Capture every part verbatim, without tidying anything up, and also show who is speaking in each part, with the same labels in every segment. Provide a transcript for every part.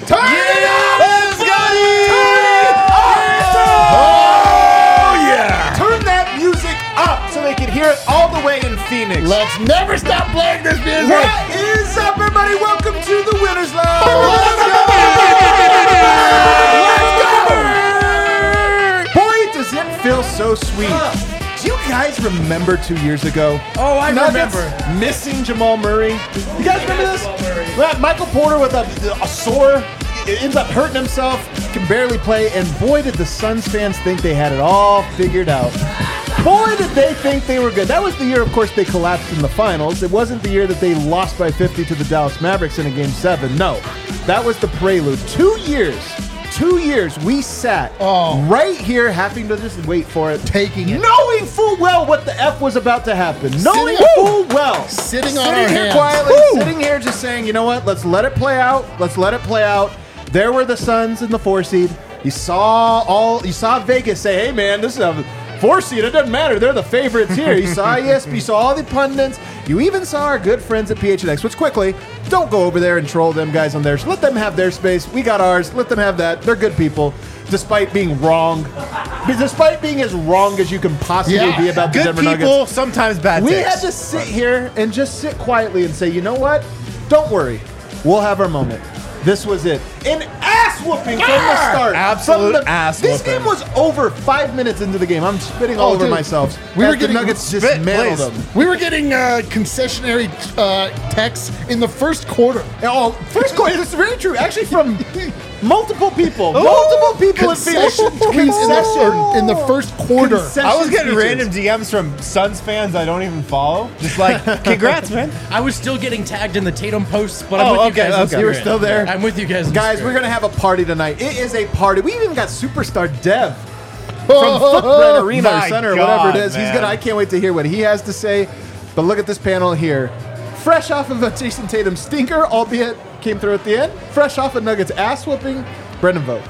Speaker 1: Turn
Speaker 2: yeah.
Speaker 1: it up!
Speaker 2: Let's go!
Speaker 1: Oh, yeah! Turn that music up so they can hear it all the way in Phoenix.
Speaker 3: Let's never stop playing this music.
Speaker 1: What is up, everybody? Welcome to the Winners Lounge.
Speaker 3: Let's go!
Speaker 1: Let's go! Boy, does it feel so sweet. Do you guys remember two years ago?
Speaker 2: Oh, I
Speaker 1: Nuggets
Speaker 2: remember.
Speaker 1: missing Jamal Murray. You guys remember this? Well, Michael Porter with a, a sore, ends up hurting himself, can barely play, and boy, did the Suns fans think they had it all figured out. Boy, did they think they were good. That was the year, of course, they collapsed in the finals. It wasn't the year that they lost by fifty to the Dallas Mavericks in a game seven. No, that was the prelude. Two years. Two years we sat
Speaker 3: Oh.
Speaker 1: right here having to just wait for it.
Speaker 3: Taking it.
Speaker 1: Knowing full well what the F was about to happen. Knowing
Speaker 3: Sitting-
Speaker 1: full well.
Speaker 3: Sitting on
Speaker 1: Sitting
Speaker 3: our
Speaker 1: here
Speaker 3: hands.
Speaker 1: quietly,
Speaker 3: Woo!
Speaker 1: sitting here just saying, you know what, let's let it play out. Let's let it play out. There were the Suns in the four seed. You saw all you saw Vegas say, hey man, this is a four seed. It doesn't matter. They're the favorites here. You saw E S P, you saw all the pundits. You even saw our good friends at P H N X, which quickly, don't go over there and troll them guys on theirs. Let them have their space. We got ours. Let them have that. They're good people, despite being wrong. Despite being as wrong as you can possibly
Speaker 3: Yeah.
Speaker 1: be about the
Speaker 2: Good
Speaker 1: Denver
Speaker 2: people,
Speaker 1: Nuggets.
Speaker 2: sometimes bad
Speaker 1: We
Speaker 2: takes.
Speaker 1: had to sit here and just sit quietly and say, you know what? Don't worry. We'll have our moment. This was it. An ass whooping from the start.
Speaker 2: Absolute
Speaker 1: From the-
Speaker 2: ass
Speaker 1: This
Speaker 2: whooping.
Speaker 1: game was over five minutes into the game. I'm spitting all
Speaker 3: Oh,
Speaker 1: over
Speaker 3: dude.
Speaker 1: myself.
Speaker 3: We
Speaker 1: As
Speaker 3: were
Speaker 1: the
Speaker 3: getting-
Speaker 1: Nuggets
Speaker 2: Spit,
Speaker 1: dismantled
Speaker 2: please.
Speaker 1: them.
Speaker 3: We were getting uh, concessionary uh, texts in the first quarter.
Speaker 1: Oh, first quarter. This is very true. Actually, from multiple people. Multiple people in Phoenix.
Speaker 3: Concession tweets in the,
Speaker 1: Concession.
Speaker 3: or in the first quarter.
Speaker 1: Concession
Speaker 2: I was getting
Speaker 1: speeches.
Speaker 2: random D Ms from Suns fans I don't even follow. Just like, congrats, man.
Speaker 4: I was still getting tagged in the Tatum posts, but I'm
Speaker 2: Oh,
Speaker 4: with
Speaker 2: okay,
Speaker 4: you guys. in
Speaker 2: okay.
Speaker 1: You were
Speaker 4: spirit.
Speaker 1: still there?
Speaker 4: I'm with you guys. in
Speaker 1: Guys,
Speaker 4: spirit.
Speaker 1: we're going to have a party tonight. It is a party. We even got superstar Dev from Footprint Arena or
Speaker 2: My
Speaker 1: Center or
Speaker 2: God,
Speaker 1: whatever it is. He's
Speaker 2: man.
Speaker 1: gonna. I can't wait to hear what he has to say. But look at this panel here. Fresh off of a Jason Tatum stinker, albeit came through at the end. Fresh off of Nuggets ass whooping. Brendan Vogt.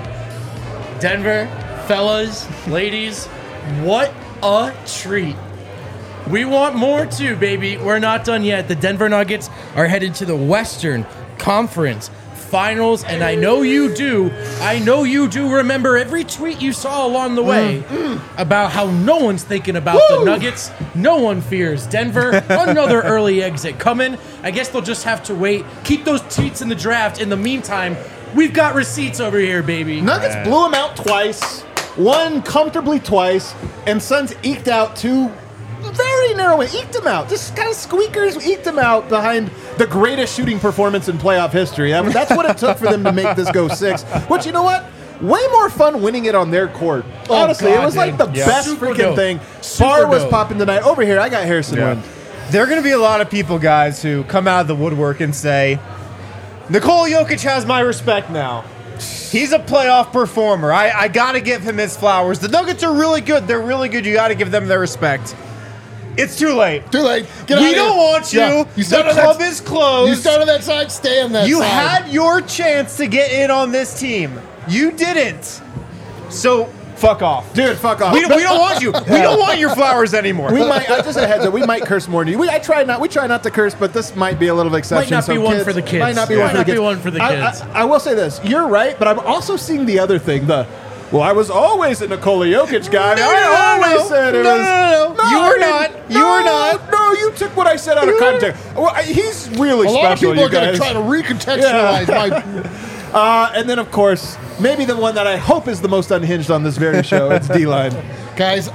Speaker 4: Denver, fellas, ladies, what a treat. We want more too, baby. We're not done yet. The Denver Nuggets are headed to the Western Conference Finals, and I know you do. I know you do remember every tweet you saw along the way about how no one's thinking about the Nuggets. No one fears Denver. Another early exit coming. I guess they'll just have to wait. Keep those tweets in the draft. In the meantime, we've got receipts over here, baby.
Speaker 1: Nuggets blew him out twice, won comfortably twice, and Suns eked out two very narrow wins. Eked him out. Just kind of squeakers eked him out behind the greatest shooting performance in playoff history. I mean, that's what it took for them to make this go six. But you know what? Way more fun winning it on their court. Honestly,
Speaker 4: God,
Speaker 1: it was like the
Speaker 4: dude. Yeah.
Speaker 1: best
Speaker 4: Super
Speaker 1: freaking
Speaker 4: dope.
Speaker 1: thing.
Speaker 4: Super
Speaker 1: Bar was
Speaker 4: dope.
Speaker 1: popping tonight. Over here, I got Harrison
Speaker 2: Yeah.
Speaker 1: Wind.
Speaker 2: There are going to be a lot of people, guys, who come out of the woodwork and say, Nikola Jokic has my respect now. He's a playoff performer. I, I got to give him his flowers. The Nuggets are really good. They're really good. You got to give them their respect. It's too late.
Speaker 3: Too late. Get
Speaker 2: We
Speaker 3: out of
Speaker 2: don't
Speaker 3: here.
Speaker 2: want you.
Speaker 3: Yeah. You
Speaker 2: The
Speaker 3: start on
Speaker 2: club
Speaker 3: that,
Speaker 2: is closed.
Speaker 3: You start on that side, stay on that
Speaker 2: You
Speaker 3: side.
Speaker 2: had your chance to get in on this team. You didn't. So, fuck off.
Speaker 1: Dude, fuck off.
Speaker 2: We, we don't want you. We don't want your flowers anymore.
Speaker 1: We might, uh, just a heads up, we might curse more than you. We, I try not, we try not to curse, but this might be a little exception.
Speaker 4: not be
Speaker 1: so
Speaker 4: one
Speaker 1: kids-
Speaker 4: for the kids.
Speaker 1: Might not be
Speaker 4: Yeah.
Speaker 1: one for
Speaker 4: Might
Speaker 1: the
Speaker 4: not be
Speaker 1: kids.
Speaker 4: one for the
Speaker 1: I-
Speaker 4: kids.
Speaker 1: I, I will say this. You're right, but I'm also seeing the other thing. The well, I was always a Nikola Jokic guy.
Speaker 2: No, no,
Speaker 1: I
Speaker 2: no,
Speaker 1: always
Speaker 2: no.
Speaker 1: said it
Speaker 2: No,
Speaker 1: was.
Speaker 2: no, no, no. You
Speaker 1: I
Speaker 2: were
Speaker 1: didn't.
Speaker 2: not. You
Speaker 1: No,
Speaker 2: were not.
Speaker 1: No, you took what I said out of
Speaker 3: You-
Speaker 1: context. Well, I- he's really
Speaker 3: A lot of
Speaker 1: special,
Speaker 3: people
Speaker 1: you
Speaker 3: are going to
Speaker 1: guys.
Speaker 3: try to recontextualize my.
Speaker 1: Uh, and then, of course, maybe the one that I hope is the most unhinged on this very show. It's D-Line.
Speaker 3: Guys,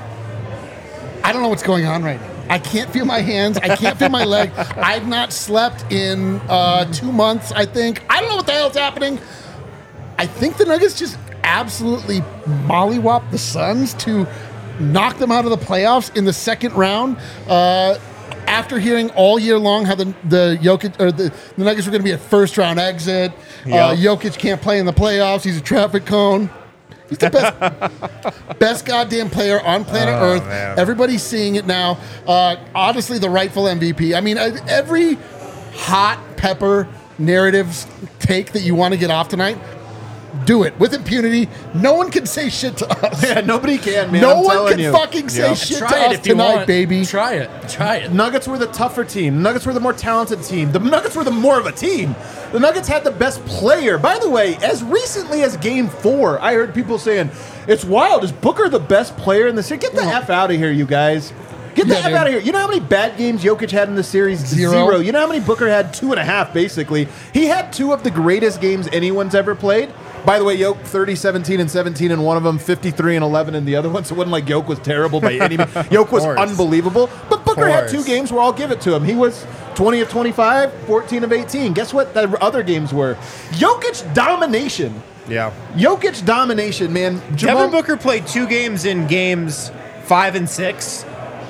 Speaker 3: I don't know what's going on right now. I can't feel my hands. I can't feel my leg. I've not slept in uh, two months, I think. I don't know what the hell's happening. I think the Nuggets just absolutely mollywop the Suns to knock them out of the playoffs in the second round. Uh, after hearing all year long how the the Jokic or the, the Nuggets were going to be a first round exit, uh,
Speaker 2: Yep.
Speaker 3: Jokic can't play in the playoffs. He's a traffic cone. He's the best, best goddamn player on planet
Speaker 2: Oh,
Speaker 3: Earth.
Speaker 2: man.
Speaker 3: Everybody's seeing it now. Uh, honestly, the rightful M V P. I mean, uh, every hot pepper narratives take that you want to get off tonight. do it with impunity. No one can say shit to us.
Speaker 1: Yeah, nobody can, man.
Speaker 3: no
Speaker 1: I'm
Speaker 3: one
Speaker 1: telling
Speaker 3: can
Speaker 1: you.
Speaker 3: fucking say
Speaker 2: Yeah.
Speaker 3: shit
Speaker 4: Try
Speaker 3: to
Speaker 4: it
Speaker 3: us
Speaker 4: if you
Speaker 3: tonight,
Speaker 4: want.
Speaker 3: baby.
Speaker 4: Try it. Try it.
Speaker 1: Nuggets were the tougher team. The Nuggets were the more talented team. The Nuggets were the more of a team. The Nuggets had the best player. By the way, as recently as game four, I heard people saying, it's wild. Is Booker the best player in the series? Get the F out of here, you guys. Get the
Speaker 3: Yeah,
Speaker 1: F
Speaker 3: dude.
Speaker 1: out of here. You know how many bad games Jokic had in the series?
Speaker 3: Zero.
Speaker 1: You know how many Booker had? Two and a half, basically. He had two of the greatest games anyone's ever played. By the way, Yoke thirty, seventeen, and seventeen in one of them, fifty-three and eleven in the other one. So it wasn't like Yoke was terrible by any means. Yoke was
Speaker 2: course.
Speaker 1: unbelievable. But Booker had two
Speaker 2: course.
Speaker 1: games where I'll give it to him. He was twenty of twenty-five, fourteen of eighteen. Guess what the other games were? Jokic domination.
Speaker 2: Yeah.
Speaker 1: Jokic domination, man.
Speaker 2: Devin
Speaker 1: Jamal-
Speaker 2: Booker played two games in games five and six.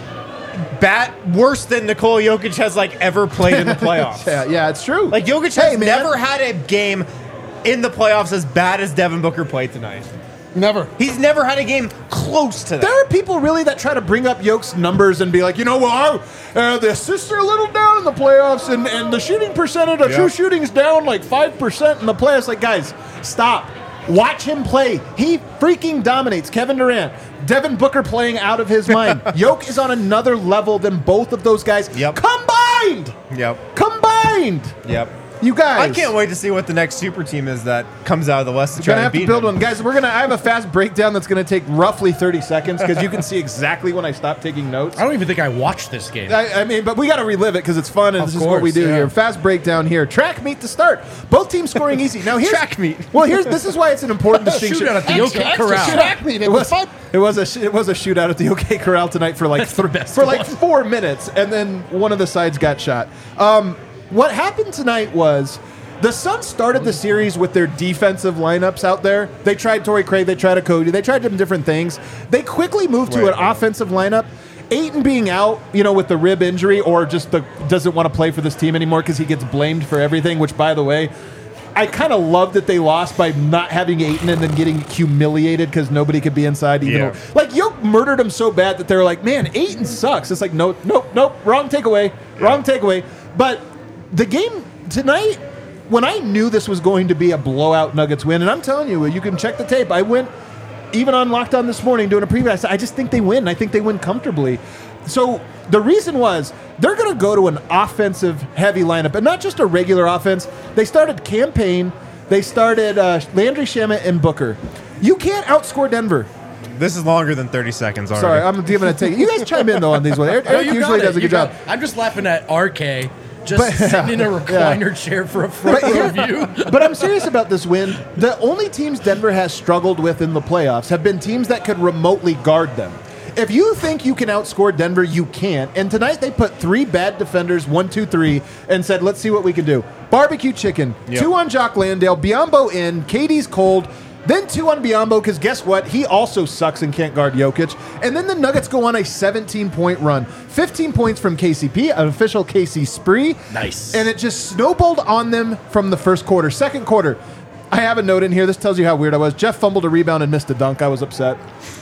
Speaker 2: Bat worse than Nikola Jokic has like ever played in the playoffs.
Speaker 1: Yeah, yeah, it's true.
Speaker 2: Like Jokic
Speaker 1: Hey,
Speaker 2: has
Speaker 1: man.
Speaker 2: never had a game in the playoffs as bad as Devin Booker played tonight.
Speaker 3: Never.
Speaker 2: He's never had a game close to that.
Speaker 1: There are people really that try to bring up Yoke's numbers and be like, you know, well, uh, the assists are a little down in the playoffs, and, and the shooting percentage, the
Speaker 2: Yeah.
Speaker 1: true shooting's down like five percent in the playoffs. Like, guys, stop. Watch him play. He freaking dominates. Kevin Durant, Devin Booker playing out of his mind. Yoke is on another level than both of those guys
Speaker 2: Yep.
Speaker 1: combined.
Speaker 2: Yep.
Speaker 1: Combined.
Speaker 2: Yep.
Speaker 1: You guys.
Speaker 2: I can't wait to see what the next super team is that comes out of the West to
Speaker 1: We're
Speaker 2: try
Speaker 1: gonna
Speaker 2: to
Speaker 1: have
Speaker 2: beat
Speaker 1: to build
Speaker 2: him.
Speaker 1: one, guys. We're gonna. I have a fast breakdown that's gonna take roughly thirty seconds because you can see exactly when I stop taking notes.
Speaker 4: I don't even think I watched this game.
Speaker 1: I, I mean, but we got to relive it because it's fun, and
Speaker 4: Of
Speaker 1: this is what we
Speaker 4: course,
Speaker 1: do
Speaker 4: yeah.
Speaker 1: here. Fast breakdown here. Track meet to start. Both teams scoring easy. Now here's
Speaker 2: Track meet.
Speaker 1: Well, here's this is why it's an important distinction.
Speaker 4: Shootout at the
Speaker 3: Extra,
Speaker 4: OK
Speaker 3: extra
Speaker 4: Corral.
Speaker 3: track meet. It
Speaker 1: It
Speaker 3: was
Speaker 1: was
Speaker 3: fun.
Speaker 1: it was a sh- it was a shootout at the OK Corral tonight for like
Speaker 4: That's the best
Speaker 1: for like
Speaker 4: one.
Speaker 1: four minutes, and then one of the sides got shot. Um, what happened tonight was. The Suns started the series with their defensive lineups out there. They tried Torrey Craig, they tried a Cody, they tried some different things. They quickly moved to
Speaker 2: Right.
Speaker 1: an offensive lineup. Ayton being out, you know, with the rib injury, or just the doesn't want to play for this team anymore because he gets blamed for everything. Which, by the way, I kind of love that they lost by not having Ayton and then getting humiliated because nobody could be inside. Even
Speaker 2: Yeah.
Speaker 1: though, like Yoke murdered him so bad that they were like, "Man, Ayton sucks." It's like, nope, nope, nope, wrong takeaway, wrong takeaway. But the game tonight. When I knew this was going to be a blowout Nuggets win, and I'm telling you, you can check the tape. I went even on Locked On this morning doing a preview. I said, I just think they win. I think they win comfortably. So the reason was they're going to go to an offensive heavy lineup, and not just a regular offense. They started Campaign. They started uh, Landry Shamet and Booker. You can't outscore Denver.
Speaker 2: This is longer than thirty seconds already.
Speaker 1: Sorry, I'm giving a take. You guys chime in though on these ones. Eric,
Speaker 4: No,
Speaker 1: Eric
Speaker 4: you
Speaker 1: usually
Speaker 4: got it.
Speaker 1: does a
Speaker 4: You
Speaker 1: good job.
Speaker 4: got it. I'm just laughing at R K just
Speaker 1: But-
Speaker 4: sitting in a
Speaker 1: yeah.
Speaker 4: recliner chair for a front
Speaker 1: But
Speaker 4: row
Speaker 1: here-
Speaker 4: view.
Speaker 1: But I'm serious about this win. The only teams Denver has struggled with in the playoffs have been teams that could remotely guard them. If you think you can outscore Denver, you can't. And tonight they put three bad defenders, one, two, three, and said, let's see what we can do. Barbecue chicken,
Speaker 2: Yep.
Speaker 1: two on Jock Landale, Biyombo in, K D's cold, then two on Biyombo, because guess what? He also sucks and can't guard Jokic. And then the Nuggets go on a seventeen-point run. fifteen points from K C P, an official K C spree.
Speaker 4: Nice.
Speaker 1: And it just snowballed on them from the first quarter. Second quarter, I have a note in here. This tells you how weird I was. Jeff fumbled a rebound and missed a dunk. I was upset.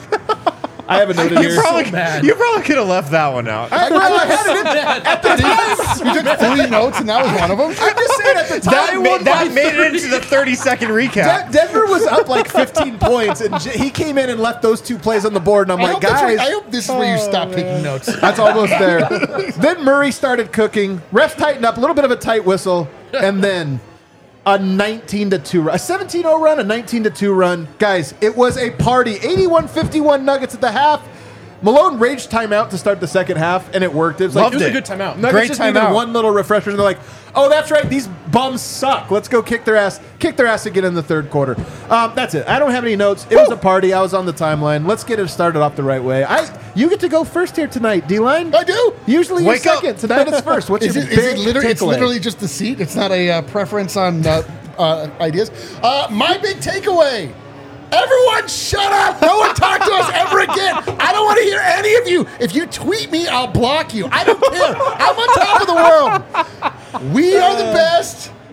Speaker 1: I have a note in
Speaker 2: You
Speaker 1: here.
Speaker 2: probably,
Speaker 4: mad.
Speaker 2: you probably could have left that one out.
Speaker 1: I, well, I had it in at the time.
Speaker 3: You took three notes, and that was one of them.
Speaker 1: I'm just saying at the time.
Speaker 2: that
Speaker 1: won
Speaker 2: made,
Speaker 1: by
Speaker 2: that made it into the thirty second recap.
Speaker 1: De- Denver was up like fifteen points, and J- he came in and left those two plays on the board. And I'm
Speaker 3: I,
Speaker 1: like,
Speaker 3: hope that's where-
Speaker 1: guys,
Speaker 3: I hope this is where you stop taking notes.
Speaker 1: that's almost there. Then Murray started cooking. Refs tightened up, a little bit of a tight whistle, and then a nineteen to two run, a seventeen oh run, a nineteen to two run. Guys, it was a party. eighty-one fifty-one Nuggets at the half. Malone raged timeout to start the second half, and it worked. It was like
Speaker 2: Loved
Speaker 4: It was a
Speaker 2: it.
Speaker 4: good timeout.
Speaker 1: Nuggets
Speaker 2: Great
Speaker 1: just needed
Speaker 2: timeout.
Speaker 1: one little refresher, and they're like, "Oh, that's right. These bums suck. Let's go kick their ass. Kick their ass again in the third quarter." Um, that's it. I don't have any notes. It was a party. I was on the timeline. Let's get it started off the right way. I, you get to go first here tonight, D-Line.
Speaker 3: I do.
Speaker 1: Usually you're
Speaker 2: Wake up.
Speaker 1: second. Tonight it's first. What's
Speaker 3: Is
Speaker 1: your
Speaker 3: it,
Speaker 1: big
Speaker 3: is it literally, it's
Speaker 1: takeaway?
Speaker 3: literally just the seat? It's not a uh, preference on uh, uh, ideas? Uh, my big takeaway. Everyone shut up. No one talk to us ever again. I don't want to hear any of you. If you tweet me, I'll block you. I don't care. I'm on top of the world. We are the best.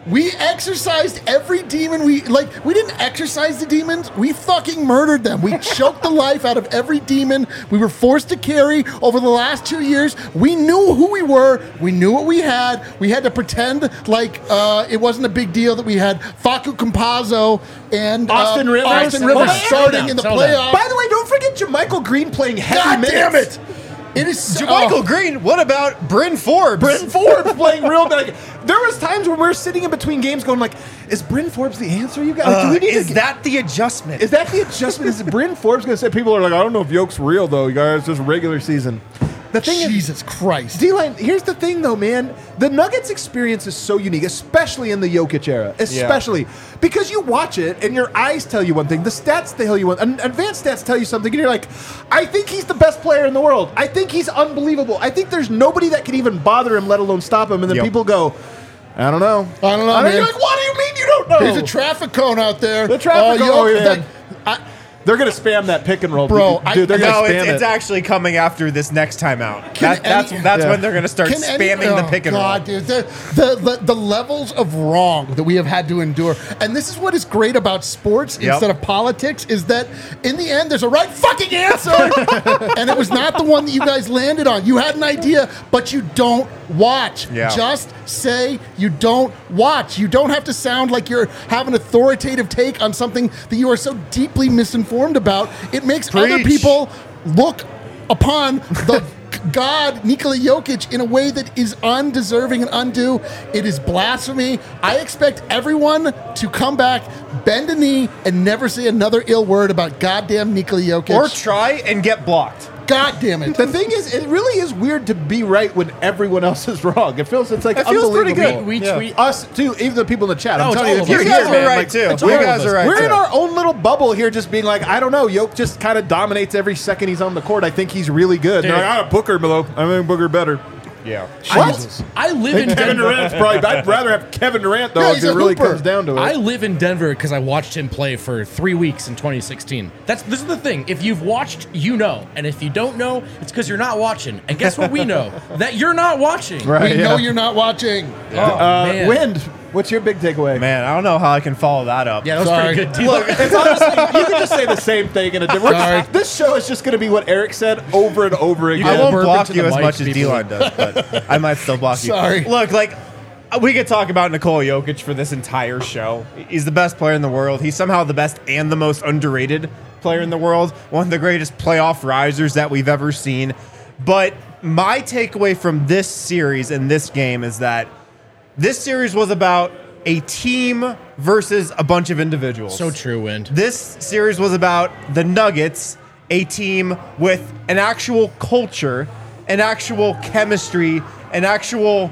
Speaker 3: We exercised every demon we like. We didn't exercise the demons. We fucking murdered them. We choked the life out of every demon we were forced to carry over the last two years. We knew who we were. We knew what we had. We had to pretend like uh, it wasn't a big deal that we had Facu Campazzo and uh,
Speaker 1: Austin Rivers.
Speaker 3: Austin
Speaker 1: Hold
Speaker 3: Rivers
Speaker 1: on,
Speaker 3: starting
Speaker 4: settle
Speaker 3: in the
Speaker 4: down, settle
Speaker 3: playoffs.
Speaker 1: By the way, don't forget JaMychal Green playing heavy
Speaker 3: God
Speaker 1: minutes.
Speaker 3: damn it! It is so,
Speaker 2: Michael
Speaker 3: oh.
Speaker 2: Green. What about Bryn Forbes?
Speaker 1: Bryn Forbes playing real like there was times when we were sitting in between games going like, is Bryn Forbes the answer you guys?
Speaker 2: Uh,
Speaker 1: Do we need
Speaker 2: is
Speaker 1: to,
Speaker 2: that the adjustment?
Speaker 1: is that the adjustment? Is Bryn Forbes going to say people are like, I don't know if Yoke's real though, you guys, just regular season. The thing is,
Speaker 3: Jesus Christ.
Speaker 1: D-Line, here's the thing, though, man. The Nuggets experience is so unique, especially in the Jokic era. Especially because you watch it and your eyes tell you one thing. The stats tell you one. and Advanced stats tell you something. And you're like, I think he's the best player in the world. I think he's unbelievable. I think there's nobody that can even bother him, let alone stop him. And then
Speaker 2: Yep.
Speaker 1: people go, I don't know.
Speaker 3: I don't know,
Speaker 1: And
Speaker 3: man.
Speaker 1: you're like, what do you mean you don't know?
Speaker 3: There's a traffic cone out there.
Speaker 1: The traffic
Speaker 3: Uh,
Speaker 1: cone,
Speaker 3: yo,
Speaker 1: yeah.
Speaker 3: that- I-
Speaker 1: They're going to spam that pick and roll.
Speaker 3: Bro, I-
Speaker 1: Dude, they're going to
Speaker 2: No,
Speaker 1: spam
Speaker 2: it's,
Speaker 1: it.
Speaker 2: it's actually coming after this next time out.
Speaker 3: Can
Speaker 2: That, that's
Speaker 3: any-
Speaker 2: that's
Speaker 1: Yeah.
Speaker 2: when they're going to start
Speaker 3: Can any-
Speaker 2: spamming the
Speaker 3: oh,
Speaker 2: pick and
Speaker 3: God,
Speaker 2: roll.
Speaker 3: dude, the, the, the the levels of wrong that we have had to endure, and this is what is great about sports
Speaker 2: Yep.
Speaker 3: instead of politics, is that in the end there's a right fucking answer, and it was not the one that you guys landed on. You had an idea, but you don't watch.
Speaker 2: Yeah.
Speaker 3: Just say you don't watch. You don't have to sound like you're have an authoritative take on something that you are so deeply misinformed about. It makes other
Speaker 2: Preach.
Speaker 3: people look upon the God, Nikola Jokic, in a way that is undeserving and undue. It is blasphemy. I expect everyone to come back, bend a knee, and never say another ill word about goddamn Nikola Jokic.
Speaker 2: Or try and get blocked.
Speaker 3: God damn it.
Speaker 1: The thing is, it really is weird to be right when everyone else is wrong. It feels it's like
Speaker 2: It feels pretty
Speaker 1: unbelievable.
Speaker 2: good.
Speaker 4: We
Speaker 2: Yeah.
Speaker 4: tweet.
Speaker 1: Us too, even the people in the chat.
Speaker 4: No,
Speaker 1: I'm
Speaker 4: it's
Speaker 1: telling you,
Speaker 4: all
Speaker 1: if
Speaker 4: of
Speaker 1: you're
Speaker 4: us.
Speaker 2: You
Speaker 1: here,
Speaker 2: guys
Speaker 1: man,
Speaker 2: are right
Speaker 1: like,
Speaker 2: too.
Speaker 4: it's
Speaker 2: You
Speaker 4: all of
Speaker 2: guys
Speaker 4: us.
Speaker 2: are right
Speaker 1: we're
Speaker 2: too.
Speaker 1: in our own little bubble here, just being like, I don't know. Yoke just kind of dominates every second he's on the court. I think he's really good. And
Speaker 4: Dude.
Speaker 1: they're like, ah, Booker below. I think Booker better.
Speaker 2: Yeah.
Speaker 1: What?
Speaker 4: I live in
Speaker 1: Kevin
Speaker 4: Denver.
Speaker 1: Durant's probably. I'd rather have Kevin Durant though
Speaker 3: Yeah,
Speaker 1: if
Speaker 3: he's
Speaker 1: it
Speaker 3: a
Speaker 1: really
Speaker 3: hooper.
Speaker 1: comes down to it.
Speaker 4: I live in Denver because I watched him play for three weeks in twenty sixteen. That's this is the thing. If you've watched, you know, and if you don't know, it's because you're not watching. And guess what? We know that you're not watching.
Speaker 1: right.
Speaker 3: we
Speaker 1: yeah.
Speaker 3: know you're not watching.
Speaker 4: Oh,
Speaker 1: Uh,
Speaker 4: man.
Speaker 1: Wind. What's your big takeaway?
Speaker 2: Man, I don't know how I can follow that up.
Speaker 4: Yeah, that was
Speaker 3: Sorry.
Speaker 4: pretty good deal.
Speaker 1: Look, it's honestly, you can just say the same thing in a different.
Speaker 3: Sorry.
Speaker 1: This show is just going to be what Eric said over and over again.
Speaker 2: I
Speaker 4: Yeah,
Speaker 2: won't
Speaker 4: burp
Speaker 2: block
Speaker 4: into
Speaker 2: you
Speaker 4: the
Speaker 2: as
Speaker 4: mic,
Speaker 2: much as
Speaker 4: people.
Speaker 2: D-Line does, but I might still block you.
Speaker 3: Sorry.
Speaker 2: Look, like, we could talk about Nikola Jokic for this entire show. He's the best player in the world. He's somehow the best and the most underrated player in the world. One of the greatest playoff risers that we've ever seen. But my takeaway from this series and this game is that this series was about a team versus a bunch of individuals.
Speaker 4: So true, Wind.
Speaker 2: This series was about the Nuggets, a team with an actual culture, an actual chemistry, an actual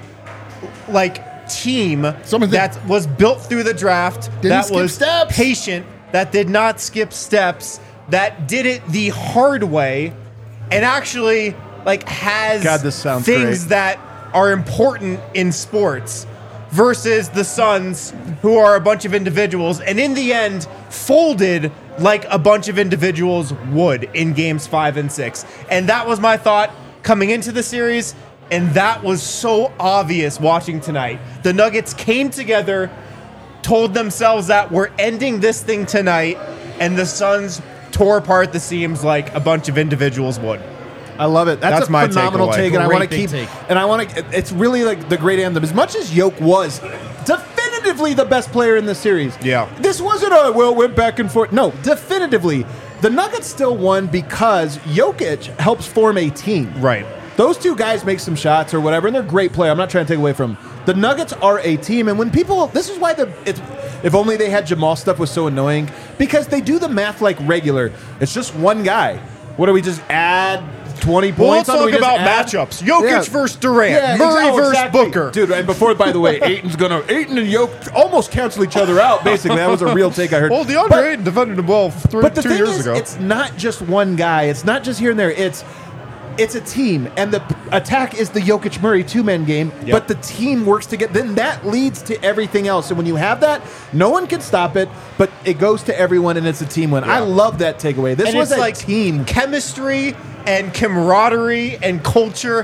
Speaker 2: like team
Speaker 3: Some of the-
Speaker 2: that was built through the draft,
Speaker 3: Didn't
Speaker 2: that
Speaker 3: skip
Speaker 2: was
Speaker 3: steps.
Speaker 2: patient, that did not skip steps, that did it the hard way, and actually like has
Speaker 1: God, this sounds
Speaker 2: things
Speaker 1: great.
Speaker 2: that are important in sports versus the Suns, who are a bunch of individuals, and in the end, folded like a bunch of individuals would in games five and six. And that was my thought coming into the series, and that was so obvious watching tonight. The Nuggets came together, told themselves that we're ending this thing tonight, and the Suns tore apart the seams like a bunch of individuals would.
Speaker 1: I love it. That's,
Speaker 2: That's
Speaker 1: a
Speaker 2: my
Speaker 1: phenomenal
Speaker 2: takeaway.
Speaker 1: take, and I
Speaker 4: Great
Speaker 1: want to
Speaker 4: big
Speaker 1: keep.
Speaker 4: take.
Speaker 1: And I want to. It's really like the great anthem. As much as Yoke was definitively the best player in the series.
Speaker 2: Yeah.
Speaker 1: This wasn't a well went back and forth. No, definitively, the Nuggets still won because Jokic helps form a team.
Speaker 2: Right.
Speaker 1: Those two guys make some shots or whatever, and they're great play. I'm not trying to take away from them. The Nuggets are a team, and when people, this is why the it's, if only they had Jamal stuff was so annoying because they do the math like regular. It's just one guy. What do we just add twenty
Speaker 2: Well, let's
Speaker 1: points? on? Do we
Speaker 2: talk
Speaker 1: just
Speaker 2: about
Speaker 1: add-
Speaker 2: matchups. Jokic
Speaker 1: Yeah.
Speaker 2: versus Durant.
Speaker 1: Yeah,
Speaker 2: Murray
Speaker 1: exactly,
Speaker 2: versus
Speaker 1: exactly.
Speaker 2: Booker.
Speaker 1: Dude, and before, by the way, Aiton's gonna Aiton and Yoke almost cancel each other out. Basically, that was a real take I heard.
Speaker 2: Well, DeAndre
Speaker 1: But-
Speaker 2: Ayton defended him well three,
Speaker 1: but the
Speaker 2: two
Speaker 1: thing
Speaker 2: years
Speaker 1: is,
Speaker 2: ago.
Speaker 1: it's not just one guy. It's not just here and there. It's it's a team, and the p- attack is the Jokic Murray two man game.
Speaker 2: Yep.
Speaker 1: But the team works together. Then that leads to everything else. And when you have that, no one can stop it. But it goes to everyone, and it's a team win. I love that takeaway. This
Speaker 2: and
Speaker 1: was
Speaker 2: it's
Speaker 1: a
Speaker 2: like
Speaker 1: team.
Speaker 2: chemistry and camaraderie and culture.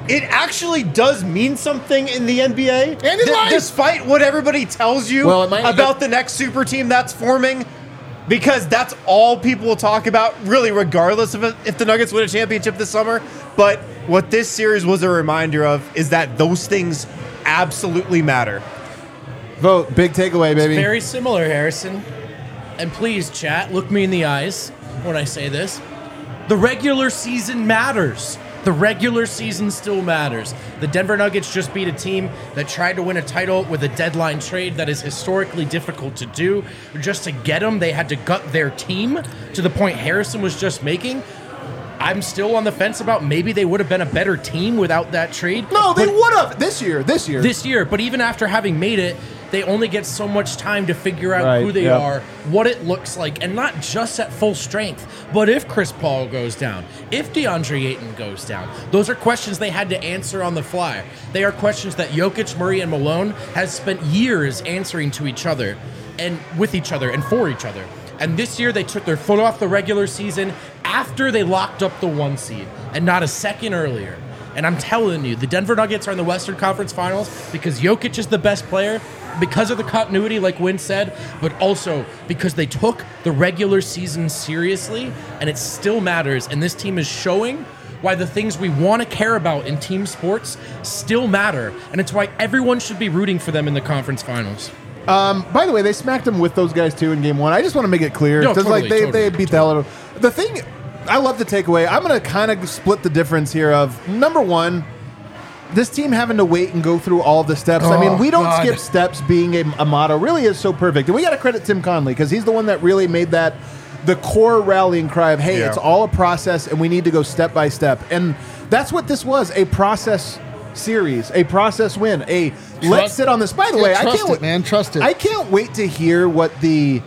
Speaker 2: it actually does mean something in the N B A.
Speaker 3: And in life.
Speaker 2: Despite what everybody tells you
Speaker 1: Well, it might-
Speaker 2: about the next super team that's forming, because that's all people will talk about, really, regardless of if the Nuggets win a championship this summer. But what this series was a reminder of is that those things absolutely matter.
Speaker 1: Vote. Big takeaway, baby.
Speaker 4: Very similar, Harrison. And please, chat, look me in the eyes when I say this. The regular season matters. The regular season still matters. The Denver Nuggets just beat a team that tried to win a title with a deadline trade that is historically difficult to do. Just to get them, they had to gut their team to the point Harrison was just making. I'm still on the fence about maybe they would have been a better team without that trade.
Speaker 1: No, they
Speaker 4: But-
Speaker 1: would have this year. This year.
Speaker 4: this year, but even after having made it, they only get so much time to figure out
Speaker 1: Right,
Speaker 4: who they
Speaker 1: yep.
Speaker 4: are, what it looks like, and not just at full strength, but if Chris Paul goes down, if DeAndre Ayton goes down. Those are questions they had to answer on the fly. They are questions that Jokic, Murray, and Malone has spent years answering to each other and with each other and for each other. And this year they took their foot off the regular season after they locked up the one seed and not a second earlier. And I'm telling you, the Denver Nuggets are in the Western Conference Finals because Jokic is the best player, because of the continuity, like Win said, but also because they took the regular season seriously, and it still matters. And this team is showing why the things we want to care about in team sports still matter, and it's why everyone should be rooting for them in the conference finals.
Speaker 1: Um, by the way, they smacked them with those guys too in game one. I just want to make it clear
Speaker 4: No,
Speaker 1: because
Speaker 4: totally,
Speaker 1: like they,
Speaker 4: totally,
Speaker 1: they beat the hell out of them. The thing I love the takeaway. I'm going to kind of split the difference here of number one, this team having to wait and go through all the steps. I mean,
Speaker 3: Oh,
Speaker 1: we don't
Speaker 3: God.
Speaker 1: skip steps being a, a motto really is so perfect. And we got to credit Tim Conley because he's the one that really made that the core rallying cry of, hey,
Speaker 2: Yeah.
Speaker 1: it's all a process and we need to go step by step. And that's what this was, a process series, a process win, a let's sit on this. By the
Speaker 3: Yeah,
Speaker 1: way, I
Speaker 3: trust
Speaker 1: can't
Speaker 3: it,
Speaker 1: wait-
Speaker 3: man. Trust it.
Speaker 1: I can't wait to hear what the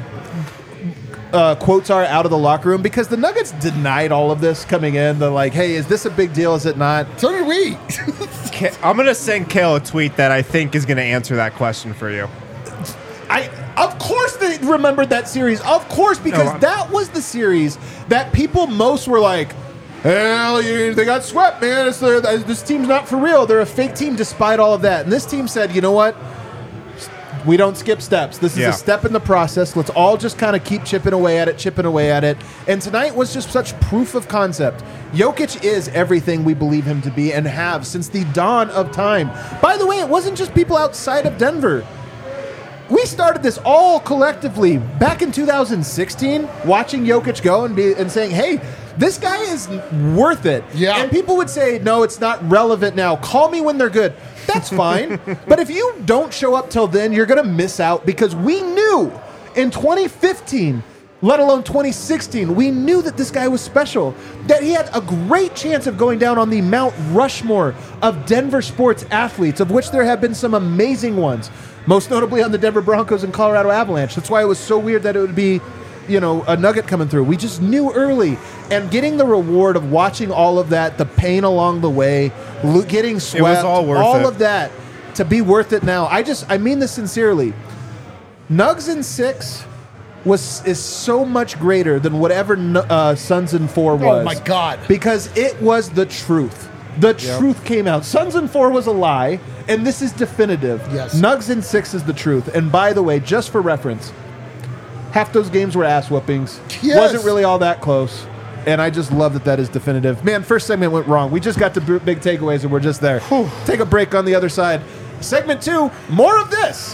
Speaker 1: uh, quotes are out of the locker room because the Nuggets denied all of this coming in. They're like, hey, is this a big deal? Is it not?
Speaker 3: So did we.
Speaker 2: Ka- I'm going to send Kale a tweet that I think is going to answer that question for you.
Speaker 1: I of course they remembered that series. Of course, because
Speaker 2: No, I'm-
Speaker 1: that was the series that people most were like, hell, you, they got swept, man. It's their, this team's not for real. They're a fake team despite all of that. And this team said, you know what? We don't skip steps. This is
Speaker 2: Yeah.
Speaker 1: a step in the process. Let's all just kind of keep chipping away at it, chipping away at it. And tonight was just such proof of concept. Jokic is everything we believe him to be and have since the dawn of time. By the way, it wasn't just people outside of Denver. We started this all collectively back in two thousand sixteen, watching Jokic go and be and saying, "Hey, this guy is worth it."
Speaker 3: Yeah.
Speaker 1: And people would say, "No, it's not relevant now. Call me when they're good." That's fine. But if you don't show up till then, you're going to miss out because we knew in twenty fifteen, let alone twenty sixteen, we knew that this guy was special, that he had a great chance of going down on the Mount Rushmore of Denver sports athletes, of which there have been some amazing ones, most notably on the Denver Broncos and Colorado Avalanche. That's why it was so weird that it would be, you know, a Nugget coming through. We just knew early, and getting the reward of watching all of that, the pain along the way, lo- getting swept,
Speaker 2: all worth it.
Speaker 1: of that, to be worth it now. I just, I mean this sincerely. Nugs in six was is so much greater than whatever Nu- uh, Suns in four was.
Speaker 3: Oh, my God.
Speaker 1: Because it was the truth. The truth came out. Suns in four was a lie, and this is definitive.
Speaker 3: Yes.
Speaker 1: Nugs in six is the truth. And by the way, just for reference, half those games were ass whoopings.
Speaker 3: Yes.
Speaker 1: Wasn't really all that close. And I just love that that is definitive. Man, first segment went wrong. We just got to b- big takeaways and we're just there. Take a break on the other side. Segment two, more of this.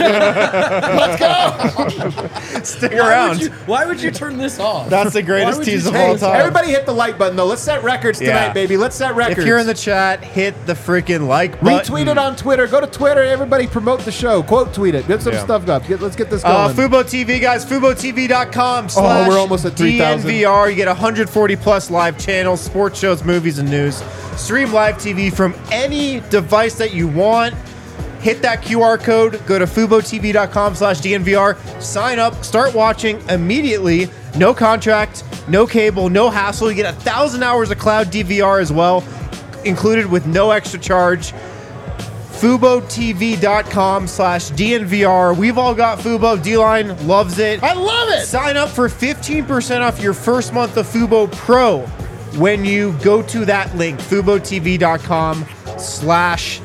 Speaker 3: Let's go.
Speaker 2: Stick
Speaker 4: Why
Speaker 2: around.
Speaker 4: would, you, why would you turn this off?
Speaker 2: That's the greatest
Speaker 4: Why would you
Speaker 2: tease of
Speaker 4: say
Speaker 2: all
Speaker 4: this?
Speaker 2: time.
Speaker 1: Everybody hit the like button, though. Let's set records tonight,
Speaker 2: Yeah.
Speaker 1: baby. Let's set records.
Speaker 2: If you're in the chat, hit the freaking like button.
Speaker 1: Retweet it on Twitter. Go to Twitter. Everybody promote the show. Quote tweet it. Get some
Speaker 2: Yeah.
Speaker 1: stuff up. Get, let's get this
Speaker 2: Uh,
Speaker 1: going.
Speaker 2: Fubo T V, guys. Fubo T V dot com slash
Speaker 1: Oh, we're almost at three thousand.
Speaker 2: D N V R. You get one hundred forty plus live channels, sports shows, movies, and news. Stream live T V from any device that you want. Hit that Q R code. Go to Fubo T V dot com slash D N V R. Sign up. Start watching immediately. No contract, no cable, no hassle. You get a thousand hours of cloud D V R as well, included with no extra charge. Fubo T V dot com slash D N V R. We've all got Fubo. D-Line loves it.
Speaker 3: I love it.
Speaker 2: Sign up for fifteen percent off your first month of Fubo Pro when you go to that link, FuboTV.com slash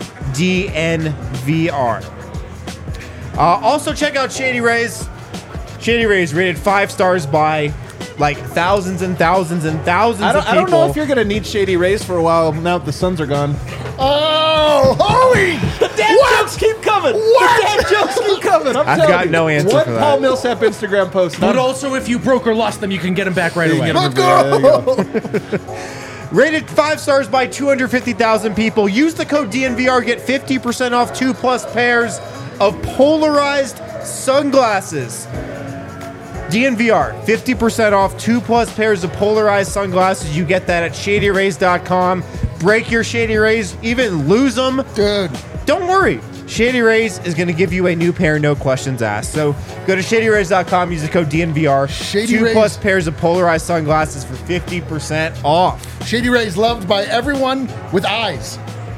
Speaker 2: DNVR. Uh, also, check out Shady Rays. Shady Rays rated five stars by like thousands and thousands and thousands
Speaker 1: I don't,
Speaker 2: of
Speaker 1: I
Speaker 2: people.
Speaker 1: don't know if you're going to need Shady Rays for a while now that the Suns are gone.
Speaker 3: Oh, holy!
Speaker 1: The dad jokes keep coming.
Speaker 3: What?
Speaker 1: The dad jokes keep coming. I'm
Speaker 2: I've
Speaker 1: telling
Speaker 2: got
Speaker 1: you.
Speaker 2: no answer
Speaker 1: One
Speaker 2: for that.
Speaker 1: Paul Millsap Instagram post.
Speaker 4: But also, if you broke or lost them, you can get them back right
Speaker 1: You
Speaker 4: away.
Speaker 1: can get 'em
Speaker 3: Let's
Speaker 1: There you
Speaker 3: go.
Speaker 2: Rated five stars by two hundred fifty thousand people. Use the code D N V R. Get fifty percent off two plus pairs of polarized sunglasses. D N V R, fifty percent off two plus pairs of polarized sunglasses. You get that at Shady Rays dot com. Break your Shady Rays, even lose them.
Speaker 3: Dude.
Speaker 2: Don't worry. Shady Rays is going to give you a new pair, no questions asked. So go to Shady Rays dot com, use the code D N V R.
Speaker 3: Shady
Speaker 2: two
Speaker 3: Rays.
Speaker 2: plus pairs of polarized sunglasses for fifty percent off.
Speaker 3: Shady Rays loved by everyone with eyes.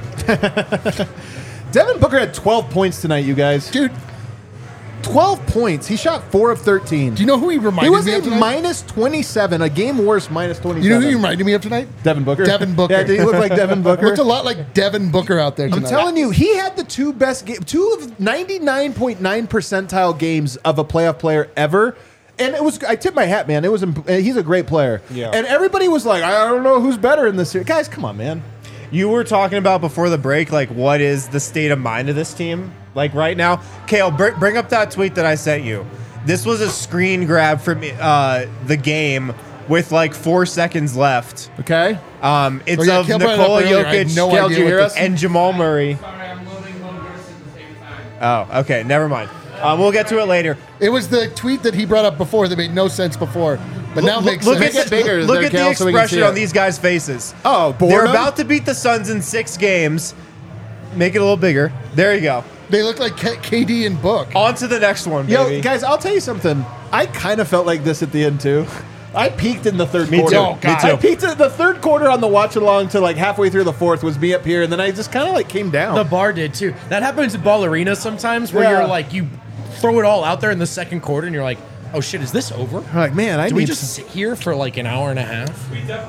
Speaker 1: Devin Booker had twelve points tonight, you guys.
Speaker 3: Dude,
Speaker 1: twelve points. He shot four of thirteen.
Speaker 3: do you know who he reminded
Speaker 1: He was
Speaker 3: me
Speaker 1: a
Speaker 3: of tonight?
Speaker 1: minus twenty-seven, a game worse minus twenty-seven.
Speaker 3: You know who he reminded me of tonight?
Speaker 1: Devin Booker.
Speaker 3: Devin Booker.
Speaker 1: Yeah, did he look like Devin Booker?
Speaker 3: Looked a lot like Devin Booker out there
Speaker 1: I'm
Speaker 3: tonight.
Speaker 1: telling you, he had the two best games, two of ninety-nine point nine percentile games of a playoff player ever. And it was, I tip my hat, man. It was, imp- he's a great player.
Speaker 2: Yeah.
Speaker 1: And everybody was like, I don't know who's better in this series. Guys, come on, man.
Speaker 2: You were talking about before the break, like, what is the state of mind of this team? Like, right now? Kale, br- bring up that tweet that I sent you. This was a screen grab from uh, the game with, like, four seconds left.
Speaker 1: Okay.
Speaker 2: Um, it's
Speaker 3: Oh, yeah,
Speaker 2: of
Speaker 3: Kale brought it up
Speaker 2: Nikola
Speaker 3: earlier. I had
Speaker 2: Jokic
Speaker 3: no
Speaker 1: Kale,
Speaker 3: idea
Speaker 1: did you
Speaker 3: what
Speaker 1: hear
Speaker 3: the-
Speaker 1: us?
Speaker 2: and Jamal Murray.
Speaker 5: Sorry, I'm loading Logan at the same time.
Speaker 2: Oh, okay, never mind. Um, we'll get to it later.
Speaker 3: It was the tweet that he brought up before that made no sense before, but now
Speaker 2: Look-
Speaker 3: makes
Speaker 2: look
Speaker 3: sense.
Speaker 2: At the,
Speaker 1: Make it bigger
Speaker 2: look
Speaker 1: there,
Speaker 2: at the
Speaker 1: Kale, so we can
Speaker 2: expression
Speaker 1: see it.
Speaker 2: on these guys' faces.
Speaker 1: Oh,
Speaker 2: They're
Speaker 1: boredom?
Speaker 2: about to beat the Suns in six games. Make it a little bigger. There you go.
Speaker 3: They look like K- KD and Book.
Speaker 2: On to the next one,
Speaker 1: Yo,
Speaker 2: baby.
Speaker 1: guys, I'll tell you something. I kind of felt like this at the end, too. I peaked in the third
Speaker 2: Me
Speaker 1: quarter.
Speaker 2: too.
Speaker 3: Oh, God.
Speaker 1: I peaked at the third quarter on the watch along to like halfway through the fourth was me up here, and then I just kind of like came down.
Speaker 4: The bar did too. That happens in ball arena sometimes, where
Speaker 1: Yeah.
Speaker 4: you're like, you throw it all out there in the second quarter, and you're like, oh shit, is this over?
Speaker 1: I'm like, man, I
Speaker 4: Do
Speaker 1: need
Speaker 4: we just sit here for like an hour and a half?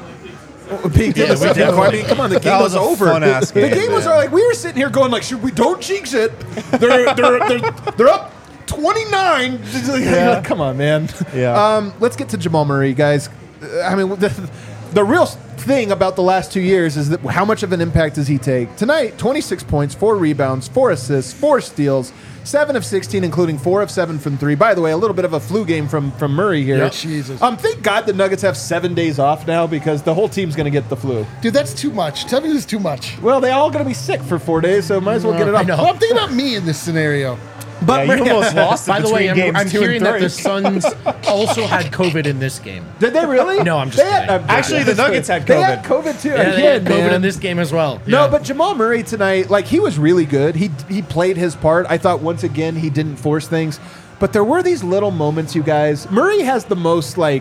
Speaker 1: peaked in the second
Speaker 4: definitely-
Speaker 1: quarter. I mean, come on, the game
Speaker 2: That
Speaker 1: was,
Speaker 2: was a
Speaker 1: over.
Speaker 2: fun-ass
Speaker 1: The
Speaker 2: game,
Speaker 1: game was
Speaker 2: man.
Speaker 1: like we were sitting here going like, should we don't jinx it? They're they're they're, they're up twenty-nine.
Speaker 2: Yeah.
Speaker 1: Come on, man.
Speaker 2: Yeah.
Speaker 1: Um, let's get to Jamal Murray, guys. Uh, I mean, the, the real thing about the last two years is that how much of an impact does he take? Tonight, twenty-six points, four rebounds, four assists, four steals, seven of sixteen, including four of seven from three. By the way, a little bit of a flu game from, from Murray here.
Speaker 3: Yeah, Jesus.
Speaker 1: Um, thank God the Nuggets have seven days off now because the whole team's going to get the flu.
Speaker 3: Dude, that's too much. Tell me this is too much.
Speaker 1: Well, they all going to be sick for four days, so might as well get it
Speaker 4: I
Speaker 1: off.
Speaker 4: know.
Speaker 3: Well, I'm thinking about me in this scenario.
Speaker 1: But
Speaker 2: Yeah, you almost lost it
Speaker 4: By the way,
Speaker 2: between
Speaker 4: I'm,
Speaker 2: games
Speaker 4: I'm
Speaker 2: two and
Speaker 4: hearing that
Speaker 2: three.
Speaker 4: the Suns also had COVID in this game.
Speaker 1: Did they really?
Speaker 4: No, I'm just
Speaker 1: They had-
Speaker 4: kidding.
Speaker 1: I'm joking.
Speaker 2: Actually, the Nuggets had
Speaker 1: They had
Speaker 2: COVID.
Speaker 1: COVID too.
Speaker 4: Yeah, they
Speaker 1: Again,
Speaker 4: had COVID
Speaker 1: man.
Speaker 4: in this game as well.
Speaker 1: No,
Speaker 4: Yeah.
Speaker 1: but Jamal Murray tonight, like he was really good. He he played his part. I thought once again he didn't force things, but there were these little moments, you guys. Murray has the most like,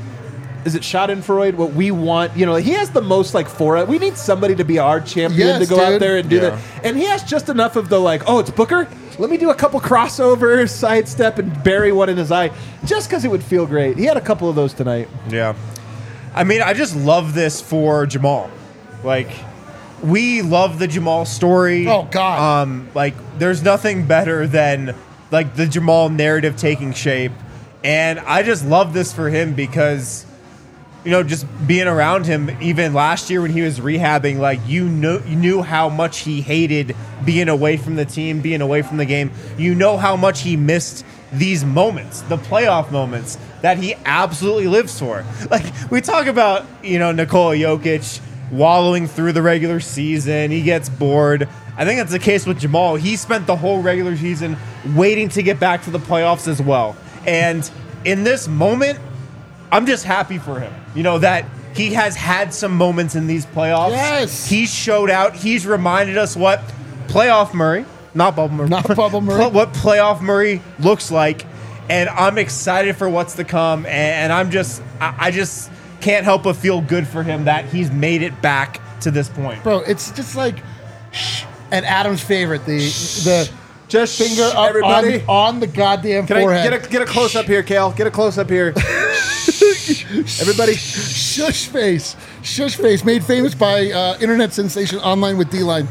Speaker 1: is it Schadenfreude? What we want, you know, he has the most like for it. We need somebody to be our champion
Speaker 3: Yes,
Speaker 1: to go out
Speaker 3: dude.
Speaker 1: there and do
Speaker 2: Yeah.
Speaker 1: that. And he has just enough of the like, oh, it's Booker. Let me do a couple crossovers, sidestep, and bury one in his eye, just because it would feel great. He had a couple of those tonight.
Speaker 2: Yeah. I mean, I just love this for Jamal. Like, we love the Jamal story.
Speaker 3: Oh, God.
Speaker 2: Um, like, there's nothing better than like the Jamal narrative taking shape. And I just love this for him because, you know, just being around him, even last year when he was rehabbing, like you know, you knew how much he hated being away from the team, being away from the game. You know how much he missed these moments, the playoff moments that he absolutely lives for. Like we talk about, you know, Nikola Jokic wallowing through the regular season. He gets bored. I think that's the case with Jamal. He spent the whole regular season waiting to get back to the playoffs as well. And in this moment, I'm just happy for him. You know, that he has had some moments in these playoffs.
Speaker 3: Yes.
Speaker 2: He's showed out. He's reminded us what playoff Murray, not Bubble Murray.
Speaker 3: Not Bubble Murray.
Speaker 2: What playoff Murray looks like. And I'm excited for what's to come. And I'm just, I I just can't help but feel good for him that he's made it back to this point.
Speaker 3: Bro, it's just like, shh, and Adam's favorite, the the
Speaker 1: Just
Speaker 3: finger up
Speaker 1: everybody.
Speaker 3: on, on the goddamn
Speaker 1: Can I
Speaker 3: forehead.
Speaker 1: get a get a close up here, Kale? Get a close up here. Everybody,
Speaker 3: Shush face. Shush face, made famous by uh, internet sensation Online with D-Line.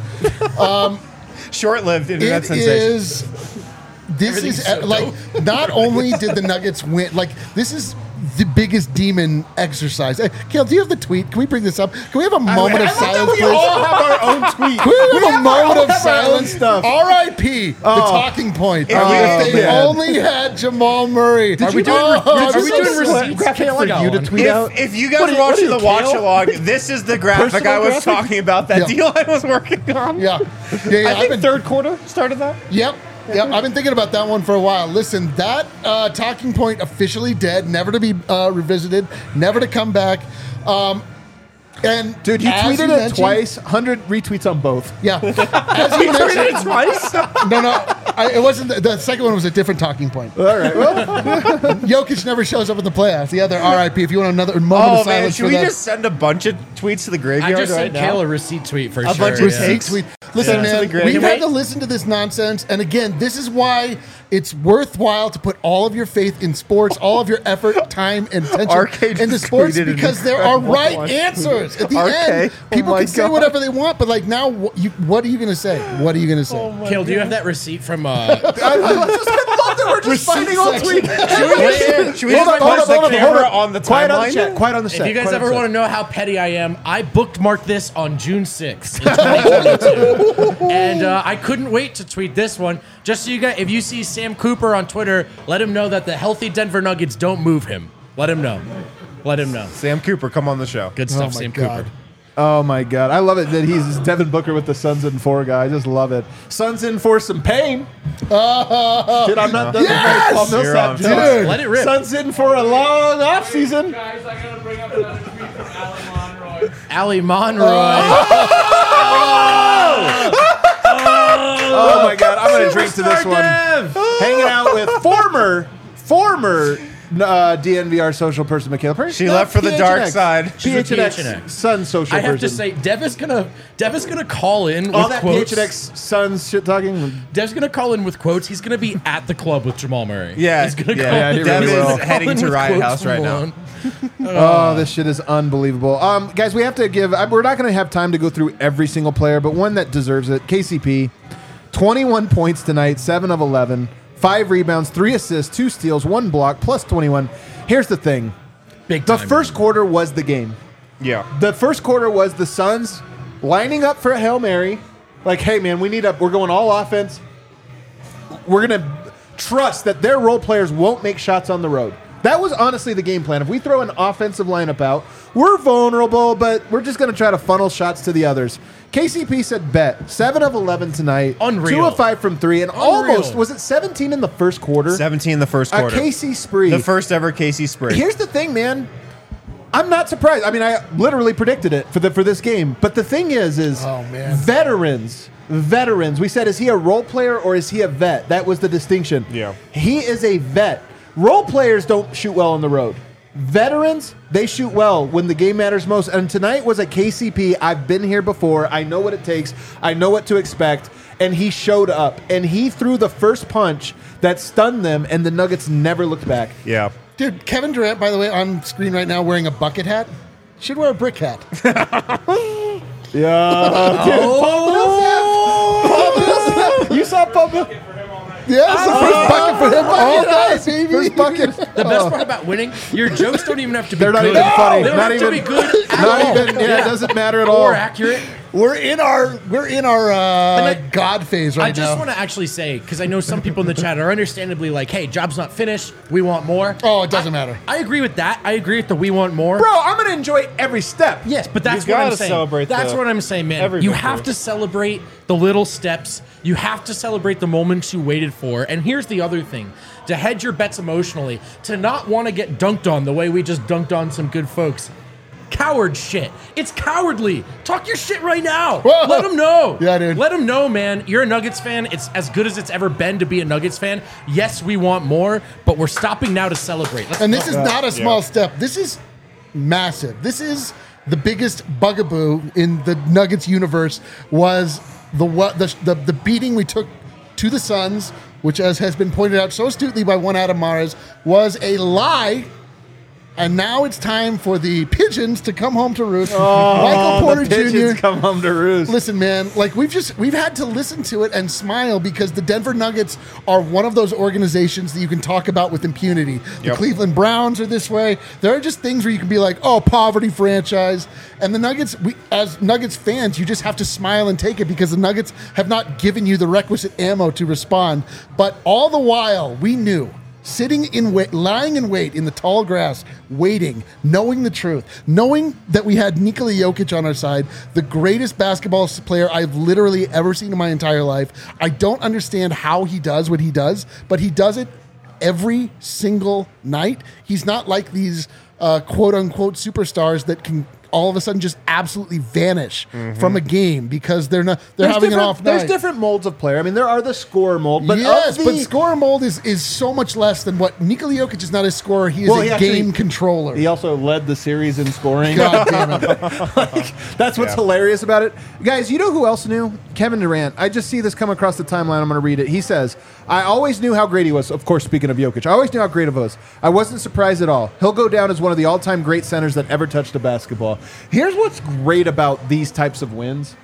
Speaker 2: Short-lived internet
Speaker 3: It
Speaker 2: sensation.
Speaker 3: is. This
Speaker 4: Everything's
Speaker 3: is
Speaker 4: so
Speaker 3: uh, like not only did the Nuggets win, like this is the biggest demon exercise. Uh, Kale, do you have the tweet? Can we bring this up? Can we have a moment of silence,
Speaker 1: We
Speaker 3: please?
Speaker 1: all have our own tweet.
Speaker 3: Can we have a
Speaker 1: have
Speaker 3: moment
Speaker 1: our-
Speaker 3: of
Speaker 1: have our own
Speaker 3: silence?
Speaker 1: stuff.
Speaker 3: R I P The talking point.
Speaker 2: If
Speaker 3: if
Speaker 2: you-
Speaker 3: they
Speaker 1: man.
Speaker 3: only had Jamal Murray.
Speaker 4: Are we doing,
Speaker 3: Oh,
Speaker 4: are we
Speaker 3: this
Speaker 4: doing
Speaker 3: is-
Speaker 4: receipts?
Speaker 1: graphic
Speaker 4: Kale,
Speaker 1: for
Speaker 4: I got
Speaker 1: you to
Speaker 4: one.
Speaker 1: tweet out?
Speaker 2: If, if you guys
Speaker 1: What are you-
Speaker 2: are
Speaker 1: what
Speaker 2: watching
Speaker 1: are
Speaker 2: the
Speaker 1: you,
Speaker 2: watch
Speaker 1: Kale?
Speaker 2: along, this is the graphic
Speaker 1: Personal
Speaker 2: I was
Speaker 1: graphic?
Speaker 2: talking about that
Speaker 3: Yeah.
Speaker 2: D-Line was working on.
Speaker 3: Yeah, yeah, yeah.
Speaker 2: I
Speaker 3: I've
Speaker 2: think
Speaker 3: been,
Speaker 2: third quarter started that.
Speaker 3: Yep. Yep, I've been thinking about that one for a while. Listen, that uh, talking point officially dead, never to be uh, revisited, never to come back. Um, and
Speaker 1: Dude, you
Speaker 3: as
Speaker 1: tweeted it
Speaker 3: mentioned-
Speaker 1: twice, one hundred retweets on both.
Speaker 3: Yeah, as you mentioned,
Speaker 2: twice.
Speaker 3: no, no, I, it wasn't. The, the second one was a different talking point.
Speaker 1: All right. Well,
Speaker 3: Jokic never shows up in the playoffs. The other R I P. If you want another moment
Speaker 2: Oh
Speaker 3: of
Speaker 2: man,
Speaker 3: silence
Speaker 2: should
Speaker 3: for
Speaker 2: we
Speaker 3: that.
Speaker 2: just send a bunch of tweets to the
Speaker 4: I
Speaker 2: graveyard
Speaker 4: just
Speaker 2: right
Speaker 4: sent
Speaker 2: now?
Speaker 4: Kale a receipt tweet for
Speaker 2: A
Speaker 4: sure.
Speaker 2: bunch of
Speaker 4: yeah.
Speaker 3: Receipt tweet. Listen,
Speaker 2: Yeah.
Speaker 3: man,
Speaker 2: Great.
Speaker 3: we've
Speaker 4: Can
Speaker 3: had
Speaker 4: we-
Speaker 3: to listen to this nonsense. And again, this is why it's worthwhile to put all of your faith in sports, all of your effort, time, and attention
Speaker 2: Arcade
Speaker 3: into
Speaker 2: just
Speaker 3: sports
Speaker 2: tweeted an
Speaker 3: because there are
Speaker 2: incredible
Speaker 3: right
Speaker 2: one.
Speaker 3: answers. At the
Speaker 2: Arcade.
Speaker 3: end,
Speaker 2: Oh
Speaker 3: people
Speaker 2: my
Speaker 3: can say
Speaker 2: God.
Speaker 3: whatever they want, but like now, what, you, what are you going to say? What are you going to say?
Speaker 4: Kale, do you have that receipt from? Uh,
Speaker 1: I, I just I love that we're just
Speaker 3: Receipt
Speaker 1: finding all
Speaker 3: section.
Speaker 1: tweets.
Speaker 2: Should we just, should we
Speaker 1: Hold
Speaker 2: just
Speaker 1: on, hold
Speaker 2: put
Speaker 1: on,
Speaker 2: the
Speaker 1: hold on,
Speaker 2: camera
Speaker 1: hold on.
Speaker 2: on the
Speaker 1: Quiet on the
Speaker 2: timeline?
Speaker 1: chat. Quiet on the set.
Speaker 4: if you guys
Speaker 1: quiet on
Speaker 4: ever
Speaker 1: the
Speaker 4: want to
Speaker 1: set.
Speaker 4: know how petty I am, I bookmarked this on June sixth, in twenty twenty-two, and uh, I couldn't wait to tweet this one. Just so you guys, if you see Sam Cooper on Twitter, let him know that the healthy Denver Nuggets don't move him. Let him know. Let him know.
Speaker 2: Sam Cooper, come on the show.
Speaker 4: Good
Speaker 3: Oh
Speaker 4: stuff,
Speaker 3: my
Speaker 4: Sam
Speaker 3: God.
Speaker 4: Cooper.
Speaker 1: Oh my God, I love it that he's Devin Booker with the Suns in four guy. I just love it. Suns in for some pain. Dude, I'm not done
Speaker 3: Yes!
Speaker 1: with my Paul
Speaker 2: You're
Speaker 1: Millsap
Speaker 2: on
Speaker 1: jokes.
Speaker 3: Dude.
Speaker 4: Let it rip.
Speaker 1: Suns in for a long off season.
Speaker 5: Guys, I gotta bring up another tweet from Alan Monroy.
Speaker 4: Ali Monroy.
Speaker 1: Oh my God, I'm gonna drink to this one. Hanging out with former, former uh, D N V R social person Michaela Perry.
Speaker 2: She left for the dark side.
Speaker 4: She's a
Speaker 1: P H N X
Speaker 4: P H N X.
Speaker 1: Sun social
Speaker 4: I have
Speaker 1: person.
Speaker 4: to say, Dev is gonna Dev is gonna call in
Speaker 1: all
Speaker 4: with
Speaker 1: that
Speaker 4: quotes.
Speaker 1: P H N X Suns shit talking.
Speaker 4: Dev's gonna call in with quotes. He's gonna be at the club with Jamal Murray.
Speaker 2: Yeah,
Speaker 4: he's gonna
Speaker 2: yeah.
Speaker 4: call.
Speaker 1: Yeah, he
Speaker 2: Dev
Speaker 1: really
Speaker 2: is
Speaker 1: will.
Speaker 2: heading
Speaker 4: call in
Speaker 2: to
Speaker 4: with
Speaker 2: Riot
Speaker 4: quotes
Speaker 2: House
Speaker 4: from
Speaker 2: right now.
Speaker 4: Malone.
Speaker 1: Oh, this shit is unbelievable. Um, guys, we have to give. I- We're not going to have time to go through every single player, but one that deserves it. K C P, twenty-one points tonight, seven of eleven, five rebounds, three assists, two steals, one block, plus twenty-one. Here's the thing:
Speaker 4: Big
Speaker 1: the
Speaker 4: time.
Speaker 1: first quarter was the game.
Speaker 2: Yeah.
Speaker 1: The first quarter was the Suns lining up for a Hail Mary. Like, hey, man, we need a. We're going all offense. We're gonna trust that their role players won't make shots on the road. That was honestly the game plan. If we throw an offensive lineup out, we're vulnerable, but we're just going to try to funnel shots to the others. K C P said bet. seven of eleven tonight.
Speaker 4: Unreal.
Speaker 1: two of five from three. And
Speaker 4: Unreal.
Speaker 1: almost, was it seventeen in the first quarter?
Speaker 2: seventeen in the first
Speaker 1: A
Speaker 2: quarter.
Speaker 1: K C spree.
Speaker 2: The first ever K C spree.
Speaker 1: Here's the thing, man. I'm not surprised. I mean, I literally predicted it for the for this game. But the thing is, is
Speaker 3: Oh, man.
Speaker 1: veterans, veterans. We said, is he a role player or is he a vet? That was the distinction.
Speaker 2: Yeah.
Speaker 1: He is a vet. Role players don't shoot well on the road. Veterans, they shoot well when the game matters most. And tonight was a K C P. I've been here before. I know what it takes. I know what to expect. And he showed up. And he threw the first punch that stunned them, and the Nuggets never looked back.
Speaker 2: Yeah.
Speaker 3: Dude, Kevin Durant, by the way, on screen right now wearing a bucket hat. Should wear a brick hat.
Speaker 1: Yeah. Dude, Paul Millsap. Paul Millsap. You saw Paul Millsap.
Speaker 3: Yeah, it's the first bucket for him all night,
Speaker 1: Bucket,
Speaker 3: baby.
Speaker 1: First bucket.
Speaker 4: The best part about winning, your jokes don't even have to be
Speaker 1: They're not
Speaker 4: good.
Speaker 1: even funny.
Speaker 4: They don't
Speaker 1: Not
Speaker 4: have
Speaker 1: even-
Speaker 4: to be good at
Speaker 1: Not
Speaker 4: all.
Speaker 1: even. Yeah, it doesn't matter at all.
Speaker 4: Or accurate.
Speaker 3: We're in our we're in our uh,
Speaker 4: I-
Speaker 3: God phase right
Speaker 4: I just
Speaker 3: now.
Speaker 4: want to actually say, because I know some people in the chat are understandably like, hey, job's not finished. We want more.
Speaker 3: Oh, it doesn't matter.
Speaker 4: I agree with that. I agree with the we want more.
Speaker 1: Bro, I'm gonna enjoy every step.
Speaker 4: Yes, but that's
Speaker 2: You
Speaker 4: what I'm
Speaker 2: gotta
Speaker 4: saying.
Speaker 2: celebrate
Speaker 4: That's
Speaker 2: the-
Speaker 4: what I'm saying, man.
Speaker 2: every
Speaker 4: You
Speaker 2: victory.
Speaker 4: have to celebrate the little steps. You have to celebrate the moments you waited for. And here's the other thing. To hedge your bets emotionally, to not want to get dunked on the way we just dunked on some good folks. Coward shit. It's cowardly. Talk your shit right now.
Speaker 3: Whoa.
Speaker 4: Let them know.
Speaker 3: Yeah, dude.
Speaker 4: Let them know, man. You're a Nuggets fan. It's as good as it's ever been to be a Nuggets fan. Yes, we want more, but we're stopping now to celebrate. Let's
Speaker 3: And this
Speaker 4: go.
Speaker 3: is not a small step. This is massive. This is the biggest bugaboo in the Nuggets universe. Was the what the the, the beating we took to the Suns, which, as has been pointed out so astutely by one Adam Mares, was a lie. And now it's time for the pigeons to come home to roost.
Speaker 1: Oh,
Speaker 3: Michael Porter
Speaker 1: the pigeons
Speaker 3: Junior
Speaker 1: come home to roost.
Speaker 3: Listen, man, like we've just we've had to listen to it and smile because the Denver Nuggets are one of those organizations that you can talk about with impunity. The
Speaker 2: Yep.
Speaker 3: Cleveland Browns are this way. There are just things where you can be like, "Oh, poverty franchise." And the Nuggets, we as Nuggets fans, you just have to smile and take it because the Nuggets have not given you the requisite ammo to respond. But all the while, we knew. Sitting in wait, lying in wait in the tall grass, waiting, knowing the truth, knowing that we had Nikola Jokic on our side, the greatest basketball player I've literally ever seen in my entire life. I don't understand how he does what he does, but he does it every single night. He's not like these uh, quote unquote superstars that can all of a sudden just absolutely vanish mm-hmm. from a game because they're not they're
Speaker 1: There's
Speaker 3: having an
Speaker 1: different-
Speaker 3: off night.
Speaker 1: There's different molds of player. I mean, there are the score mold, but
Speaker 3: yes,
Speaker 1: of the,
Speaker 3: but score mold is, is so much less than what Nikola Jokic is not a scorer. He is
Speaker 1: Well,
Speaker 3: a
Speaker 1: he actually-
Speaker 3: game controller.
Speaker 1: He also led the series in scoring.
Speaker 3: God damn it.
Speaker 1: Like, that's what's
Speaker 2: Yeah.
Speaker 1: hilarious about it. Guys, you know who else knew? Kevin Durant. I just see this come across the timeline. I'm going to read it. He says, I always knew how great he was. Of course, speaking of Jokic, I always knew how great he was. I wasn't surprised at all. He'll go down as one of the all-time great centers that ever touched a basketball. Here's what's great about these types of wins.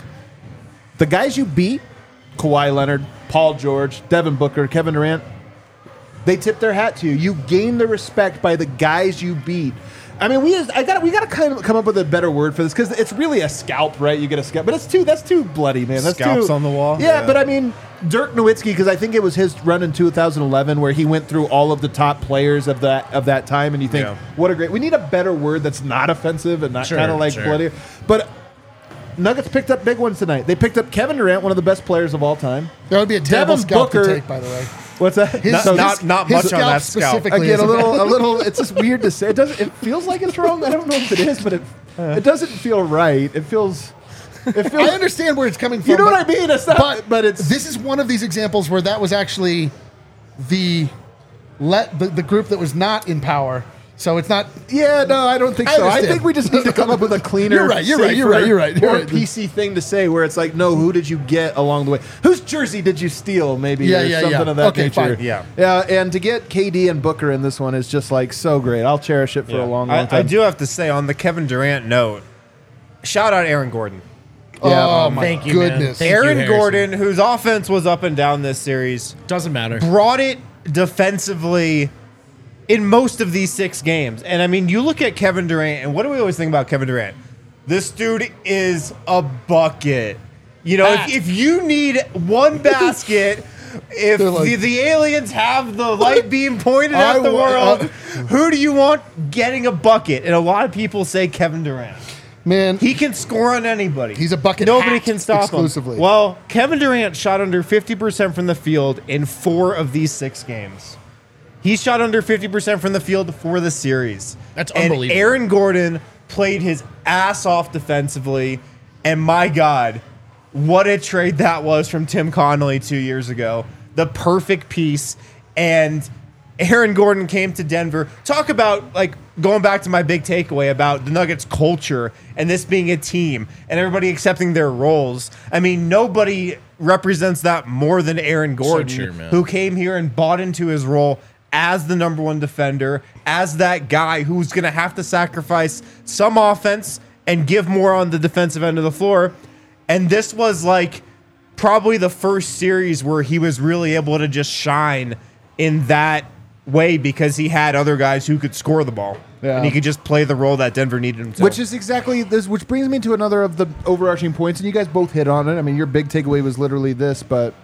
Speaker 1: The guys you beat, Kawhi Leonard, Paul George, Devin Booker, Kevin Durant, they tip their hat to you. You gain the respect by the guys you beat. I mean, we I got we got to kind of come up with a better word for this because it's really a scalp, right? You get a scalp, but it's too that's too bloody, man. That's
Speaker 2: Scalps
Speaker 1: too,
Speaker 2: on the wall?
Speaker 1: Yeah,
Speaker 2: Yeah.
Speaker 1: but I mean, Dirk Nowitzki, because I think it was his run in two thousand eleven where he went through all of the top players of that of that time, and you think,
Speaker 2: Yeah.
Speaker 1: what a great. We need a better word that's not offensive and not
Speaker 4: Sure,
Speaker 1: kind of like
Speaker 4: sure.
Speaker 1: bloody, but. Nuggets picked up big ones tonight. They picked up Kevin Durant, one of the best players of all time.
Speaker 3: That would be a terrible
Speaker 1: Devin
Speaker 3: scalp
Speaker 1: Booker-
Speaker 3: to take, by the way.
Speaker 1: What's that?
Speaker 3: His-
Speaker 2: Not-
Speaker 3: his-
Speaker 2: not- not
Speaker 3: his
Speaker 2: much on that scalp.
Speaker 3: specifically
Speaker 1: Again,
Speaker 3: is
Speaker 1: a little, a little. It's just weird to say. It doesn't. It feels like it's wrong. I don't know if it is, but it, it doesn't feel right. It feels. It feels.
Speaker 3: I understand where it's coming from.
Speaker 1: You know
Speaker 3: but,
Speaker 1: what I mean? It's not.
Speaker 3: But,
Speaker 1: But, it's.
Speaker 3: this is one of these examples where that was actually the let the, the group that was not in power. So it's not.
Speaker 1: Yeah, no, I don't think
Speaker 3: I
Speaker 1: so. I
Speaker 3: understand.
Speaker 1: think we just need to come up with a cleaner,
Speaker 3: You're right, you're right, you're
Speaker 1: safer,
Speaker 3: right, you're right, you're
Speaker 1: more
Speaker 3: right.
Speaker 1: P C thing to say where it's like, no, who did you get along the way? Whose jersey did you steal? Maybe
Speaker 3: Yeah,
Speaker 1: or
Speaker 3: yeah,
Speaker 1: something
Speaker 3: yeah.
Speaker 1: of that
Speaker 3: Okay,
Speaker 1: nature.
Speaker 3: fine.
Speaker 2: Yeah.
Speaker 1: yeah. And to get K D and Booker in this one is just like so great. I'll cherish it for a long, long
Speaker 2: I,
Speaker 1: time.
Speaker 2: I do have to say, on the Kevin Durant note, shout out Aaron Gordon.
Speaker 1: Yeah.
Speaker 3: Oh my
Speaker 4: Thank you, man.
Speaker 3: goodness.
Speaker 4: Thank you,
Speaker 2: Aaron
Speaker 4: Harrison.
Speaker 2: Gordon, whose offense was up and down this series,
Speaker 4: Doesn't matter.
Speaker 2: brought it defensively in most of these six games. And I mean, you look at Kevin Durant, and what do we always think about Kevin Durant? This dude is a bucket. You know,
Speaker 4: Ah.
Speaker 2: if, if you need one basket, if
Speaker 3: They're like-
Speaker 2: the, the aliens have the light beam pointed
Speaker 3: I
Speaker 2: at the
Speaker 3: wa-
Speaker 2: world,
Speaker 3: uh,
Speaker 2: who do you want getting a bucket? And a lot of people say Kevin Durant.
Speaker 3: Man,
Speaker 2: He can score on anybody.
Speaker 3: He's a bucket
Speaker 2: Nobody
Speaker 3: hat
Speaker 2: can stop
Speaker 3: exclusively.
Speaker 2: him. Well, Kevin Durant shot under fifty percent from the field in four of these six games. He shot under fifty percent from the field for the series.
Speaker 4: That's
Speaker 2: and
Speaker 4: unbelievable.
Speaker 2: Aaron Gordon played his ass off defensively. And my God, what a trade that was from Tim Connolly two years ago. The perfect piece. And Aaron Gordon came to Denver. Talk about, like, going back to my big takeaway about the Nuggets culture and this being a team and everybody accepting their roles. I mean, nobody represents that more than Aaron Gordon,
Speaker 4: true, man.
Speaker 2: who came here and bought into his role as the number one defender, as that guy who's going to have to sacrifice some offense and give more on the defensive end of the floor. And this was like probably the first series where he was really able to just shine in that way because he had other guys who could score the ball.
Speaker 1: Yeah.
Speaker 2: And he could just play the role that Denver needed him to.
Speaker 1: Which is exactly this, which brings me to another of the overarching points, and you guys both hit on it. I mean, your big takeaway was literally this, but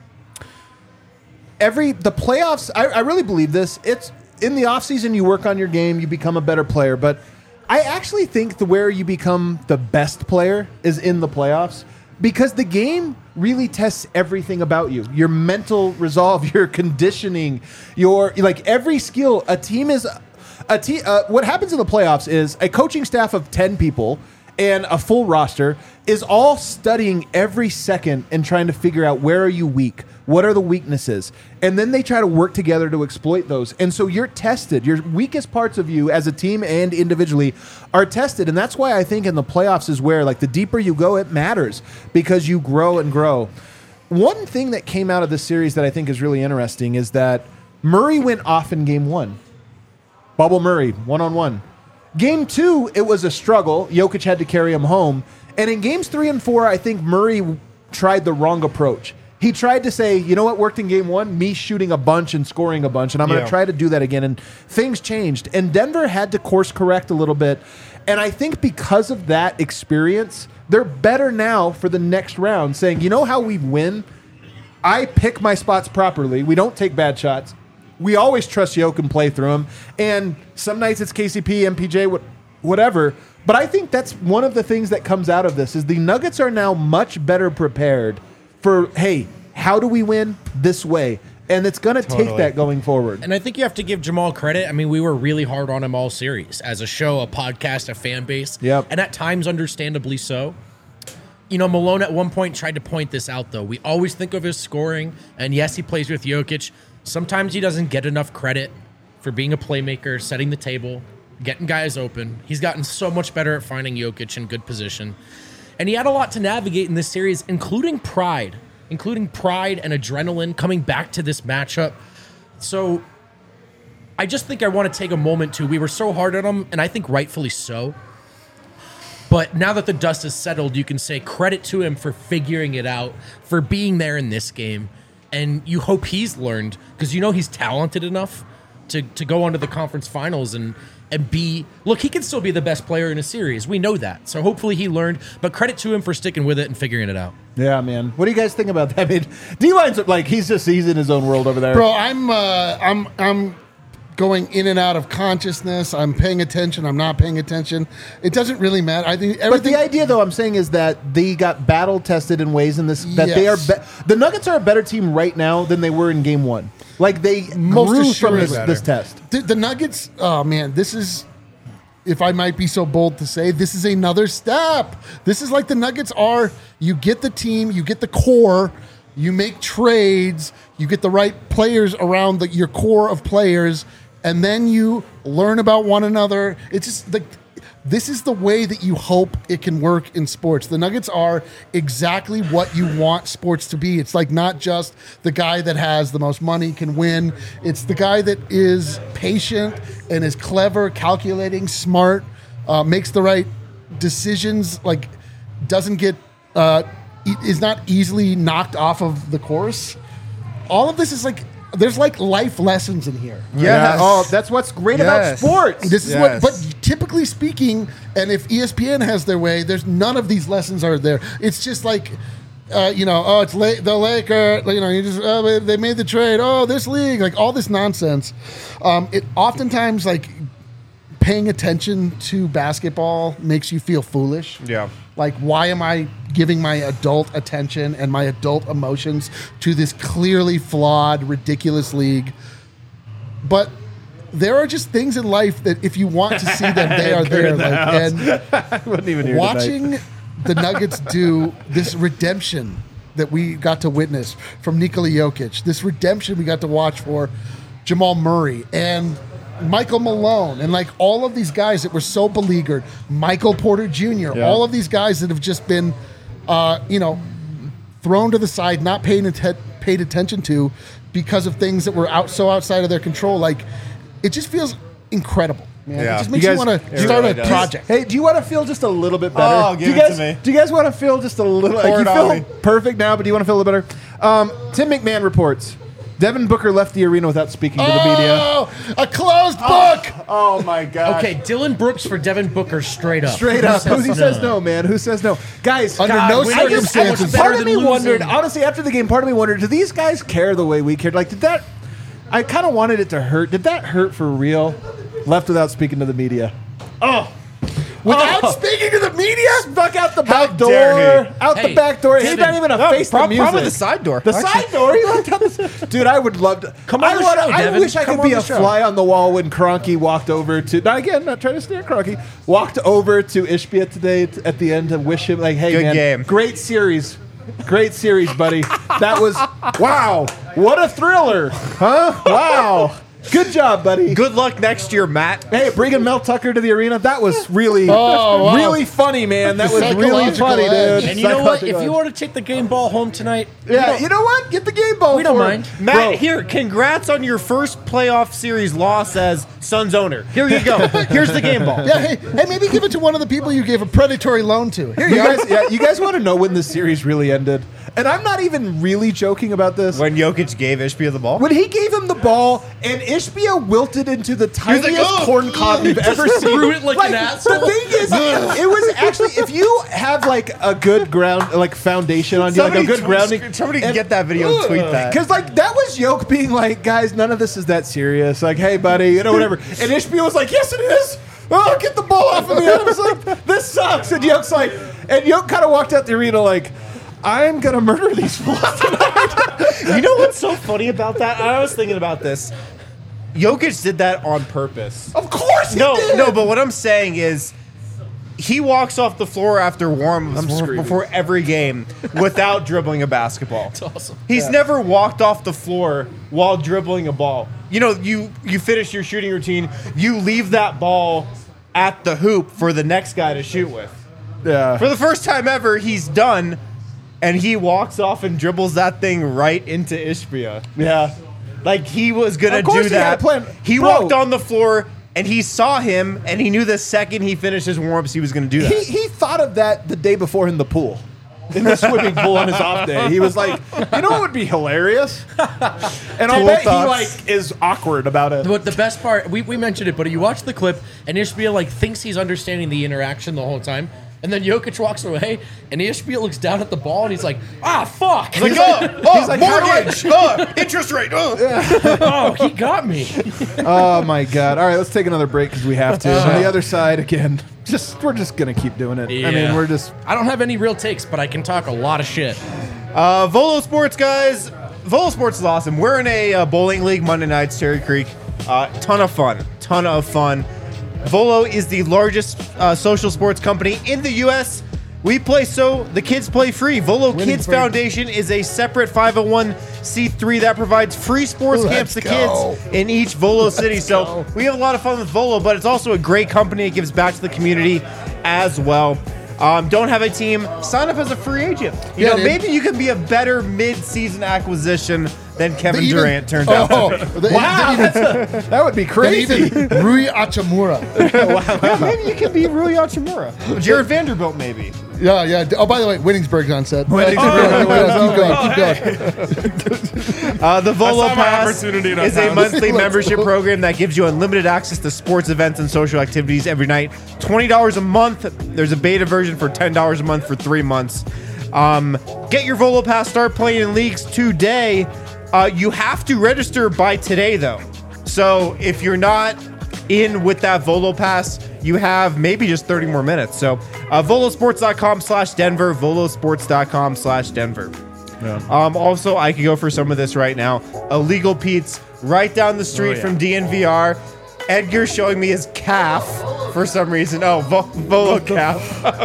Speaker 1: every the playoffs, I, I really believe this. It's in the offseason, you work on your game, you become a better player, but I actually think the where you become the best player is in the playoffs because the game really tests everything about you. Your mental resolve, your conditioning, your like every skill. A team is a team. Uh, what happens in the playoffs is a coaching staff of ten people and a full roster is all studying every second and trying to figure out where are you weak, what are the weaknesses, and then they try to work together to exploit those. And so you're tested. Your weakest parts of you as a team and individually are tested, and that's why I think in the playoffs is where like the deeper you go, it matters because you grow and grow. One thing that came out of this series that I think is really interesting is that Murray went off in game one. Bubble Murray, one-on-one. Game two, it was a struggle. Jokic had to carry him home. And in games three and four, I think Murray tried the wrong approach. He tried to say, you know what worked in game one? Me shooting a bunch and scoring a bunch, and I'm going
Speaker 2: Yeah.
Speaker 1: to try to do that again. And things changed. And Denver had to course correct a little bit. And I think because of that experience, they're better now for the next round, saying, you know how we win? I pick my spots properly. We don't take bad shots. We always trust Yoke and play through him. And some nights it's K C P, M P J, what, whatever. But I think that's one of the things that comes out of this is the Nuggets are now much better prepared for, hey, how do we win this way? And it's going to take
Speaker 2: Totally.
Speaker 1: that going forward.
Speaker 4: And I think you have to give Jamal credit. I mean, we were really hard on him all series as a show, a podcast, a fan base.
Speaker 1: Yep.
Speaker 4: And at times, understandably so. You know, Malone at one point tried to point this out, though. We always think of his scoring, and yes, he plays with Jokic. Sometimes he doesn't get enough credit for being a playmaker, setting the table, getting guys open. He's gotten so much better at finding Jokic in good position. And he had a lot to navigate in this series, including pride, including pride and adrenaline coming back to this matchup. So I just think I want to take a moment to, we were so hard on him, and I think rightfully so. But now that the dust has settled, you can say credit to him for figuring it out, for being there in this game. And you hope he's learned, because you know he's talented enough to, to go on to the conference finals and, and be... Look, he can still be the best player in a series. We know that. So hopefully he learned. But credit to him for sticking with it and figuring it out.
Speaker 1: Yeah, man. What do you guys think about that? I mean, D-Line's like, he's just, he's in his own world over there.
Speaker 3: Bro, I'm uh, I'm I'm going in and out of consciousness. I'm paying attention. I'm not paying attention. It doesn't really matter. I think
Speaker 1: But
Speaker 3: everything.
Speaker 1: the idea, though, I'm saying is that they got battle tested in ways in this that they are.
Speaker 3: Yes.
Speaker 1: Be- the Nuggets are a better team right now than they were in Game One. Like they
Speaker 3: Most
Speaker 1: grew from
Speaker 3: assuredly
Speaker 1: this,
Speaker 2: better.
Speaker 1: this test.
Speaker 3: the, the Nuggets. Oh man, this is. If I might be so bold to say, this is another step. This is like the Nuggets are. You get the team, you get the core, you make trades, you get the right players around the, your core of players, and then you learn about one another. It's just like this is the way that you hope it can work in sports. The Nuggets are exactly what you want sports to be. It's like not just the guy that has the most money can win. It's the guy that is patient and is clever, calculating, smart, uh, makes the right decisions, like doesn't get, uh, e- is not easily knocked off of the course. All of this is like, there's like life lessons in here.
Speaker 2: Yes.
Speaker 1: Oh, that's what's great
Speaker 2: Yes.
Speaker 1: about sports.
Speaker 3: This is
Speaker 2: Yes.
Speaker 3: what, but typically speaking, and if E S P N has their way, there's none of these lessons are there. It's just like, uh, you know, oh, it's late, the Laker, you know, you just, oh, they- they made the trade. Oh, this league, like all this nonsense. Um, it oftentimes like paying attention to basketball makes you feel foolish.
Speaker 2: Yeah.
Speaker 3: Like, why am I giving my adult attention and my adult emotions to this clearly flawed, ridiculous league? But there are just things in life that if you want to see them, they are there. Like, and
Speaker 1: I wasn't even here
Speaker 3: watching
Speaker 1: tonight.
Speaker 3: the Nuggets do this redemption that we got to witness from Nikola Jokic, this redemption we got to watch for Jamal Murray and Michael Malone, and like all of these guys that were so beleaguered, Michael Porter Junior,
Speaker 1: Yeah.
Speaker 3: all of these guys that have just been, uh, you know, thrown to the side, not paying atten- paid attention to because of things that were out so outside of their control. Like, it just feels incredible, man.
Speaker 2: Yeah.
Speaker 3: It just makes
Speaker 1: You
Speaker 3: you,
Speaker 1: guys-
Speaker 3: want
Speaker 2: It
Speaker 3: to start
Speaker 2: really
Speaker 3: a
Speaker 2: does.
Speaker 3: project.
Speaker 1: Hey, do you want to feel just a little bit better?
Speaker 2: Oh,
Speaker 1: do
Speaker 2: give
Speaker 1: you
Speaker 2: it
Speaker 1: guys,
Speaker 2: to me.
Speaker 1: Do you guys want to feel just a little? Like,
Speaker 2: Pour
Speaker 1: you
Speaker 2: it
Speaker 1: feel
Speaker 2: on me.
Speaker 1: perfect now, but do you want to feel a little better? Um, Tim McMahon reports Devin Booker left the arena without speaking to the media.
Speaker 3: Oh, a closed book.
Speaker 1: Oh my God!
Speaker 4: Okay, Dylan Brooks for Devin Booker straight up.
Speaker 1: Straight
Speaker 4: Who
Speaker 1: up.
Speaker 4: says
Speaker 1: Who says no, man? Who says no? Guys,
Speaker 3: Under
Speaker 1: God,
Speaker 3: no
Speaker 1: I just- I
Speaker 3: circumstances.
Speaker 1: just-
Speaker 4: Better
Speaker 1: Part of
Speaker 4: than
Speaker 1: me
Speaker 4: losing.
Speaker 1: wondered, honestly, after the game, part of me wondered, do these guys care the way we cared? Like, did that, I kind of wanted it to hurt. Did that hurt for real? Left without speaking to the media. Oh.
Speaker 3: Without
Speaker 1: Oh.
Speaker 3: speaking to the media?
Speaker 1: Snuck out the
Speaker 2: How
Speaker 1: back
Speaker 2: dare
Speaker 1: door.
Speaker 2: he.
Speaker 1: Out
Speaker 4: Hey,
Speaker 1: the back door. He's
Speaker 4: Devin.
Speaker 1: not even a
Speaker 2: No,
Speaker 1: face the
Speaker 2: prob-
Speaker 1: music.
Speaker 2: probably the side door.
Speaker 1: The
Speaker 2: Actually.
Speaker 1: side door. He left out the. Dude, I would love to.
Speaker 4: Come on
Speaker 1: I
Speaker 4: the
Speaker 1: wanna-
Speaker 4: show,
Speaker 1: I
Speaker 4: Devin.
Speaker 1: wish I
Speaker 4: Come
Speaker 1: could
Speaker 4: on
Speaker 1: be
Speaker 4: the
Speaker 1: a
Speaker 4: show.
Speaker 1: fly on the wall when Kroenke walked over to. Now again, not trying to steer Kroenke. Walked over to Ishbia today t- at the end to wish him like, hey
Speaker 2: Good
Speaker 1: man,
Speaker 2: game.
Speaker 1: great series. Great series, buddy. That was wow. What a thriller, huh? Wow. Good job, buddy.
Speaker 2: Good luck next year, Matt.
Speaker 1: Hey, bringing Mel Tucker to the arena, that was really,
Speaker 3: Oh, wow.
Speaker 1: really funny, man. That was really
Speaker 3: Psychological
Speaker 1: funny,
Speaker 3: edge.
Speaker 1: dude.
Speaker 4: And you know what? If
Speaker 1: Psychological
Speaker 4: you
Speaker 1: edge.
Speaker 4: want to take the game ball home tonight,
Speaker 1: Yeah, you know what? Get the game ball.
Speaker 4: we don't
Speaker 1: for it.
Speaker 4: mind.
Speaker 2: Matt,
Speaker 1: Bro.
Speaker 2: here, congrats on your first playoff series loss as Suns owner. Here you go. Here's the game ball.
Speaker 3: Yeah, hey, hey, maybe give it to one of the people you gave a predatory loan to. Here
Speaker 1: You
Speaker 3: you go.
Speaker 1: guys, yeah, you guys want to know when this series really ended? And I'm not even really joking about this.
Speaker 2: When Jokic gave Ishbia the ball.
Speaker 1: When he gave him the ball and Ishbia wilted into the tiniest
Speaker 2: like, "Oh,
Speaker 1: corn cob you've ever seen.
Speaker 4: threw it like an asshole.
Speaker 1: The thing is, it was actually, if you have like a good ground, like foundation on you, like a good
Speaker 2: tweet-
Speaker 1: grounding.
Speaker 2: Somebody get that video and tweet that.
Speaker 1: Because like that was Yoke being like, guys, none of this is that serious. Like, hey, buddy, you know, whatever. And Ishbia was like, yes, it is. Oh, get the ball off of me. And I was like, this sucks. And Yoke's like, and Yoke kind of walked out the arena like, I'm gonna murder these fools tonight.
Speaker 2: You know what's so funny about that? I was thinking about this. Jokic did that on purpose.
Speaker 1: Of course he
Speaker 2: No,
Speaker 1: did.
Speaker 2: no, but what I'm saying is he walks off the floor after warm-ups before,
Speaker 1: screaming.
Speaker 2: before every game without dribbling a basketball. That's
Speaker 4: awesome.
Speaker 2: He's never walked off the floor while dribbling a ball. You know, you you finish your shooting routine, you leave that ball at the hoop for the next guy to shoot with.
Speaker 1: Yeah.
Speaker 2: For the first time ever, he's done, and he walks off and dribbles that thing right into Ishbia.
Speaker 1: Yeah.
Speaker 2: Like he was gonna
Speaker 1: Of course
Speaker 2: do
Speaker 1: he
Speaker 2: that.
Speaker 1: had a plan.
Speaker 2: He
Speaker 1: Bro.
Speaker 2: walked on the floor and he saw him, and he knew the second he finished his warm-ups, he was gonna do that.
Speaker 1: He, he thought of that the day before in the pool. In the swimming pool on his off day. He was like, you know what would be hilarious? And I'll
Speaker 2: Cool
Speaker 1: bet
Speaker 2: thoughts.
Speaker 1: he like is awkward about it.
Speaker 4: But the best part, we, we mentioned it, but you watch the clip, and Ishbia like thinks he's understanding the interaction the whole time, and then Jokic walks away, and Ishbia looks down at the ball, and he's like, "Ah, fuck!"
Speaker 2: Like, oh, oh,
Speaker 1: He's like, how do I-
Speaker 2: mortgage, oh, interest rate, oh.
Speaker 4: oh, he got me.
Speaker 1: Oh my god. All right, let's take another break because we have to. On the other side again. Just we're just gonna keep doing it. I mean,
Speaker 4: Yeah.
Speaker 1: we're just
Speaker 4: I don't have any real takes, but I can talk a lot of shit.
Speaker 2: Uh, Volo Sports, guys. Volo Sports is awesome. We're in a uh, bowling league Monday nights, Cherry Creek. Uh, ton of fun. Ton of fun. Volo is the largest uh, social sports company in the U S We play so the kids play free. Volo Kids
Speaker 3: Winningsburg.
Speaker 2: Foundation is a separate five oh one c three that provides free sports camps
Speaker 3: Let's
Speaker 2: to
Speaker 3: go.
Speaker 2: kids in each Volo city. So we have a lot of fun with Volo, but it's also a great company. It gives back to the community as well. Um, don't have a team? Sign up as a free agent. You
Speaker 3: Yeah,
Speaker 2: know,
Speaker 3: dude.
Speaker 2: maybe you can be a better mid-season acquisition than Kevin
Speaker 3: They even-
Speaker 2: Durant turned
Speaker 3: oh,
Speaker 2: out.
Speaker 3: they-
Speaker 1: wow.
Speaker 3: they even-
Speaker 1: That's a, that would be
Speaker 3: they
Speaker 1: crazy.
Speaker 3: even Rui Hachimura.
Speaker 2: Maybe you can be Rui Hachimura. Jared Vanderbilt, maybe.
Speaker 3: Yeah, yeah. Oh, by the way, Winningsburg's on set.
Speaker 1: Winningsburg.
Speaker 3: Yeah, keep going, keep going.
Speaker 2: Uh, the Volo
Speaker 5: I saw my
Speaker 2: Pass
Speaker 5: opportunity in
Speaker 2: is a
Speaker 5: town.
Speaker 2: monthly
Speaker 3: Let's
Speaker 2: membership
Speaker 3: go.
Speaker 2: program that gives you unlimited access to sports events and social activities every night. twenty dollars a month. There's a beta version for ten dollars a month for three months. Um, get your Volo Pass. Start playing in leagues today. Uh, you have to register by today, though. So if you're not in with that Volo Pass, you have maybe just thirty more minutes. So uh, volosports.com slash Denver, volosports.com slash Denver. Um, also, I could go for some of this right now. Illegal Pete's right down the street
Speaker 4: Oh, yeah.
Speaker 2: from D N V R. Edgar's showing me his calf for some reason. Oh, Vo- Volo calf.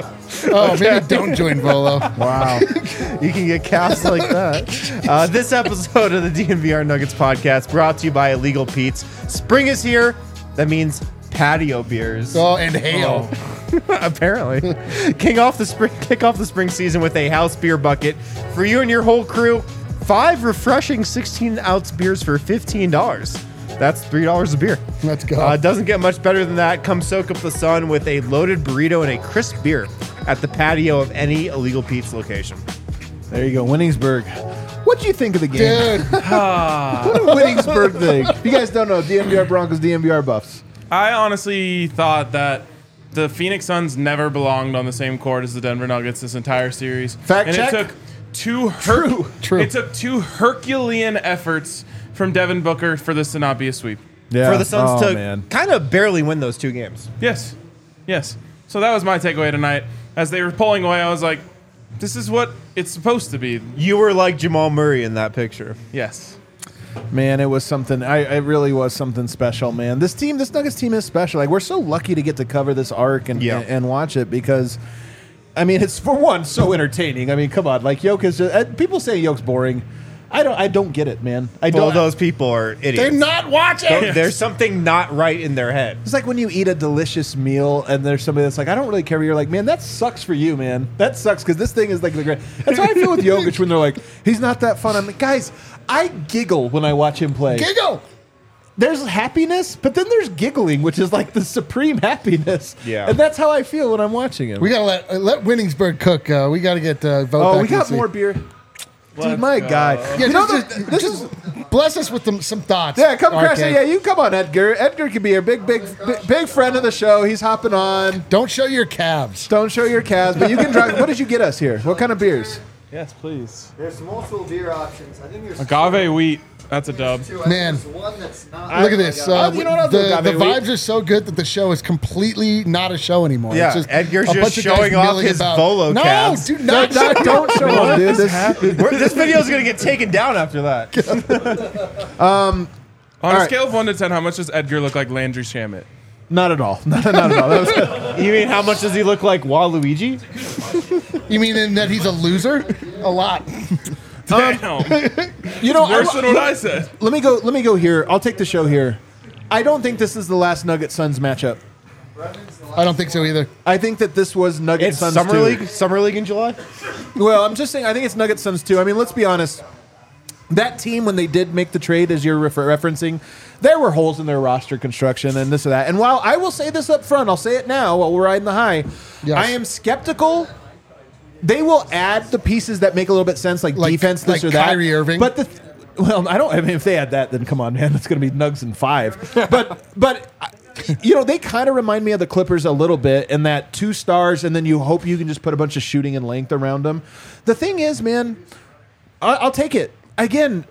Speaker 3: Oh, maybe don't join Volo.
Speaker 1: Wow.
Speaker 2: You can get calves like that. Uh, this episode of the D N V R Nuggets podcast brought to you by Illegal Pete's. Spring is here. That means patio beers.
Speaker 3: Oh, and hail.
Speaker 2: Apparently. King off the spring, kick off the spring season with a house beer bucket for you and your whole crew. Five refreshing sixteen ounce beers for fifteen dollars. That's three dollars a beer.
Speaker 3: Let's go.
Speaker 2: Uh, doesn't get much better than that. Come soak up the sun with a loaded burrito and a crisp beer at the patio of any Illegal Pete's location.
Speaker 1: There you go, Winningsburg. What do you think of the game?
Speaker 3: Dude,
Speaker 1: What did Winningsburg think? If you guys don't know, D N V R Broncos, D N V R Buffs.
Speaker 5: I honestly thought that the Phoenix Suns never belonged on the same court as the Denver Nuggets this entire series.
Speaker 1: Fact
Speaker 5: and
Speaker 1: check.
Speaker 5: it took two her-
Speaker 1: True.
Speaker 3: True.
Speaker 5: It took two Herculean efforts from Devin Booker for this to not be a sweep.
Speaker 1: Yeah.
Speaker 2: For the Suns
Speaker 1: oh,
Speaker 2: to
Speaker 1: man.
Speaker 2: kind of barely win those two games.
Speaker 5: Yes. Yes. So that was my takeaway tonight. As they were pulling away, I was like, this is what it's supposed to be.
Speaker 2: You were like Jamal Murray in that picture.
Speaker 5: Yes.
Speaker 1: Man, it was something. I it really was something special, man. This team, this Nuggets team is special. Like, we're so lucky to get to cover this arc and
Speaker 2: Yeah.
Speaker 1: and, and watch it because, I mean, it's for one so entertaining. I mean, come on, like Jokic. Uh, people say Jokic boring. I don't. I don't get it, man. I
Speaker 2: Well,
Speaker 1: don't.
Speaker 2: those people are idiots.
Speaker 3: They're not watching.
Speaker 2: Don't- There's something not right in their head.
Speaker 1: It's like when you eat a delicious meal and there's somebody that's like, I don't really care. You're like, man, that sucks for you, man. That sucks because this thing is like the great. That's how I feel with Jokic when they're like, he's not that fun. I'm like, guys, I giggle when I watch him play.
Speaker 3: Giggle.
Speaker 1: There's happiness, but then there's giggling, which is like the supreme happiness.
Speaker 2: Yeah.
Speaker 1: And that's how I feel when I'm watching him.
Speaker 3: We gotta let uh, let Winningsburg cook. Uh, we gotta get uh, vote.
Speaker 1: oh,
Speaker 3: back
Speaker 1: we got
Speaker 3: in the
Speaker 1: more
Speaker 3: seat.
Speaker 1: beer. Dude, my God.
Speaker 3: Yeah,
Speaker 1: you know,
Speaker 3: just,
Speaker 1: the-
Speaker 3: just-
Speaker 1: this
Speaker 3: just
Speaker 1: is.
Speaker 3: bless us with them, some thoughts.
Speaker 1: Yeah, come
Speaker 3: R K.
Speaker 1: crash it. Yeah, you come on, Edgar. Edgar can be a big, big, big, big friend of the show. He's hopping on.
Speaker 3: Don't show your calves.
Speaker 1: Don't show your calves, but you can drive. What did you get us here? What kind of beers?
Speaker 5: Yes, please.
Speaker 6: There's multiple beer options. I think there's
Speaker 5: Agave wheat. That's a dub.
Speaker 6: two. I think
Speaker 3: Man.
Speaker 6: there's one that's not.
Speaker 3: Look at this.
Speaker 1: Oh,
Speaker 3: Uh,
Speaker 1: you know what I'll do,
Speaker 3: the
Speaker 1: Agave
Speaker 3: the
Speaker 1: Wheat?
Speaker 3: vibes are so good that the show is completely not a show anymore.
Speaker 2: Yeah,
Speaker 3: It's
Speaker 2: Edgar's
Speaker 3: a
Speaker 2: just
Speaker 3: bunch of guys
Speaker 2: showing off
Speaker 3: milling
Speaker 2: his
Speaker 3: about.
Speaker 2: Volo
Speaker 3: no,
Speaker 2: calves.
Speaker 3: do not.
Speaker 1: No, don't show them, dude. This,
Speaker 2: We're- this video is going to get taken down after that.
Speaker 5: On a
Speaker 1: right.
Speaker 5: scale of one to ten, how much does Edgar look like Landry Shamit?
Speaker 1: not at all. Not, not at all. That was,
Speaker 2: You mean how much does he look like Waluigi?
Speaker 3: You mean in that he's a loser? A lot.
Speaker 5: Damn.
Speaker 1: you know,
Speaker 5: Worse
Speaker 1: I,
Speaker 5: than what I said.
Speaker 1: let me go. Let me go here. I'll take the show here. I don't think this is the last Nugget Suns matchup.
Speaker 3: I don't think so either.
Speaker 1: I think that this was Nugget
Speaker 2: It's
Speaker 1: Suns
Speaker 2: Summer
Speaker 1: two.
Speaker 2: League? Summer League in July?
Speaker 1: Well, I'm just saying. I think it's Nugget Suns too. I mean, let's be honest. That team, when they did make the trade, as you're refer- referencing, there were holes in their roster construction and this or that. And while I will say this up front, I'll say it now while we're riding the high.
Speaker 3: Yes.
Speaker 1: I am skeptical. They will add the pieces that make a little bit sense, like,
Speaker 3: Like-
Speaker 1: defense, this
Speaker 3: like
Speaker 1: or that.
Speaker 3: Kyrie Irving.
Speaker 1: But the th- well, I don't. I mean, if they add that, then come on, man, it's going to be Nugs and five. But but. You know, they kind of remind me of the Clippers a little bit in that two stars, and then you hope you can just put a bunch of shooting and length around them. The thing is, man, I- I'll take it. Again,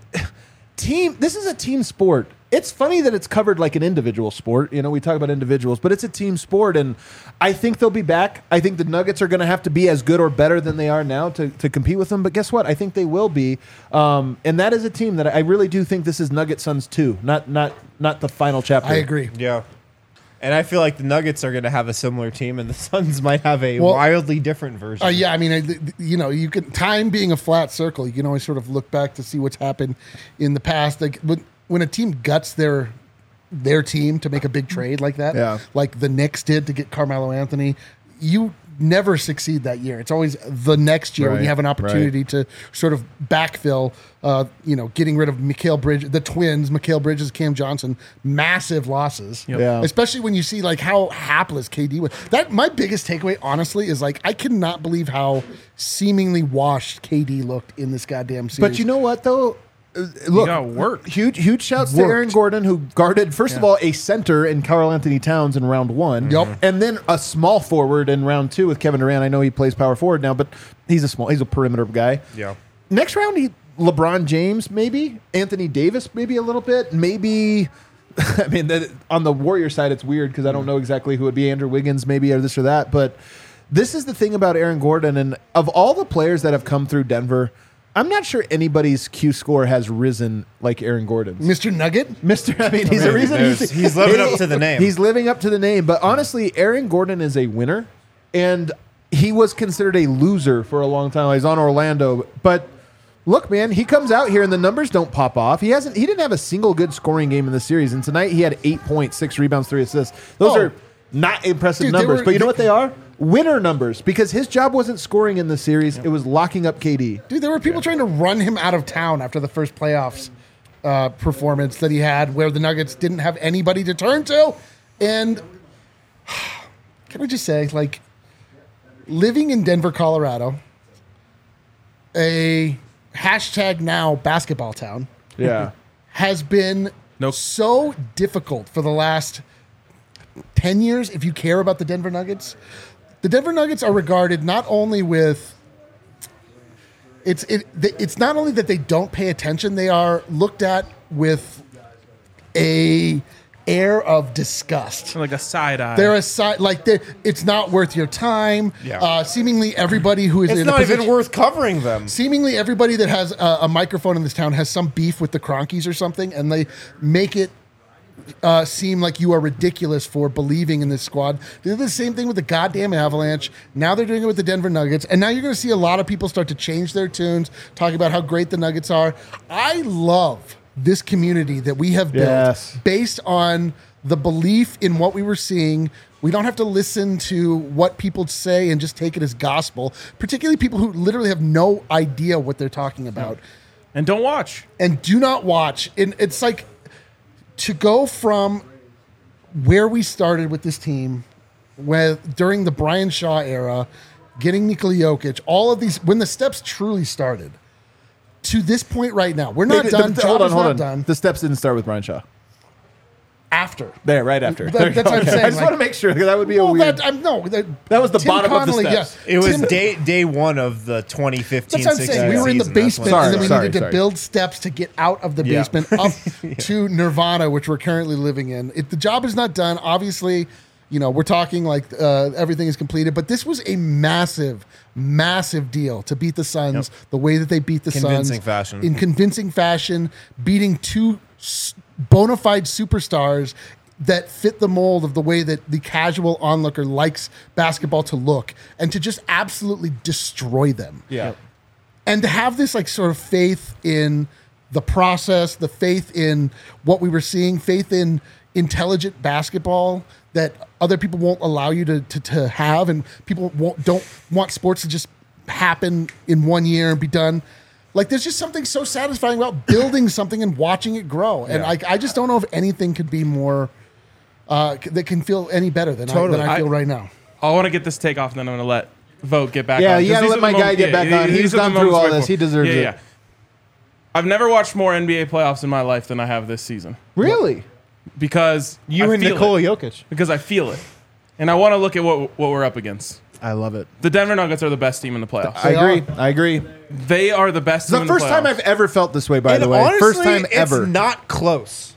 Speaker 1: team. This is a team sport. It's funny that it's covered like an individual sport. You know, we talk about individuals, but it's a team sport, and I think they'll be back. I think the Nuggets are going to have to be as good or better than they are now to, to compete with them. But guess what? I think they will be, um, and that is a team that I really do think this is Nugget Suns two, not not not the final chapter.
Speaker 3: I agree.
Speaker 2: Yeah. And I feel like the Nuggets are going to have a similar team, and the Suns might have a
Speaker 3: Well-
Speaker 2: wildly different version.
Speaker 3: Uh, yeah, I mean, I- th- you know, you can time being a flat circle. You can always sort of look back to see what's happened in the past. Like when, when a team guts their their team to make a big trade like that,
Speaker 1: Yeah.
Speaker 3: like the Knicks did to get Carmelo Anthony, you never succeed that year. It's always the next year when
Speaker 1: Right,
Speaker 3: you have an opportunity
Speaker 1: right.
Speaker 3: to sort of backfill. Uh, you know, getting rid of Mikal Bridges, the twins, Mikal Bridges, Cam Johnson, massive losses.
Speaker 1: Yeah.
Speaker 3: Especially when you see like how hapless K D was. That my biggest takeaway, honestly, is like I cannot believe how seemingly washed K D looked in this goddamn series.
Speaker 1: But you know what though? Uh, Look,
Speaker 5: got worked.
Speaker 1: huge, huge shouts to
Speaker 3: Worked.
Speaker 1: Aaron Gordon, who guarded first of all a center in Karl Anthony Towns in round one,
Speaker 3: Yup.
Speaker 1: and then a small forward in round two with Kevin Durant. I know he plays power forward now, but he's a small, he's a perimeter guy.
Speaker 2: Yeah.
Speaker 1: Next round, he LeBron James, maybe Anthony Davis, maybe a little bit, maybe. I mean, that, on the Warrior side, it's weird because I don't know exactly who it would be. Andrew Wiggins, maybe, or this or that. But this is the thing about Aaron Gordon, and of all the players that have come through Denver, I'm not sure anybody's Q score has risen like Aaron Gordon's.
Speaker 3: Mister Nugget,
Speaker 1: Mister I mean, he's the reason he's,
Speaker 2: There's- he's living up to the name.
Speaker 1: He's living up to the name. But honestly, Aaron Gordon is a winner, and he was considered a loser for a long time. He's on Orlando, but look, man, he comes out here and the numbers don't pop off. He hasn't. He didn't have a single good scoring game in the series, and tonight he had eight points, six rebounds, three assists. Those
Speaker 3: Oh.
Speaker 1: are not impressive
Speaker 3: Dude, they
Speaker 1: numbers,
Speaker 3: were-
Speaker 1: but you know
Speaker 3: they-
Speaker 1: what they are? Winner numbers, because his job wasn't scoring in the series; it was locking up K D.
Speaker 3: dude, there were people trying to run him out of town after the first playoffs uh, performance that he had, where the Nuggets didn't have anybody to turn to. And can I just say, like, living in Denver, Colorado, a hashtag now basketball town,
Speaker 1: Yeah.
Speaker 3: has been
Speaker 5: Nope.
Speaker 3: so difficult for the last ten years if you care about the Denver Nuggets. The Denver Nuggets are regarded not only with it's it it's not only that they don't pay attention, they are looked at with a air of disgust.
Speaker 5: Like a side eye.
Speaker 3: They're a side like they it's not worth your time.
Speaker 2: Yeah.
Speaker 3: Uh, seemingly everybody who is
Speaker 2: It's
Speaker 3: in
Speaker 2: not
Speaker 3: a
Speaker 2: even
Speaker 3: position,
Speaker 2: worth covering them.
Speaker 3: seemingly everybody that has a, a microphone in this town has some beef with the Cronkies or something, and they make it uh, seem like you are ridiculous for believing in this squad. They did the same thing with the goddamn Avalanche. Now they're doing it with the Denver Nuggets. And now you're going to see a lot of people start to change their tunes, talking about how great the Nuggets are. I love this community that we have built
Speaker 1: Yes.
Speaker 3: based on the belief in what we were seeing. We don't have to listen to what people say and just take it as gospel, particularly people who literally have no idea what they're talking about.
Speaker 5: And don't watch.
Speaker 3: And do not watch. And it's like to go from where we started with this team, with during the Brian Shaw era, getting Nikola Jokic, all of these, when the steps truly started, to this point right now, we're not
Speaker 1: The-
Speaker 3: done.
Speaker 1: the-
Speaker 3: Job
Speaker 1: hold on,
Speaker 3: is
Speaker 1: hold
Speaker 3: not
Speaker 1: on.
Speaker 3: done.
Speaker 1: The steps didn't start with Brian Shaw.
Speaker 3: After.
Speaker 1: There, right after.
Speaker 3: That-
Speaker 1: There you
Speaker 3: that's
Speaker 1: go.
Speaker 3: what I'm saying,
Speaker 1: I just
Speaker 3: like-
Speaker 1: want to make sure because that would be a
Speaker 3: Well,
Speaker 1: weird.
Speaker 3: that, I'm, no, that,
Speaker 1: That was the
Speaker 3: Tim
Speaker 1: bottom of the
Speaker 3: Connolly,
Speaker 1: steps.
Speaker 3: yeah.
Speaker 2: It was
Speaker 3: Tim-
Speaker 2: day day one of the twenty fifteen
Speaker 3: That's what I'm saying. We were in the
Speaker 2: season. That's
Speaker 3: basement,
Speaker 2: when-
Speaker 3: and then we
Speaker 1: Sorry,
Speaker 3: needed to
Speaker 1: sorry.
Speaker 3: build steps to get out of the
Speaker 1: Yeah.
Speaker 3: basement up to Nirvana, which we're currently living in. It, the job is not done. Obviously, you know, we're talking like uh, everything is completed, but this was a massive, massive deal to beat the Suns the way that they beat the
Speaker 2: Convincing
Speaker 3: Suns
Speaker 2: fashion.
Speaker 3: in convincing fashion, beating two s- bona fide superstars that fit the mold of the way that the casual onlooker likes basketball to look, and to just absolutely destroy them
Speaker 1: Yeah.
Speaker 3: and to have this like sort of faith in the process, the faith in what we were seeing, faith in intelligent basketball that other people won't allow you to, to, to have, and people won't, don't want sports to just happen in one year and be done. Like there's just something so satisfying about building something and watching it grow. And
Speaker 1: Yeah.
Speaker 3: like I just don't know if anything could be more uh, c- that can feel any better than,
Speaker 2: Totally.
Speaker 3: I, than I feel
Speaker 5: I-
Speaker 3: right now.
Speaker 5: I want to get this take off, and then I'm going to let Vogt get back
Speaker 1: Yeah,
Speaker 5: on.
Speaker 1: you
Speaker 5: 'cause
Speaker 1: gotta
Speaker 5: these
Speaker 1: let
Speaker 5: are
Speaker 1: my
Speaker 5: the
Speaker 1: guy
Speaker 5: moments-
Speaker 1: get back on.
Speaker 5: these
Speaker 1: He's
Speaker 5: are the
Speaker 1: gone through
Speaker 5: moments
Speaker 1: all
Speaker 5: right
Speaker 1: this.
Speaker 5: before-
Speaker 1: He deserves
Speaker 5: yeah,
Speaker 1: it.
Speaker 5: Yeah. I've never watched more N B A playoffs in my life than I have this season
Speaker 1: Really?
Speaker 5: because
Speaker 2: You
Speaker 5: I
Speaker 2: and
Speaker 5: feel
Speaker 2: Nikola
Speaker 5: it.
Speaker 2: Jokic.
Speaker 5: Because I feel it, and I want to look at what what we're up against.
Speaker 1: I love it.
Speaker 5: The Denver Nuggets are the best team in the playoffs.
Speaker 1: I
Speaker 3: They
Speaker 1: agree.
Speaker 3: are.
Speaker 1: I agree.
Speaker 5: They are the best
Speaker 1: It's
Speaker 5: team
Speaker 1: the
Speaker 5: in the
Speaker 1: first time
Speaker 5: playoffs.
Speaker 1: I've ever felt this way, by
Speaker 2: And
Speaker 1: the way.
Speaker 2: honestly,
Speaker 1: First time
Speaker 2: it's
Speaker 1: ever.
Speaker 2: not close.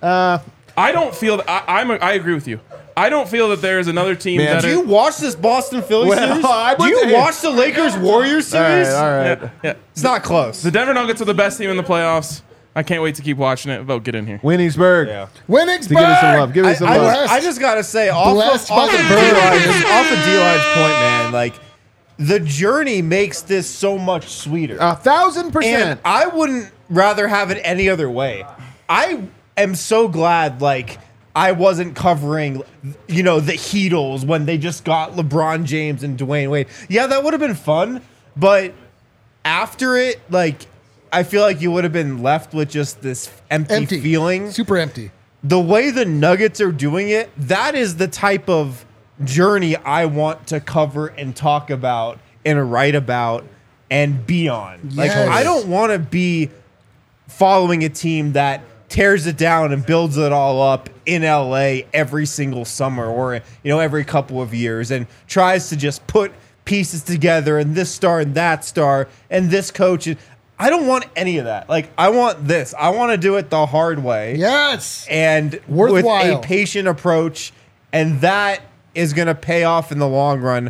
Speaker 5: I don't feel that. I, I'm. A, I agree with you. I don't feel that there is another team
Speaker 1: Man,
Speaker 5: that
Speaker 2: Do
Speaker 5: are-
Speaker 2: you watch this Boston Philly
Speaker 1: Well,
Speaker 2: series?
Speaker 1: I
Speaker 2: Do you
Speaker 1: would-
Speaker 2: watch the Lakers Warriors
Speaker 1: all right,
Speaker 2: series?
Speaker 1: all right.
Speaker 5: Yeah, yeah.
Speaker 2: It's not close.
Speaker 5: The Denver Nuggets are the best team in the playoffs. I can't wait to keep watching it. Vogt, get in here.
Speaker 1: Winningsburg.
Speaker 2: Yeah.
Speaker 3: Winningsburg!
Speaker 1: To give us some love. Give
Speaker 2: I,
Speaker 1: us some
Speaker 2: I,
Speaker 1: love.
Speaker 3: Blessed.
Speaker 2: I just gotta say, off
Speaker 3: Blessed
Speaker 2: of, off
Speaker 3: by
Speaker 2: of
Speaker 3: the
Speaker 2: D-Line's,
Speaker 3: birds.
Speaker 2: off of D-Line's point, man, like the journey makes this so much sweeter.
Speaker 1: A thousand
Speaker 2: And
Speaker 1: percent.
Speaker 2: I wouldn't rather have it any other way. I am so glad, like, I wasn't covering, you know, the Heatles when they just got LeBron James and Dwayne Wade. Yeah, that would have been fun, but after it, like, I feel like you would have been left with just this empty,
Speaker 3: Empty.
Speaker 2: feeling.
Speaker 3: Super empty.
Speaker 2: The way the Nuggets are doing it, that is the type of journey I want to cover and talk about and write about and be on. Like,
Speaker 3: Yes.
Speaker 2: I don't want to be following a team that tears it down and builds it all up in L A every single summer or, you know, every couple of years and tries to just put pieces together and this star and that star and this coach. I don't want any of that. Like, I want this. I want to do it the hard way
Speaker 3: Yes.
Speaker 2: and
Speaker 3: Worthwhile.
Speaker 2: with a patient approach, and that is going to pay off in the long run.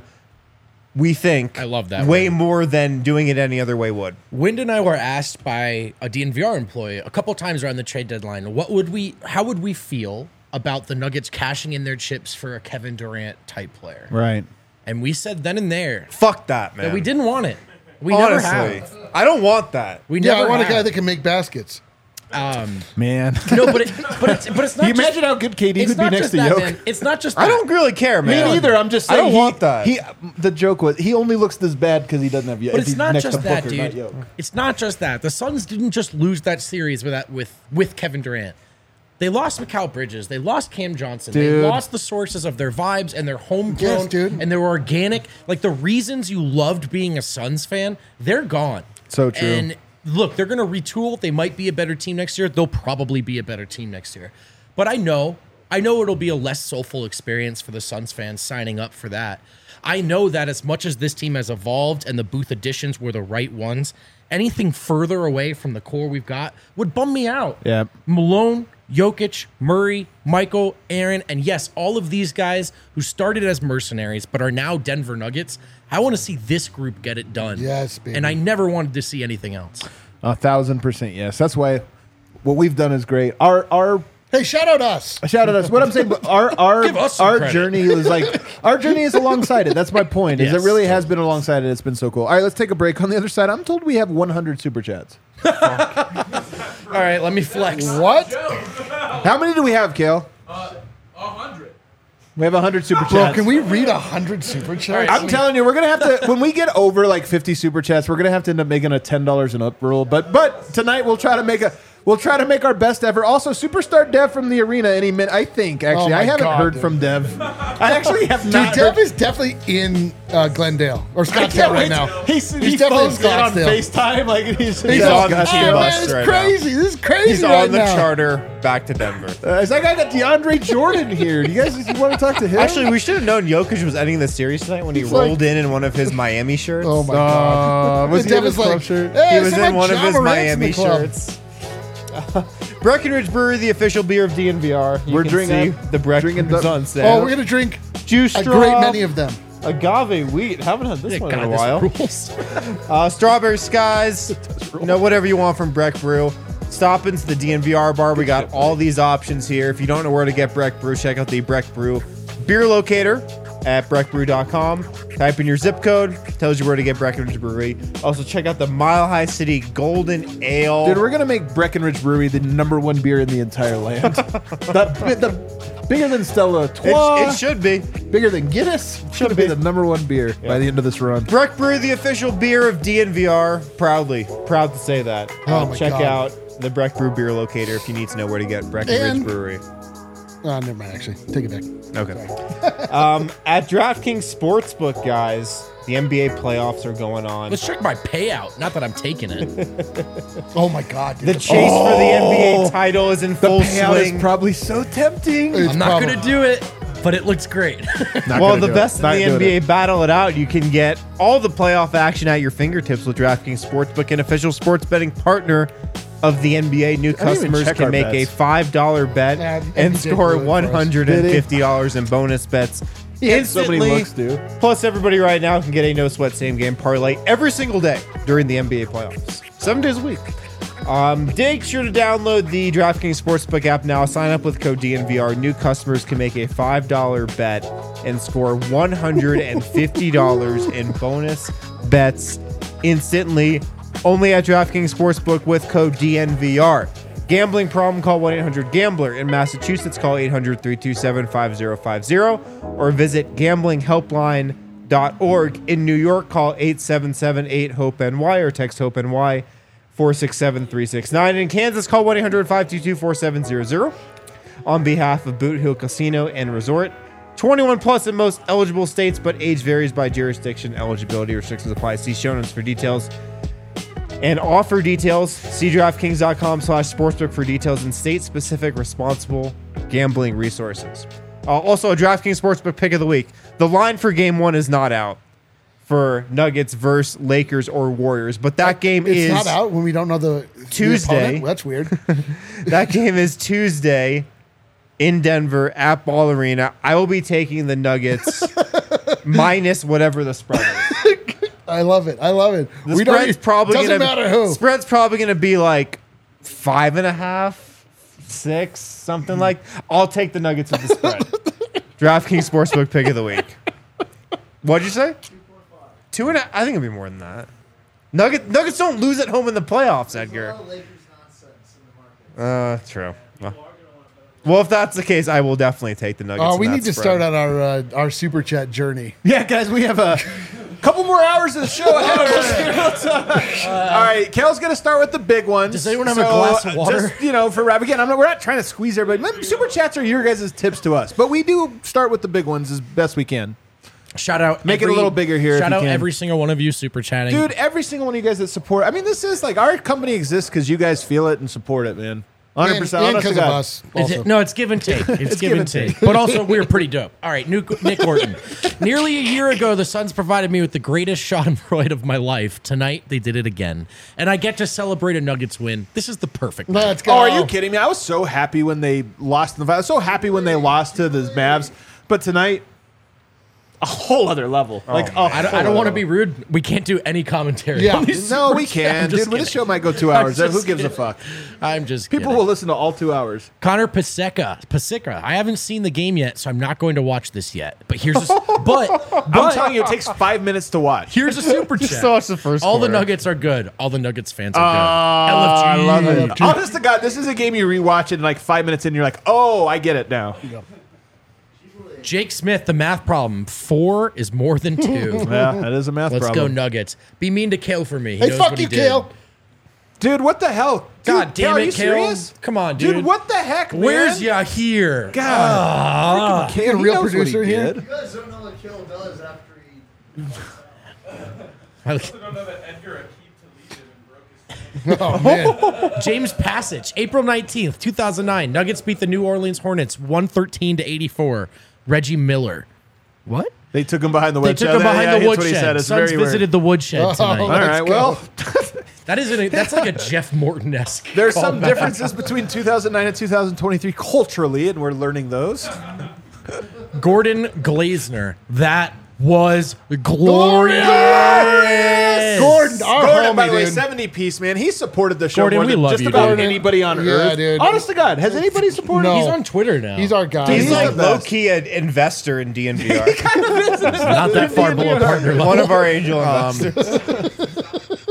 Speaker 2: We think
Speaker 4: I love that
Speaker 2: way
Speaker 4: one.
Speaker 2: more than doing it any other way would.
Speaker 4: Wind and I were asked by a D N V R employee a couple times around the trade deadline, what would we, how would we feel about the Nuggets cashing in their chips for a Kevin Durant type player?
Speaker 1: Right.
Speaker 4: And we said then and there
Speaker 2: Fuck that, man.
Speaker 4: that we didn't want it. We
Speaker 2: Honestly,
Speaker 4: never have.
Speaker 2: I don't want that.
Speaker 4: We
Speaker 3: Yeah,
Speaker 4: never
Speaker 3: I want a
Speaker 4: have.
Speaker 3: guy that can make baskets.
Speaker 1: Man.
Speaker 4: No, but it, but it's but it's not.
Speaker 1: you
Speaker 4: just,
Speaker 1: imagine how good K D
Speaker 4: it's
Speaker 1: could be
Speaker 4: not
Speaker 1: next
Speaker 4: just
Speaker 1: to
Speaker 4: that,
Speaker 1: Jokic?
Speaker 4: man. It's not just.
Speaker 2: I
Speaker 4: that.
Speaker 2: don't really care,
Speaker 1: Me
Speaker 2: man.
Speaker 1: neither. I'm just
Speaker 2: I
Speaker 1: saying.
Speaker 2: don't
Speaker 1: he-
Speaker 2: want that.
Speaker 1: He, the joke was he only looks this bad because he doesn't have.
Speaker 4: But it's not just that,
Speaker 1: Booker,
Speaker 4: dude.
Speaker 1: not Jokic.
Speaker 4: It's not just that. The Suns didn't just lose that series with that with with Kevin Durant. They lost Mikal Bridges. They lost Cam Johnson.
Speaker 1: Dude.
Speaker 4: They lost the sources of their vibes and their homegrown
Speaker 3: Yes, dude.
Speaker 4: and their organic. Like the reasons you loved being a Suns fan, they're gone.
Speaker 1: So true.
Speaker 4: And look, they're going to retool. They might be a better team next year. They'll probably be a better team next year. But I know, I know it'll be a less soulful experience for the Suns fans signing up for that. I know that as much as this team has evolved and the booth additions were the right ones, anything further away from the core we've got would bum me out.
Speaker 1: Yeah.
Speaker 4: Malone, Jokic, Murray, Michael, Aaron, and yes, all of these guys who started as mercenaries but are now Denver Nuggets. I want to see this group get it done.
Speaker 3: Yes, baby.
Speaker 4: And I never wanted to see anything else.
Speaker 1: A thousand percent yes. That's why what we've done is great. Our our
Speaker 3: Hey, shout out us.
Speaker 1: Shout out us. What I'm saying, but our our
Speaker 4: Give us some
Speaker 1: our
Speaker 4: credit.
Speaker 1: journey is like our journey is alongside it. That's my point. Is
Speaker 4: Yes.
Speaker 1: it really has been alongside it? It's been so cool. All right, let's take a break. On the other side, I'm told we have one hundred super chats.
Speaker 4: All right, let me flex.
Speaker 3: What?
Speaker 1: How many do we have, Kale?
Speaker 5: Uh, a hundred.
Speaker 1: We have one hundred super
Speaker 3: Bro,
Speaker 1: chats.
Speaker 3: can we read a hundred super chats?
Speaker 1: I'm telling you, we're gonna have to when we get over like fifty super chats, we're gonna have to end up making a ten dollars and up rule. But but tonight we'll try to make a we'll try to make our best ever. Also, Superstar Dev from the arena any minute. I think actually
Speaker 3: Oh my
Speaker 1: I haven't
Speaker 3: God,
Speaker 1: heard
Speaker 3: dude.
Speaker 1: from Dev. I actually have
Speaker 3: Dude,
Speaker 1: not.
Speaker 3: Dev
Speaker 1: heard-
Speaker 3: is definitely in uh, Glendale or
Speaker 1: I
Speaker 3: Scottsdale
Speaker 1: can't
Speaker 3: right
Speaker 1: wait.
Speaker 3: now.
Speaker 1: He's,
Speaker 3: He's
Speaker 1: he
Speaker 3: definitely
Speaker 1: phones
Speaker 3: in
Speaker 1: in on
Speaker 3: Scottsdale.
Speaker 1: FaceTime like he's,
Speaker 3: He's
Speaker 2: He's
Speaker 3: on
Speaker 2: on the
Speaker 3: oh,
Speaker 2: team
Speaker 3: man,
Speaker 2: bus
Speaker 3: it's
Speaker 2: right
Speaker 3: crazy. This is crazy
Speaker 2: He's
Speaker 3: right
Speaker 2: on the
Speaker 3: now.
Speaker 2: charter back to Denver.
Speaker 1: Uh, is that guy got DeAndre Jordan here? Do you guys you want to talk to him?
Speaker 2: Actually, we should have known Jokic was ending the series tonight when he
Speaker 3: He's
Speaker 2: rolled
Speaker 3: like-
Speaker 2: in in one of his Miami shirts.
Speaker 3: Oh my god!
Speaker 1: Uh, was
Speaker 3: And
Speaker 1: he in
Speaker 3: Dev
Speaker 1: his
Speaker 3: is
Speaker 1: club
Speaker 3: like,
Speaker 1: shirt?
Speaker 3: "Hey,
Speaker 2: He was
Speaker 3: someone
Speaker 2: in one of
Speaker 3: Ja
Speaker 2: his
Speaker 3: Morant's in
Speaker 2: Miami
Speaker 3: the club."
Speaker 2: shirts. Breckenridge Brewery, the official beer of D N V R. You
Speaker 1: We're
Speaker 2: can
Speaker 1: drinking-
Speaker 2: see the Breckenridge
Speaker 1: drinking the-
Speaker 2: on sale.
Speaker 3: Oh, we're gonna drink
Speaker 2: Juice
Speaker 3: a
Speaker 2: straw,
Speaker 3: great many of them.
Speaker 2: agave wheat. Haven't had this
Speaker 4: Yeah,
Speaker 2: one
Speaker 4: God,
Speaker 2: in a
Speaker 4: this
Speaker 2: while.
Speaker 4: rules.
Speaker 2: Uh, strawberry skies. You know, whatever you want from Breck Brew. Stop into the D N V R bar. We got all these options here. If you don't know where to get Breck Brew, check out the Breck Brew beer locator at breck brew dot com. Type in your zip code, tells you where to get Breckenridge Brewery. Also, check out the Mile High City Golden Ale.
Speaker 1: Dude, we're gonna make Breckenridge Brewery the number one beer in the entire land. the, the bigger than Stella
Speaker 2: it,
Speaker 1: Artois,
Speaker 2: it should be.
Speaker 1: bigger than Guinness. Should be
Speaker 2: be.
Speaker 1: the number one beer by the end of this run.
Speaker 2: Breck Brew, the official beer of D N V R. Proudly, proud to say that.
Speaker 3: Oh
Speaker 2: Uh,
Speaker 3: my
Speaker 2: check
Speaker 3: God.
Speaker 2: out the Breck Brew beer locator if you need to know where to get Breckenridge
Speaker 3: And-
Speaker 2: Brewery.
Speaker 3: Oh, never mind. Actually, take it back.
Speaker 2: Okay. um, at DraftKings Sportsbook, guys, the N B A playoffs are going on.
Speaker 4: Let's check my payout. Not that I'm taking it.
Speaker 3: Oh my god, dude.
Speaker 2: The chase for the N B A title is in
Speaker 1: The
Speaker 2: full
Speaker 1: payout
Speaker 2: swing.
Speaker 1: is probably so tempting.
Speaker 3: It's
Speaker 4: I'm not
Speaker 3: probably-
Speaker 4: gonna do it, but it looks great.
Speaker 1: Not
Speaker 2: Well,
Speaker 1: gonna
Speaker 2: the
Speaker 1: do it.
Speaker 2: best in
Speaker 1: Not
Speaker 2: the
Speaker 1: doing
Speaker 2: N B A
Speaker 1: it.
Speaker 2: battle it out. You can get all the playoff action at your fingertips with DraftKings Sportsbook, an official sports betting partner of the N B A. New
Speaker 1: even
Speaker 2: customers
Speaker 1: check
Speaker 2: can
Speaker 1: our
Speaker 2: make a
Speaker 1: bets.
Speaker 2: five dollar bet
Speaker 3: Yeah,
Speaker 2: and
Speaker 3: he did
Speaker 2: score
Speaker 3: do it for us.
Speaker 2: one hundred fifty dollars in bonus bets.
Speaker 1: He had so many
Speaker 2: Instantly.
Speaker 1: looks, dude.
Speaker 2: Plus, everybody right now can get a no sweat same game parlay every single day during the N B A playoffs, seven days a week. Um, make sure to download the DraftKings Sportsbook app now. Sign up with code D N V R. New customers can make a five dollar bet and score one hundred fifty dollars in bonus bets instantly. Only at DraftKings Sportsbook with code D N V R. Gambling problem? Call one eight hundred gambler. In Massachusetts, call eight hundred, three two seven, five zero five zero or visit gambling helpline dot org. In New York, call eight seven seven, eight, hope N Y or text HOPE-NY four six seven, three six nine. In Kansas, call one eight hundred, five two two, four seven zero zero. On behalf of Boot Hill Casino and Resort, twenty-one plus in most eligible states, but age varies by jurisdiction. Eligibility restrictions apply. See show notes for details. And offer details, see DraftKings.com slash sportsbook for details and state-specific responsible gambling resources. Uh, also, a DraftKings Sportsbook pick of the week. The line for game one is not out for Nuggets versus Lakers or Warriors, but that game
Speaker 3: It's
Speaker 2: is
Speaker 3: not out when we don't know the the
Speaker 2: Tuesday.
Speaker 3: opponent? Well, that's weird.
Speaker 2: that game is Tuesday in Denver at Ball Arena. I will be taking the Nuggets minus whatever the spread is.
Speaker 3: I love it. I love it.
Speaker 2: The
Speaker 3: we don't.
Speaker 2: spread's probably
Speaker 3: doesn't
Speaker 2: gonna,
Speaker 3: matter who.
Speaker 2: Spread's probably gonna be like five and a half, six, something like. I'll take the Nuggets with the spread. DraftKings Sportsbook pick of the week. What'd you say? Two and a, I think it'll be more than that. Nugget, Nuggets don't lose at home in the playoffs, Edgar. Uh, true. Well, well, if that's the case, I will definitely take the Nuggets.
Speaker 3: Oh,
Speaker 2: in
Speaker 3: we
Speaker 2: that
Speaker 3: need to
Speaker 2: spread.
Speaker 3: start on our uh, our super chat journey.
Speaker 1: Yeah, guys, we have a couple more hours of the show ahead of us here. Let's, uh, all right, Kale's going to start with the big ones.
Speaker 4: Does anyone have a glass of
Speaker 1: uh,
Speaker 4: water?
Speaker 1: Just, you know, for Rob, again, I'm not, we're not trying to squeeze everybody. Super chats are your guys' tips to us, but we do start with the big ones as best we can.
Speaker 4: Shout out.
Speaker 1: Make it a
Speaker 4: every-
Speaker 1: little bigger here if
Speaker 4: Shout
Speaker 1: you
Speaker 4: out
Speaker 1: can.
Speaker 4: every single one of you super chatting.
Speaker 1: Dude, every single one of you guys that support. I mean, this is like our company exists because you guys feel it and support it, man. one hundred percent.
Speaker 3: And
Speaker 1: honest to
Speaker 3: because of
Speaker 1: God.
Speaker 3: us.
Speaker 4: Is
Speaker 3: Also.
Speaker 4: it- no, it's give and take. It's, give, and take. But also, we're pretty dope. All right, Nick, Nick Orton. Nearly a year ago, the Suns provided me with the greatest schadenfreude of my life. Tonight, they did it again. And I get to celebrate a Nuggets win. This is the perfect night.
Speaker 3: Let's go.
Speaker 1: Oh, are you kidding me? I was so happy when they lost in the. I was so happy when they lost to the Mavs, but tonight, a whole other level. like, a
Speaker 4: I don't,
Speaker 1: whole
Speaker 4: I don't want to
Speaker 1: other
Speaker 4: be rude. We can't do any commentary.
Speaker 3: Yeah.
Speaker 4: on these
Speaker 1: level. No, we
Speaker 4: super chats.
Speaker 1: can,
Speaker 4: I'm just
Speaker 1: dude. Well, this
Speaker 4: kidding.
Speaker 1: show might go two
Speaker 4: I'm
Speaker 1: hours. Who
Speaker 4: just
Speaker 1: gives a
Speaker 4: kidding.
Speaker 1: fuck?
Speaker 4: I'm just
Speaker 1: People
Speaker 4: kidding.
Speaker 1: will listen to all two hours.
Speaker 4: Connor Paseka, Paseka. I haven't seen the game yet, so I'm not going to watch this yet. But here's a, s- but, but
Speaker 1: I'm telling you, it takes five minutes to watch.
Speaker 4: here's a super chat.
Speaker 2: Just watch the first
Speaker 4: All the
Speaker 2: quarter.
Speaker 4: Nuggets are good. All the Nuggets fans are good.
Speaker 1: I love it.
Speaker 4: L F G.
Speaker 1: Honest to God, this is a game you rewatch it, and like five minutes in, you're like, oh, I get it now.
Speaker 4: Jake Smith, the math problem. Four is more than two.
Speaker 1: Yeah, that is a math
Speaker 4: Let's
Speaker 1: problem.
Speaker 4: go Nuggets. Be mean to Kale for me. He
Speaker 3: Hey,
Speaker 4: knows
Speaker 3: fuck
Speaker 4: what
Speaker 3: you,
Speaker 4: he did.
Speaker 3: Kale.
Speaker 1: Dude, what the hell?
Speaker 4: God
Speaker 1: Dude,
Speaker 4: damn
Speaker 1: Kale,
Speaker 4: it,
Speaker 1: are you
Speaker 4: Kale.
Speaker 1: serious?
Speaker 4: Come on, dude.
Speaker 1: Dude, what the heck, man?
Speaker 4: Where's ya here?
Speaker 1: God. Freaking Kale,
Speaker 3: a
Speaker 1: he
Speaker 3: real
Speaker 1: knows what he
Speaker 3: producer here?
Speaker 1: did.
Speaker 6: You guys don't know what Kill does after he.
Speaker 4: Ah.
Speaker 5: don't know that Edgar Akeem deleted and broke his
Speaker 3: Oh, man.
Speaker 4: James Passage, April nineteenth, two thousand nine. Nuggets beat the New Orleans Hornets one thirteen to eighty-four. Reggie Miller. What?
Speaker 1: They took him behind the
Speaker 4: They
Speaker 1: woodshed.
Speaker 4: took him behind
Speaker 1: yeah,
Speaker 4: the
Speaker 1: that's what he
Speaker 4: woodshed.
Speaker 1: said. It's
Speaker 4: Suns
Speaker 1: very
Speaker 4: visited
Speaker 1: weird.
Speaker 4: the woodshed tonight.
Speaker 1: All
Speaker 3: Let's
Speaker 1: right,
Speaker 3: go.
Speaker 1: well,
Speaker 4: That isn't a, that's like a Jeff Morton-esque.
Speaker 1: there's some
Speaker 4: callback.
Speaker 1: differences between two thousand nine and two thousand twenty-three culturally, and we're learning those.
Speaker 4: Gordon Glazner. That was glorious.
Speaker 3: Gordon, our
Speaker 1: Gordon,
Speaker 3: homie,
Speaker 1: by the way,
Speaker 3: dude.
Speaker 1: seventy piece, man. He supported the show
Speaker 4: Gordon,
Speaker 1: more
Speaker 4: we
Speaker 1: than
Speaker 4: love
Speaker 1: just
Speaker 4: you,
Speaker 1: about
Speaker 4: dude.
Speaker 1: anybody on
Speaker 3: Yeah,
Speaker 1: earth.
Speaker 3: dude.
Speaker 1: Honest to God, has anybody supported
Speaker 3: No.
Speaker 1: him?
Speaker 4: He's on Twitter now.
Speaker 3: He's our guy.
Speaker 2: He's
Speaker 1: He's
Speaker 2: like
Speaker 1: the best.
Speaker 2: low key an investor in D N V R.
Speaker 4: not that far below partner level.
Speaker 2: One of our angel
Speaker 4: Um,
Speaker 2: investors.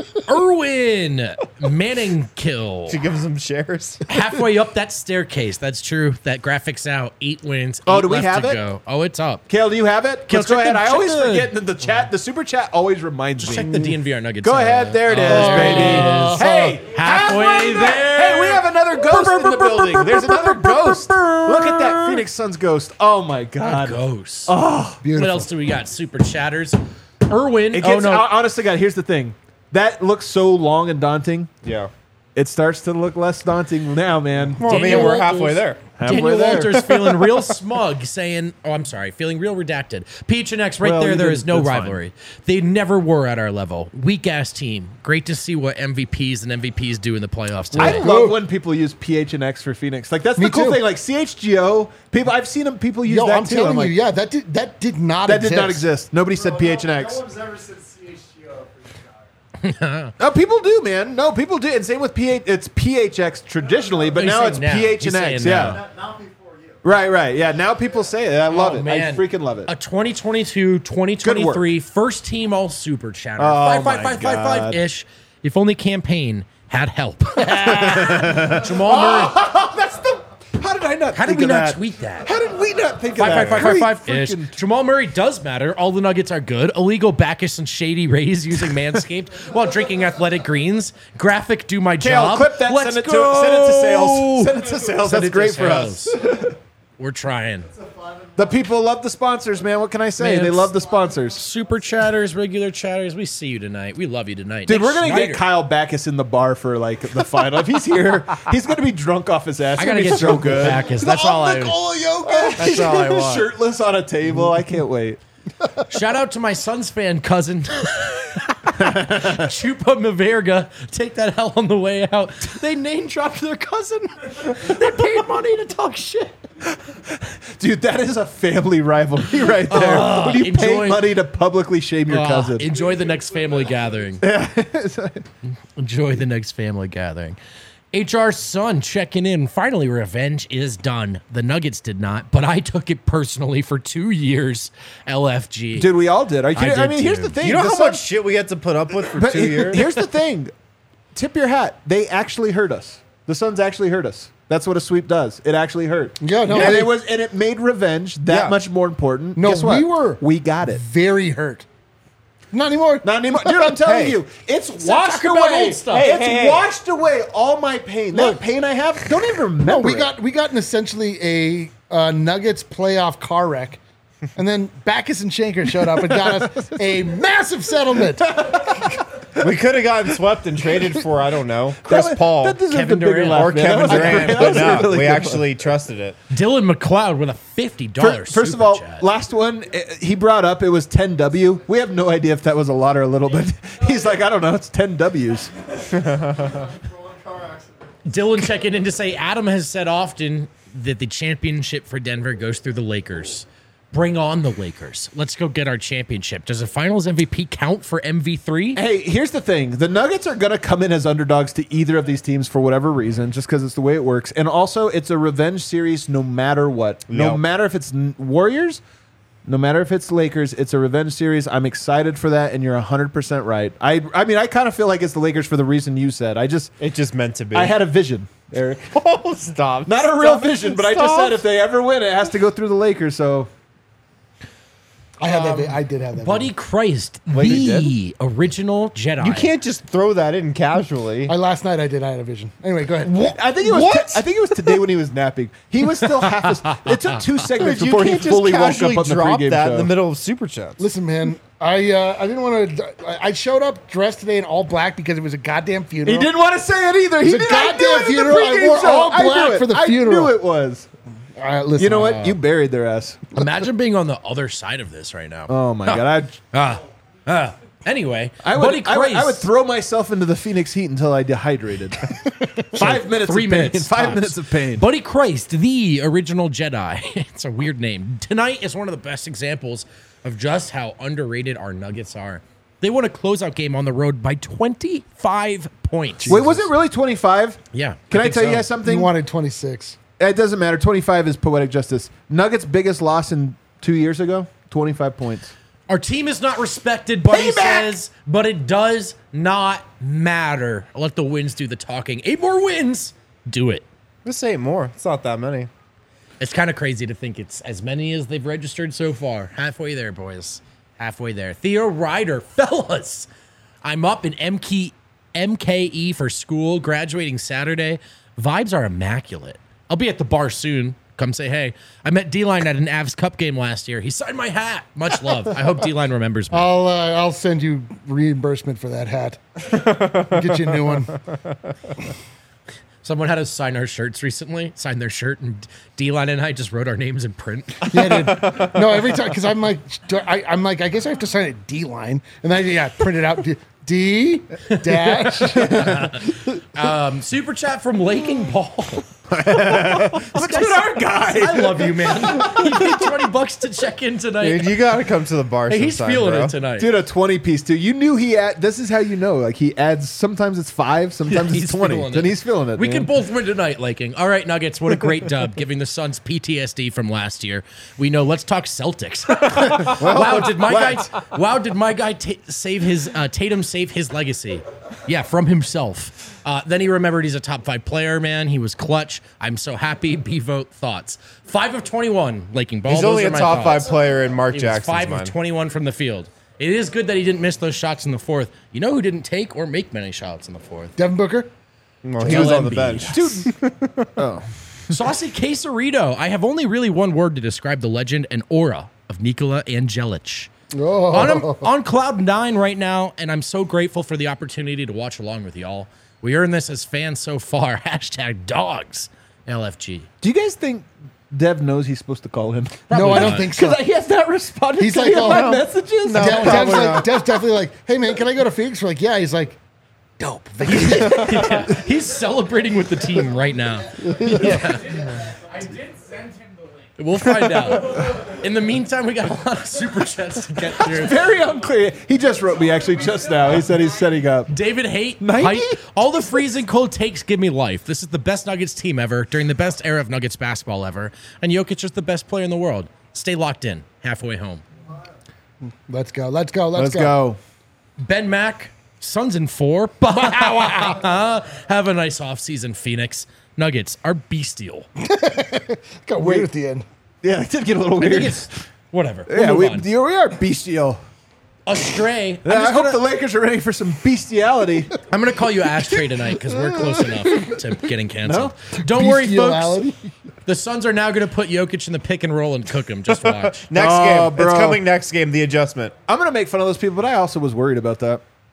Speaker 4: Irwin Manning kill.
Speaker 2: to give some shares.
Speaker 4: Halfway up that staircase. That's true. That graphics out. Eight wins.
Speaker 1: Oh,
Speaker 4: eight
Speaker 1: do we
Speaker 4: left
Speaker 1: have
Speaker 4: to
Speaker 1: it?
Speaker 4: Go. Oh, it's up.
Speaker 1: Kale, do you have it?
Speaker 4: Kale,
Speaker 1: Let's go
Speaker 4: check
Speaker 1: ahead.
Speaker 4: the-
Speaker 1: I
Speaker 4: check
Speaker 1: always
Speaker 4: the-
Speaker 1: forget that the chat, the super chat always reminds me.
Speaker 4: Check the D N V R Nuggets.
Speaker 1: Go
Speaker 4: uh,
Speaker 1: ahead. There it is,
Speaker 4: oh,
Speaker 1: baby.
Speaker 4: it is.
Speaker 1: Hey,
Speaker 4: Halfway there.
Speaker 1: Hey, we have another ghost in the building. There's another ghost. Look at that Phoenix Suns ghost. Oh my God.
Speaker 4: Ghosts.
Speaker 1: Oh,
Speaker 3: Beautiful.
Speaker 4: What else do we got? Super chatters. Irwin.
Speaker 1: it
Speaker 4: Oh
Speaker 1: gets.
Speaker 4: no.
Speaker 1: hon- Honest to God, here's the thing. That looks so long and daunting.
Speaker 2: Yeah.
Speaker 1: It starts to look less daunting now, man.
Speaker 2: Well, I mean,
Speaker 4: Daniel
Speaker 2: we're halfway
Speaker 4: Walters-
Speaker 2: there.
Speaker 1: Halfway
Speaker 4: Daniel
Speaker 1: there.
Speaker 4: Walters feeling real smug, saying, "Oh, I'm sorry, feeling real redacted." P H N X right
Speaker 1: Well,
Speaker 4: there.
Speaker 1: you
Speaker 4: There
Speaker 1: did-
Speaker 4: is no
Speaker 1: that's fine.
Speaker 4: rivalry. They never were at our level. Weak ass team. Great to see what M V Ps and M V Ps do in the playoffs
Speaker 1: I
Speaker 4: today.
Speaker 1: love when people use P H N X for Phoenix. Like that's
Speaker 3: Me
Speaker 1: the cool
Speaker 3: too.
Speaker 1: thing. Like C H G O, people. I've seen them. People use
Speaker 3: Yo,
Speaker 1: that
Speaker 3: I'm
Speaker 1: too.
Speaker 3: telling
Speaker 1: I'm like,
Speaker 3: you, yeah, that did that did not
Speaker 1: that
Speaker 3: exist.
Speaker 1: did not exist. Nobody said P H N X.
Speaker 6: No one's ever said C H G O for you guys.
Speaker 1: No, people do, man. No, people do. And same with P H. It's P H X traditionally, but
Speaker 4: He's
Speaker 1: now
Speaker 4: saying
Speaker 1: it's
Speaker 4: now.
Speaker 1: P H
Speaker 4: He's
Speaker 1: N X.
Speaker 4: saying
Speaker 1: Yeah.
Speaker 4: now.
Speaker 6: Not, not before you.
Speaker 1: Right, right. Yeah. Now people say it. I love
Speaker 4: Oh,
Speaker 1: it.
Speaker 4: man.
Speaker 1: I freaking love it.
Speaker 4: A twenty twenty-two twenty twenty-three first team all super chatter.
Speaker 1: Oh,
Speaker 4: five,
Speaker 1: my
Speaker 4: five, five,
Speaker 1: God.
Speaker 4: five, five ish. If only campaign had help. Jamal Murray.
Speaker 1: That's the. How did I not?
Speaker 4: How did
Speaker 1: think
Speaker 4: we
Speaker 1: of
Speaker 4: not
Speaker 1: that?
Speaker 4: tweet that?
Speaker 1: How did we not think
Speaker 4: Five,
Speaker 1: of
Speaker 4: five,
Speaker 1: that?
Speaker 4: five, five, five,
Speaker 1: Great
Speaker 4: ish.
Speaker 1: freaking-
Speaker 4: Jamal Murray does matter. All the Nuggets are good. Illegal Bacchus and shady Rays using Manscaped while drinking athletic greens. Graphic do my
Speaker 1: Kale,
Speaker 4: job.
Speaker 1: clip that.
Speaker 4: Let's
Speaker 1: Send it
Speaker 4: go.
Speaker 1: to. Send it to sales. Send it to sales.
Speaker 4: Send
Speaker 1: That's
Speaker 4: it to
Speaker 1: great for us.
Speaker 4: sales. We're trying.
Speaker 1: The people love the sponsors, man. What can I say?
Speaker 4: Man,
Speaker 1: they
Speaker 4: it's-
Speaker 1: love the sponsors.
Speaker 4: Super chatters, regular chatters. We see you tonight. We love you tonight.
Speaker 1: Dude,
Speaker 4: Nick
Speaker 1: we're gonna
Speaker 4: Schneider.
Speaker 1: get Kyle Backus in the bar for like the final. If he's here, he's gonna be drunk off his ass.
Speaker 4: I
Speaker 1: It's
Speaker 4: gotta
Speaker 1: gonna be
Speaker 4: get
Speaker 1: so
Speaker 4: drunk with
Speaker 1: good.
Speaker 4: Backus. That's all I-
Speaker 1: Nikola Jokic.
Speaker 4: That's all I want.
Speaker 1: Shirtless on a table. I can't wait.
Speaker 4: Shout out to my Suns fan cousin. Chupa Maverga. Take that hell on the way out. They name dropped their cousin. They paid money to talk shit.
Speaker 1: Dude, that is a family rivalry right there.
Speaker 4: Uh,
Speaker 1: when you pay
Speaker 4: enjoy-
Speaker 1: money to publicly shame your
Speaker 4: Ah,
Speaker 1: cousin.
Speaker 4: enjoy the next family gathering. Enjoy the next family gathering. H R's son checking in. Finally, revenge is done. The Nuggets did not, but I took it personally for two years. L F G.
Speaker 1: Dude, we all did. Are you kidding? I,
Speaker 4: did
Speaker 1: mean, here's
Speaker 4: too.
Speaker 1: the thing.
Speaker 2: You know
Speaker 1: the
Speaker 2: how
Speaker 1: Suns-
Speaker 2: much shit we had to put up with for
Speaker 1: But
Speaker 2: two years?
Speaker 1: here's the thing. Tip your hat. They actually hurt us. The Suns actually hurt us. That's what a sweep does. It actually hurt.
Speaker 3: Yeah, no,
Speaker 1: and
Speaker 3: they-
Speaker 1: it was, and it made revenge that
Speaker 2: Yeah.
Speaker 1: much more important.
Speaker 3: No,
Speaker 1: Guess what?
Speaker 3: we were
Speaker 1: we got it.
Speaker 3: very hurt. Not anymore.
Speaker 1: Not anymore, dude. I'm telling
Speaker 2: Hey.
Speaker 1: you, it's washed
Speaker 4: talk about
Speaker 1: away.
Speaker 4: old stuff.
Speaker 1: Hey,
Speaker 2: Hey,
Speaker 1: it's
Speaker 2: hey, hey.
Speaker 1: washed away all my pain.
Speaker 3: Look.
Speaker 1: that pain I have, don't even remember.
Speaker 3: No, we
Speaker 1: it.
Speaker 3: got we got an essentially a uh, Nuggets playoff car wreck, and then Backus and Shanker showed up and got us a massive settlement.
Speaker 2: We could have gotten swept and traded for, I don't know, Chris
Speaker 1: That-
Speaker 2: Paul
Speaker 1: That deserved
Speaker 4: Kevin
Speaker 1: a bigger
Speaker 4: Durant.
Speaker 1: laugh,
Speaker 2: or
Speaker 1: man. That
Speaker 2: Kevin
Speaker 1: was a
Speaker 2: Durant,
Speaker 1: great- that
Speaker 2: but
Speaker 1: was a
Speaker 2: no,
Speaker 1: really
Speaker 2: we
Speaker 1: good one.
Speaker 2: actually trusted it.
Speaker 4: Dylan McLeod with a fifty
Speaker 1: Fir-
Speaker 4: dollars.
Speaker 1: First of all, last one eh, he brought up it was ten W. We have no idea if that was a lot or a little bit. He's like, I don't know, it's ten W's.
Speaker 4: Dylan checking in to say Adam has said often that the championship for Denver goes through the Lakers. Bring on the Lakers. Let's go get our championship. Does a Finals M V P count for M V three?
Speaker 1: Hey, here's the thing. The Nuggets are going to come in as underdogs to either of these teams for whatever reason, just because it's the way it works. And also, it's a revenge series no matter what. No
Speaker 2: Yep.
Speaker 1: matter if it's n- Warriors, no matter if it's Lakers, it's a revenge series. I'm excited for that, and you're one hundred percent right. I I mean, I kind of feel like it's the Lakers for the reason you said. I just,
Speaker 2: It just meant to be.
Speaker 1: I had a vision, Eric.
Speaker 2: oh, stop.
Speaker 1: Not a real
Speaker 2: Stop.
Speaker 1: vision, but I just
Speaker 2: Stop.
Speaker 1: said if they ever win, it has to go through the Lakers, so...
Speaker 3: I had that. vi- I did have that.
Speaker 4: Buddy
Speaker 3: video.
Speaker 4: Christ,
Speaker 2: Wait, you
Speaker 4: the original Jedi.
Speaker 2: You can't just throw that in casually.
Speaker 3: I, last night I did. I had a vision. Anyway, go ahead.
Speaker 1: I think it was.
Speaker 2: What?
Speaker 1: I think it was today when he was napping. He was still half. As, it took two segments
Speaker 2: you
Speaker 1: before he
Speaker 2: can't
Speaker 1: fully
Speaker 2: just
Speaker 1: woke
Speaker 2: casually
Speaker 1: up on the
Speaker 2: drop
Speaker 1: pregame
Speaker 2: that
Speaker 1: show.
Speaker 2: in the middle of super chats.
Speaker 3: Listen, man. I uh, I didn't want to. I showed up dressed today in all black because it was a goddamn funeral.
Speaker 1: He didn't want to say it either. He
Speaker 3: It's a
Speaker 1: did. I knew
Speaker 3: goddamn
Speaker 1: it in the
Speaker 3: funeral. I
Speaker 1: pregame
Speaker 3: wore
Speaker 1: show.
Speaker 3: all
Speaker 1: I knew
Speaker 3: black
Speaker 1: it.
Speaker 3: for the
Speaker 1: I
Speaker 3: funeral.
Speaker 1: knew it was.
Speaker 3: All right, listen.
Speaker 1: You know what?
Speaker 3: uh,
Speaker 1: You buried their ass.
Speaker 4: Imagine being on the other side of this right now.
Speaker 1: Oh my god! I,
Speaker 4: Ah, ah. Anyway,
Speaker 1: I
Speaker 4: Buddy
Speaker 1: would. I would,
Speaker 4: Christ.
Speaker 1: I would throw myself into the Phoenix Heat until I dehydrated. Five minutes.
Speaker 4: Three
Speaker 1: of pain.
Speaker 4: minutes
Speaker 1: Five
Speaker 4: tops.
Speaker 1: minutes of pain.
Speaker 4: Buddy Christ, the original Jedi. It's a weird name. Tonight is one of the best examples of just how underrated our Nuggets are. They won a closeout game on the road by twenty-five points.
Speaker 1: Wait, was it really twenty-five?
Speaker 4: Yeah.
Speaker 1: Can I,
Speaker 4: think
Speaker 1: tell you
Speaker 4: so.
Speaker 1: guys something?
Speaker 3: You wanted twenty-six.
Speaker 1: It doesn't matter. twenty-five is poetic justice. Nuggets' biggest loss in two years ago. twenty-five points.
Speaker 4: Our team is not respected, Buddy
Speaker 1: Payback!
Speaker 4: says, but it does not matter. I'll let the wins do the talking. Eight more wins. Do it.
Speaker 2: Just eight more. It's not that many.
Speaker 4: It's kind of crazy to think it's as many as they've registered so far. Halfway there, boys. Halfway there. Theo Ryder, fellas. I'm up in M K, M K E for school, graduating Saturday. Vibes are immaculate. I'll be at the bar soon. Come say hey. I met D-Line at an Avs Cup game last year. He signed my hat. Much love. I hope D-Line remembers me.
Speaker 3: I'll uh, I'll send you reimbursement for that hat. Get you a new one.
Speaker 4: Someone had us sign our shirts recently, sign their shirt, and D-Line and I just wrote our names in print.
Speaker 3: Yeah, dude. No, every time because I'm like do I, I'm like I guess I have to sign it D line, and then yeah, print it out D, D dash.
Speaker 4: Um, super chat from Laking Ball.
Speaker 1: Look at our guy.
Speaker 4: I love you, man. He paid twenty bucks to check in tonight.
Speaker 2: Dude, you gotta come to the bar
Speaker 4: Hey, he's
Speaker 2: sometime,
Speaker 4: feeling
Speaker 2: bro.
Speaker 4: it tonight.
Speaker 1: Dude, a twenty piece too. You knew he had. This is how you know. Like he adds. Sometimes it's five. Sometimes
Speaker 4: He's
Speaker 1: it's twenty.
Speaker 4: feeling
Speaker 1: Then
Speaker 4: it.
Speaker 1: he's feeling it.
Speaker 4: We
Speaker 1: man.
Speaker 4: can both win tonight, Laking. All right, Nuggets. What a great dub, giving the Suns P T S D from last year. We know. Let's talk Celtics. wow, did my guy? Wow, did my guy ta save his uh, Tatum save his legacy? Yeah, from himself. Uh, then he remembered he's a top five player. Man, he was clutch. I'm so happy. B vote thoughts. Five of twenty-one. Laking Ball.
Speaker 2: He's
Speaker 4: Those
Speaker 2: only
Speaker 4: are
Speaker 2: a
Speaker 4: my
Speaker 2: top
Speaker 4: thoughts.
Speaker 2: five player in Mark
Speaker 4: He was
Speaker 2: Jackson's
Speaker 4: five
Speaker 2: mind.
Speaker 4: of twenty-one from the field. It is good that he didn't miss those shots in the fourth. You know who didn't take or make many shots in the fourth?
Speaker 3: Devin Booker.
Speaker 2: Well, he was on the
Speaker 4: Embiid.
Speaker 2: bench.
Speaker 1: Dude,
Speaker 4: Saucy Quesarito. I have only really one word to describe the legend and aura of Nikola Angelic.
Speaker 3: Oh.
Speaker 4: On, on cloud nine right now, and I'm so grateful for the opportunity to watch along with y'all. We earned this as fans so far. Hashtag dogs. L F G.
Speaker 1: do you guys think Dev knows he's supposed to call him?
Speaker 3: No, I don't
Speaker 4: not.
Speaker 3: think so.
Speaker 1: Because he has not responded
Speaker 3: He's
Speaker 1: to
Speaker 3: like,
Speaker 1: any of
Speaker 3: oh,
Speaker 1: my
Speaker 3: no.
Speaker 1: messages.
Speaker 2: No.
Speaker 3: Dev,
Speaker 2: probably
Speaker 3: Dev's, like,
Speaker 2: not.
Speaker 3: Dev's definitely like, hey man, can I go to Phoenix? We're like, yeah. He's like, dope.
Speaker 4: He's celebrating with the team right now.
Speaker 6: I did send him the link.
Speaker 4: We'll find out. In the meantime, we got a lot of super chats to get through.
Speaker 1: Very unclear. He just wrote me actually just now. He said he's setting up.
Speaker 4: David Haight,
Speaker 1: ninety?
Speaker 4: Height, all the freezing cold takes give me life. This is the best Nuggets team ever during the best era of Nuggets basketball ever. And Jokic is the best player in the world. Stay locked in. Halfway home.
Speaker 3: Let's go. Let's go. Let's,
Speaker 1: Let's go.
Speaker 4: Ben Mack, Suns in four. Have a nice offseason, Phoenix. Nuggets are bestial.
Speaker 3: Got weird at the end.
Speaker 1: Yeah, it did get a little
Speaker 4: I think
Speaker 1: weird.
Speaker 4: it's whatever. We'll
Speaker 1: Yeah,
Speaker 4: move
Speaker 1: we,
Speaker 4: on.
Speaker 1: we are bestial.
Speaker 4: Astray. I'm
Speaker 1: Yeah, I
Speaker 4: just
Speaker 1: hope
Speaker 4: gonna-
Speaker 1: the Lakers are ready for some bestiality.
Speaker 4: I'm going to call you Ashtray tonight because we're close enough to getting canceled. Don't worry, folks.
Speaker 3: Bestiality.
Speaker 4: The Suns are now going to put Jokic in the pick and roll and cook him. Just watch.
Speaker 2: Next
Speaker 1: Oh,
Speaker 2: game.
Speaker 1: bro.
Speaker 2: It's coming next game, the adjustment.
Speaker 1: I'm going to make fun of those people, but I also was worried about that.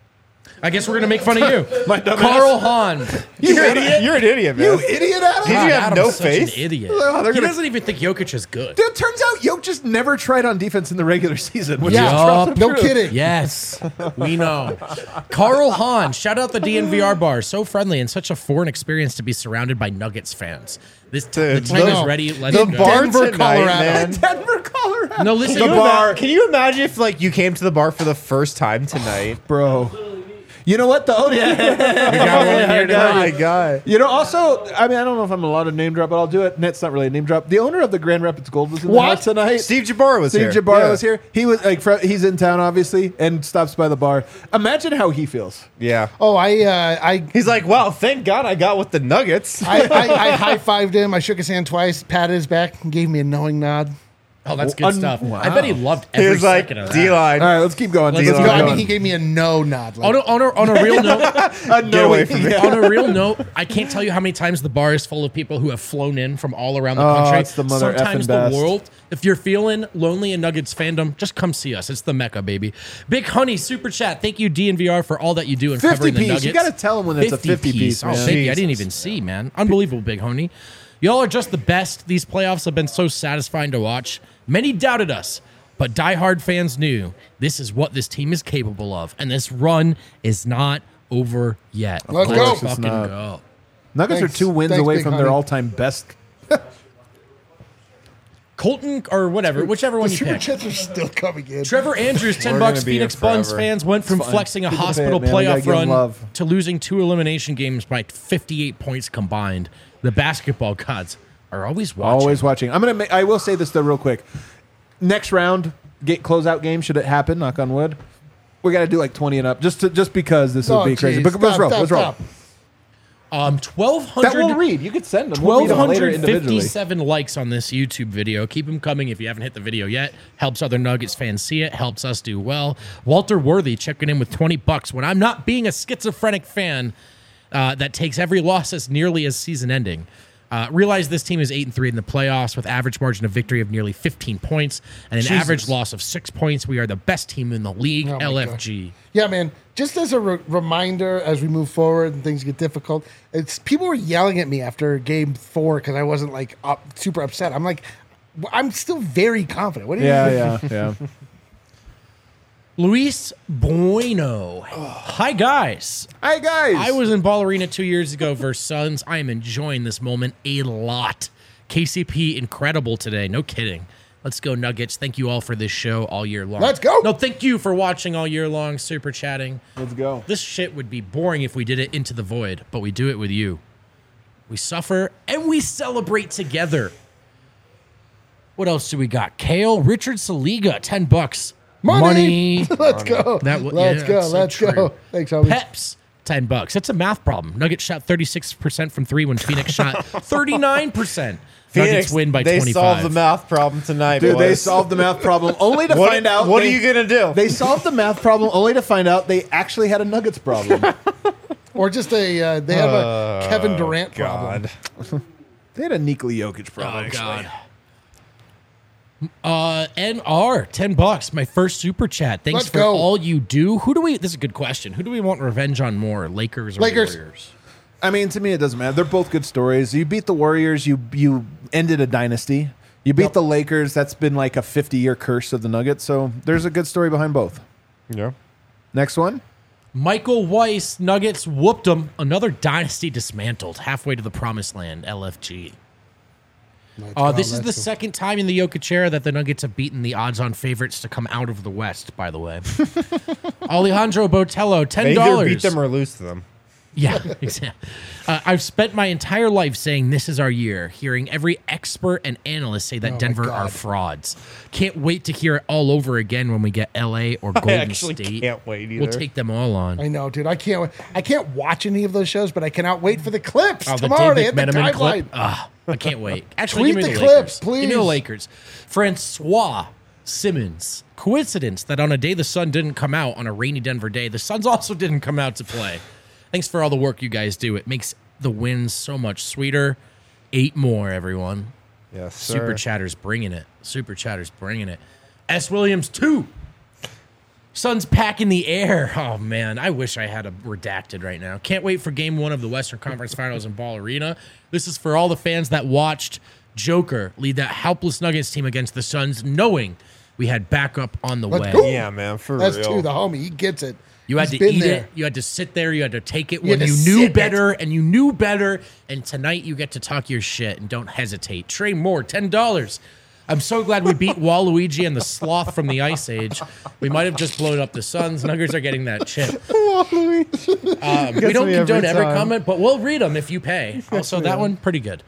Speaker 4: I guess we're gonna make fun of you,
Speaker 1: My dumbass.
Speaker 4: Carl Hahn.
Speaker 2: You're, an idiot. You're an idiot, man.
Speaker 1: You idiot, Adam!
Speaker 2: Did you
Speaker 4: God,
Speaker 2: have
Speaker 4: Adam's
Speaker 2: no
Speaker 4: such
Speaker 2: faith?
Speaker 4: An idiot.
Speaker 1: Oh, they're
Speaker 4: he
Speaker 1: gonna-
Speaker 4: doesn't even think Jokic is good.
Speaker 1: Dude, turns out Jokic just never tried on defense in the regular season. Which
Speaker 3: Yeah,
Speaker 1: is
Speaker 3: no kidding.
Speaker 4: Yes, we know. Carl Hahn, shout out the D N V R bar. So friendly and such a foreign experience to be surrounded by Nuggets fans. This t- the
Speaker 2: Dude,
Speaker 4: team
Speaker 3: I
Speaker 4: is
Speaker 3: know.
Speaker 4: ready. Let's
Speaker 2: The
Speaker 4: go.
Speaker 2: bar
Speaker 3: Denver,
Speaker 2: tonight,
Speaker 3: Colorado.
Speaker 2: man.
Speaker 1: Denver, Colorado.
Speaker 4: No, listen.
Speaker 2: The
Speaker 4: you
Speaker 2: bar.
Speaker 4: ima-
Speaker 2: Can you imagine if like you came to the bar for the first time tonight?
Speaker 1: Bro. You know what, though? Yeah.
Speaker 4: We got one here
Speaker 2: Oh my
Speaker 4: tonight.
Speaker 2: god.
Speaker 1: You know, also, I mean, I don't know if I'm allowed to name drop, but I'll do it. It's not really a name drop. The owner of the Grand Rapids Gold was in the
Speaker 3: What?
Speaker 1: house tonight.
Speaker 2: Steve Jabbar was
Speaker 1: Steve
Speaker 2: here.
Speaker 1: Jabbar
Speaker 2: Yeah.
Speaker 1: was here. He was like, fr- he's in town, obviously, and stops by the bar. Imagine how he feels.
Speaker 2: Yeah.
Speaker 3: Oh, I, uh, I,
Speaker 2: He's like, well, thank God I got with the Nuggets.
Speaker 3: I, I, I high fived him. I shook his hand twice, patted his back, and gave me a knowing nod.
Speaker 4: Oh, that's good
Speaker 1: Un-
Speaker 4: stuff.
Speaker 1: wow.
Speaker 4: I bet he loved
Speaker 2: he
Speaker 4: every
Speaker 2: was like,
Speaker 4: second of that.
Speaker 2: D-line.
Speaker 1: All right, let's keep going.
Speaker 4: Let's
Speaker 1: Let's
Speaker 3: No,
Speaker 1: keep
Speaker 3: I
Speaker 1: going.
Speaker 3: mean, he gave me a no nod. Like,
Speaker 4: On a, on, a, on a real note,
Speaker 1: Uh, no,
Speaker 2: Get away
Speaker 1: he-
Speaker 2: from me.
Speaker 1: yeah.
Speaker 4: on a real note, I can't tell you how many times the bar is full of people who have flown in from all around the
Speaker 1: Oh,
Speaker 4: country.
Speaker 1: it's the mother
Speaker 4: Sometimes
Speaker 1: effing
Speaker 4: the
Speaker 1: best.
Speaker 4: world. If you're feeling lonely in Nuggets fandom, just come see us. It's the Mecca, baby. Big Honey super chat. Thank you, D N V R, for all that you do in
Speaker 1: fifty
Speaker 4: covering the
Speaker 1: piece.
Speaker 4: Nuggets.
Speaker 1: You got to tell him when it's a fifty piece,
Speaker 4: Oh,
Speaker 1: man.
Speaker 4: fifty. I didn't
Speaker 2: Jesus.
Speaker 4: even see, man. Unbelievable, Big Honey. Y'all are just the best. These playoffs have been so satisfying to watch. Many doubted us, but diehard fans knew this is what this team is capable of, and this run is not over yet.
Speaker 3: Let's
Speaker 4: Let's
Speaker 3: go.
Speaker 1: It's
Speaker 4: fucking
Speaker 1: not.
Speaker 4: go.
Speaker 1: Nuggets
Speaker 3: Thanks.
Speaker 1: are two wins
Speaker 3: Thanks,
Speaker 1: away
Speaker 3: Big
Speaker 1: from
Speaker 3: Honey.
Speaker 1: their all-time best.
Speaker 4: Colton or whatever, whichever one
Speaker 3: the
Speaker 4: you
Speaker 3: super
Speaker 4: pick.
Speaker 3: chats are still coming in.
Speaker 4: Trevor Andrews, ten
Speaker 2: We're
Speaker 4: bucks.
Speaker 2: gonna be here
Speaker 4: Phoenix Buns
Speaker 2: forever.
Speaker 4: fans went from
Speaker 1: fine.
Speaker 4: flexing a
Speaker 1: People pay it,
Speaker 4: hospital
Speaker 1: man. We gotta
Speaker 4: playoff
Speaker 1: give 'em
Speaker 4: run
Speaker 1: love.
Speaker 4: to losing two elimination games by fifty-eight points combined. The basketball gods are always watching.
Speaker 1: Always watching. I'm gonna. Make, I will say this though, real quick. Next round, get closeout game. Should it happen? Knock on wood. We got to do like twenty and up, just to, just because this
Speaker 3: Oh,
Speaker 1: would be crazy.
Speaker 3: geez.
Speaker 1: But let's
Speaker 3: Stop,
Speaker 1: roll.
Speaker 3: stop,
Speaker 1: Let's roll.
Speaker 3: stop.
Speaker 4: Um, twelve
Speaker 1: That we'll
Speaker 4: hundred.
Speaker 1: read. You could send them. We'll read them later individually.
Speaker 4: fifty-seven likes on this YouTube video. Keep them coming if you haven't hit the video yet. Helps other Nuggets fans see it. Helps us do well. Walter Worthy checking in with twenty bucks. When I'm not being a schizophrenic fan uh, that takes every loss as nearly as season ending. Uh, realize this team is eight and three in the playoffs with average margin of victory of nearly fifteen points and an
Speaker 3: Jesus.
Speaker 4: average loss of six points. We are the best team in the league.
Speaker 3: Oh my
Speaker 4: L F G.
Speaker 3: Yeah, man. Just as a re- reminder, as we move forward and things get difficult, it's people were yelling at me after game four because I wasn't like up, super upset. I'm like, I'm still very confident. What do you?
Speaker 1: Yeah, yeah, yeah.
Speaker 4: Luis Bueno. Hi guys.
Speaker 1: Hi guys.
Speaker 4: I was in Ball Arena two years ago versus Suns. I am enjoying this moment a lot. K C P incredible today. No kidding. Let's go Nuggets. Thank you all for this show all year long.
Speaker 3: Let's go.
Speaker 4: No, thank you for watching all year long, super chatting.
Speaker 1: Let's go.
Speaker 4: This shit would be boring if we did it into the void, but we do it with you. We suffer and we celebrate together. What else do we got? Kale, Richard Saliga, ten bucks.
Speaker 3: Money.
Speaker 4: Money.
Speaker 3: Let's go.
Speaker 4: That w-
Speaker 3: Let's
Speaker 4: yeah,
Speaker 3: go.
Speaker 4: that's so
Speaker 3: Let's
Speaker 4: true.
Speaker 3: go. Thanks, homie.
Speaker 4: Peps, ten bucks. It's a math problem. Nuggets shot thirty-six percent from three when Phoenix shot thirty-nine percent. Nuggets win by
Speaker 2: they
Speaker 4: twenty-five.
Speaker 2: solved the math problem tonight,
Speaker 1: Dude, they
Speaker 2: boys.
Speaker 1: solved the math problem only to
Speaker 2: What,
Speaker 1: find out.
Speaker 2: what
Speaker 1: they,
Speaker 2: are you gonna do?
Speaker 1: They solved the math problem only to find out they actually had a Nuggets problem.
Speaker 3: Or just a uh, they have a Kevin Durant problem.
Speaker 2: God.
Speaker 1: They had a Nikola Jokic problem.
Speaker 4: Oh,
Speaker 1: actually.
Speaker 4: God. Uh, N R, ten bucks. My first super chat. Thanks
Speaker 3: Let's
Speaker 4: for
Speaker 3: go.
Speaker 4: all you do. Who do we, this is a good question. Who do we want revenge on more, Lakers or
Speaker 3: Lakers.
Speaker 4: Warriors?
Speaker 1: I mean, to me, it doesn't matter. They're both good stories. You beat the Warriors. You you ended a dynasty. You beat
Speaker 3: Yep.
Speaker 1: the Lakers. That's been like a fifty-year curse of the Nuggets. So there's a good story behind both.
Speaker 2: Yeah.
Speaker 1: Next one.
Speaker 4: Michael Weiss, Nuggets whooped them. Another dynasty dismantled. Halfway to the promised land, L F G.
Speaker 3: Let's
Speaker 4: Uh,
Speaker 3: go,
Speaker 4: this is
Speaker 3: let's
Speaker 4: the
Speaker 3: go.
Speaker 4: second time in the Jokic era that the Nuggets have beaten the odds-on favorites to come out of the West, by the way. Alejandro Botello, ten
Speaker 2: They either
Speaker 4: dollars.
Speaker 2: beat them or lose to them.
Speaker 4: Yeah, exactly. Uh, I've spent my entire life saying this is our year, hearing every expert and analyst say that
Speaker 3: Oh my
Speaker 4: Denver
Speaker 3: God.
Speaker 4: are frauds. Can't wait to hear it all over again when we get L A or Golden
Speaker 2: actually
Speaker 4: State.
Speaker 2: can't wait
Speaker 4: We'll
Speaker 2: either.
Speaker 4: take them all on.
Speaker 3: I know, dude. I can't. wait. I can't watch any of those shows, but I cannot wait for the clips
Speaker 4: Oh, the
Speaker 3: tomorrow to
Speaker 4: Dave
Speaker 3: hit the
Speaker 4: McMenamin
Speaker 3: timeline.
Speaker 4: clip. Ah, I can't wait. Actually,
Speaker 3: Tweet
Speaker 4: give me
Speaker 3: the
Speaker 4: the,
Speaker 3: clips,
Speaker 4: Lakers. Give me the
Speaker 3: please.
Speaker 4: Lakers. Francois Simmons. Coincidence that on a day the sun didn't come out, on a rainy Denver day, the Suns also didn't come out to play. Thanks for all the work you guys do. It makes the wins so much sweeter. Eight more, everyone.
Speaker 2: Yes,
Speaker 4: Super
Speaker 2: sir.
Speaker 4: Chatter's bringing it. Super Chatter's bringing it. S. Williams, two. Suns pack in the air. Oh, man. I wish I had a redacted right now. Can't wait for game one of the Western Conference Finals in Ball Arena. This is for all the fans that watched Joker lead that helpless Nuggets team against the Suns, knowing we had backup on the
Speaker 3: Let's
Speaker 4: way.
Speaker 3: go.
Speaker 2: Yeah, man, for
Speaker 3: That's
Speaker 2: real.
Speaker 3: two. The homie, he gets it.
Speaker 4: You had
Speaker 3: He's
Speaker 4: to
Speaker 3: been
Speaker 4: eat
Speaker 3: there.
Speaker 4: it. You had to sit there. You had to take it
Speaker 3: You
Speaker 4: when
Speaker 3: had
Speaker 4: you
Speaker 3: to
Speaker 4: knew
Speaker 3: sip it.
Speaker 4: better, and you knew better. And tonight you get to talk your shit and don't hesitate. Trey Moore, ten dollars. I'm so glad we beat Waluigi and the sloth from the Ice Age. We might have just blown up the Suns. Nuggets are getting that chip. Um, we
Speaker 2: Gets
Speaker 4: don't
Speaker 2: me every
Speaker 4: condone every
Speaker 2: time.
Speaker 4: comment, but we'll read them if you pay. Also, that one, pretty good.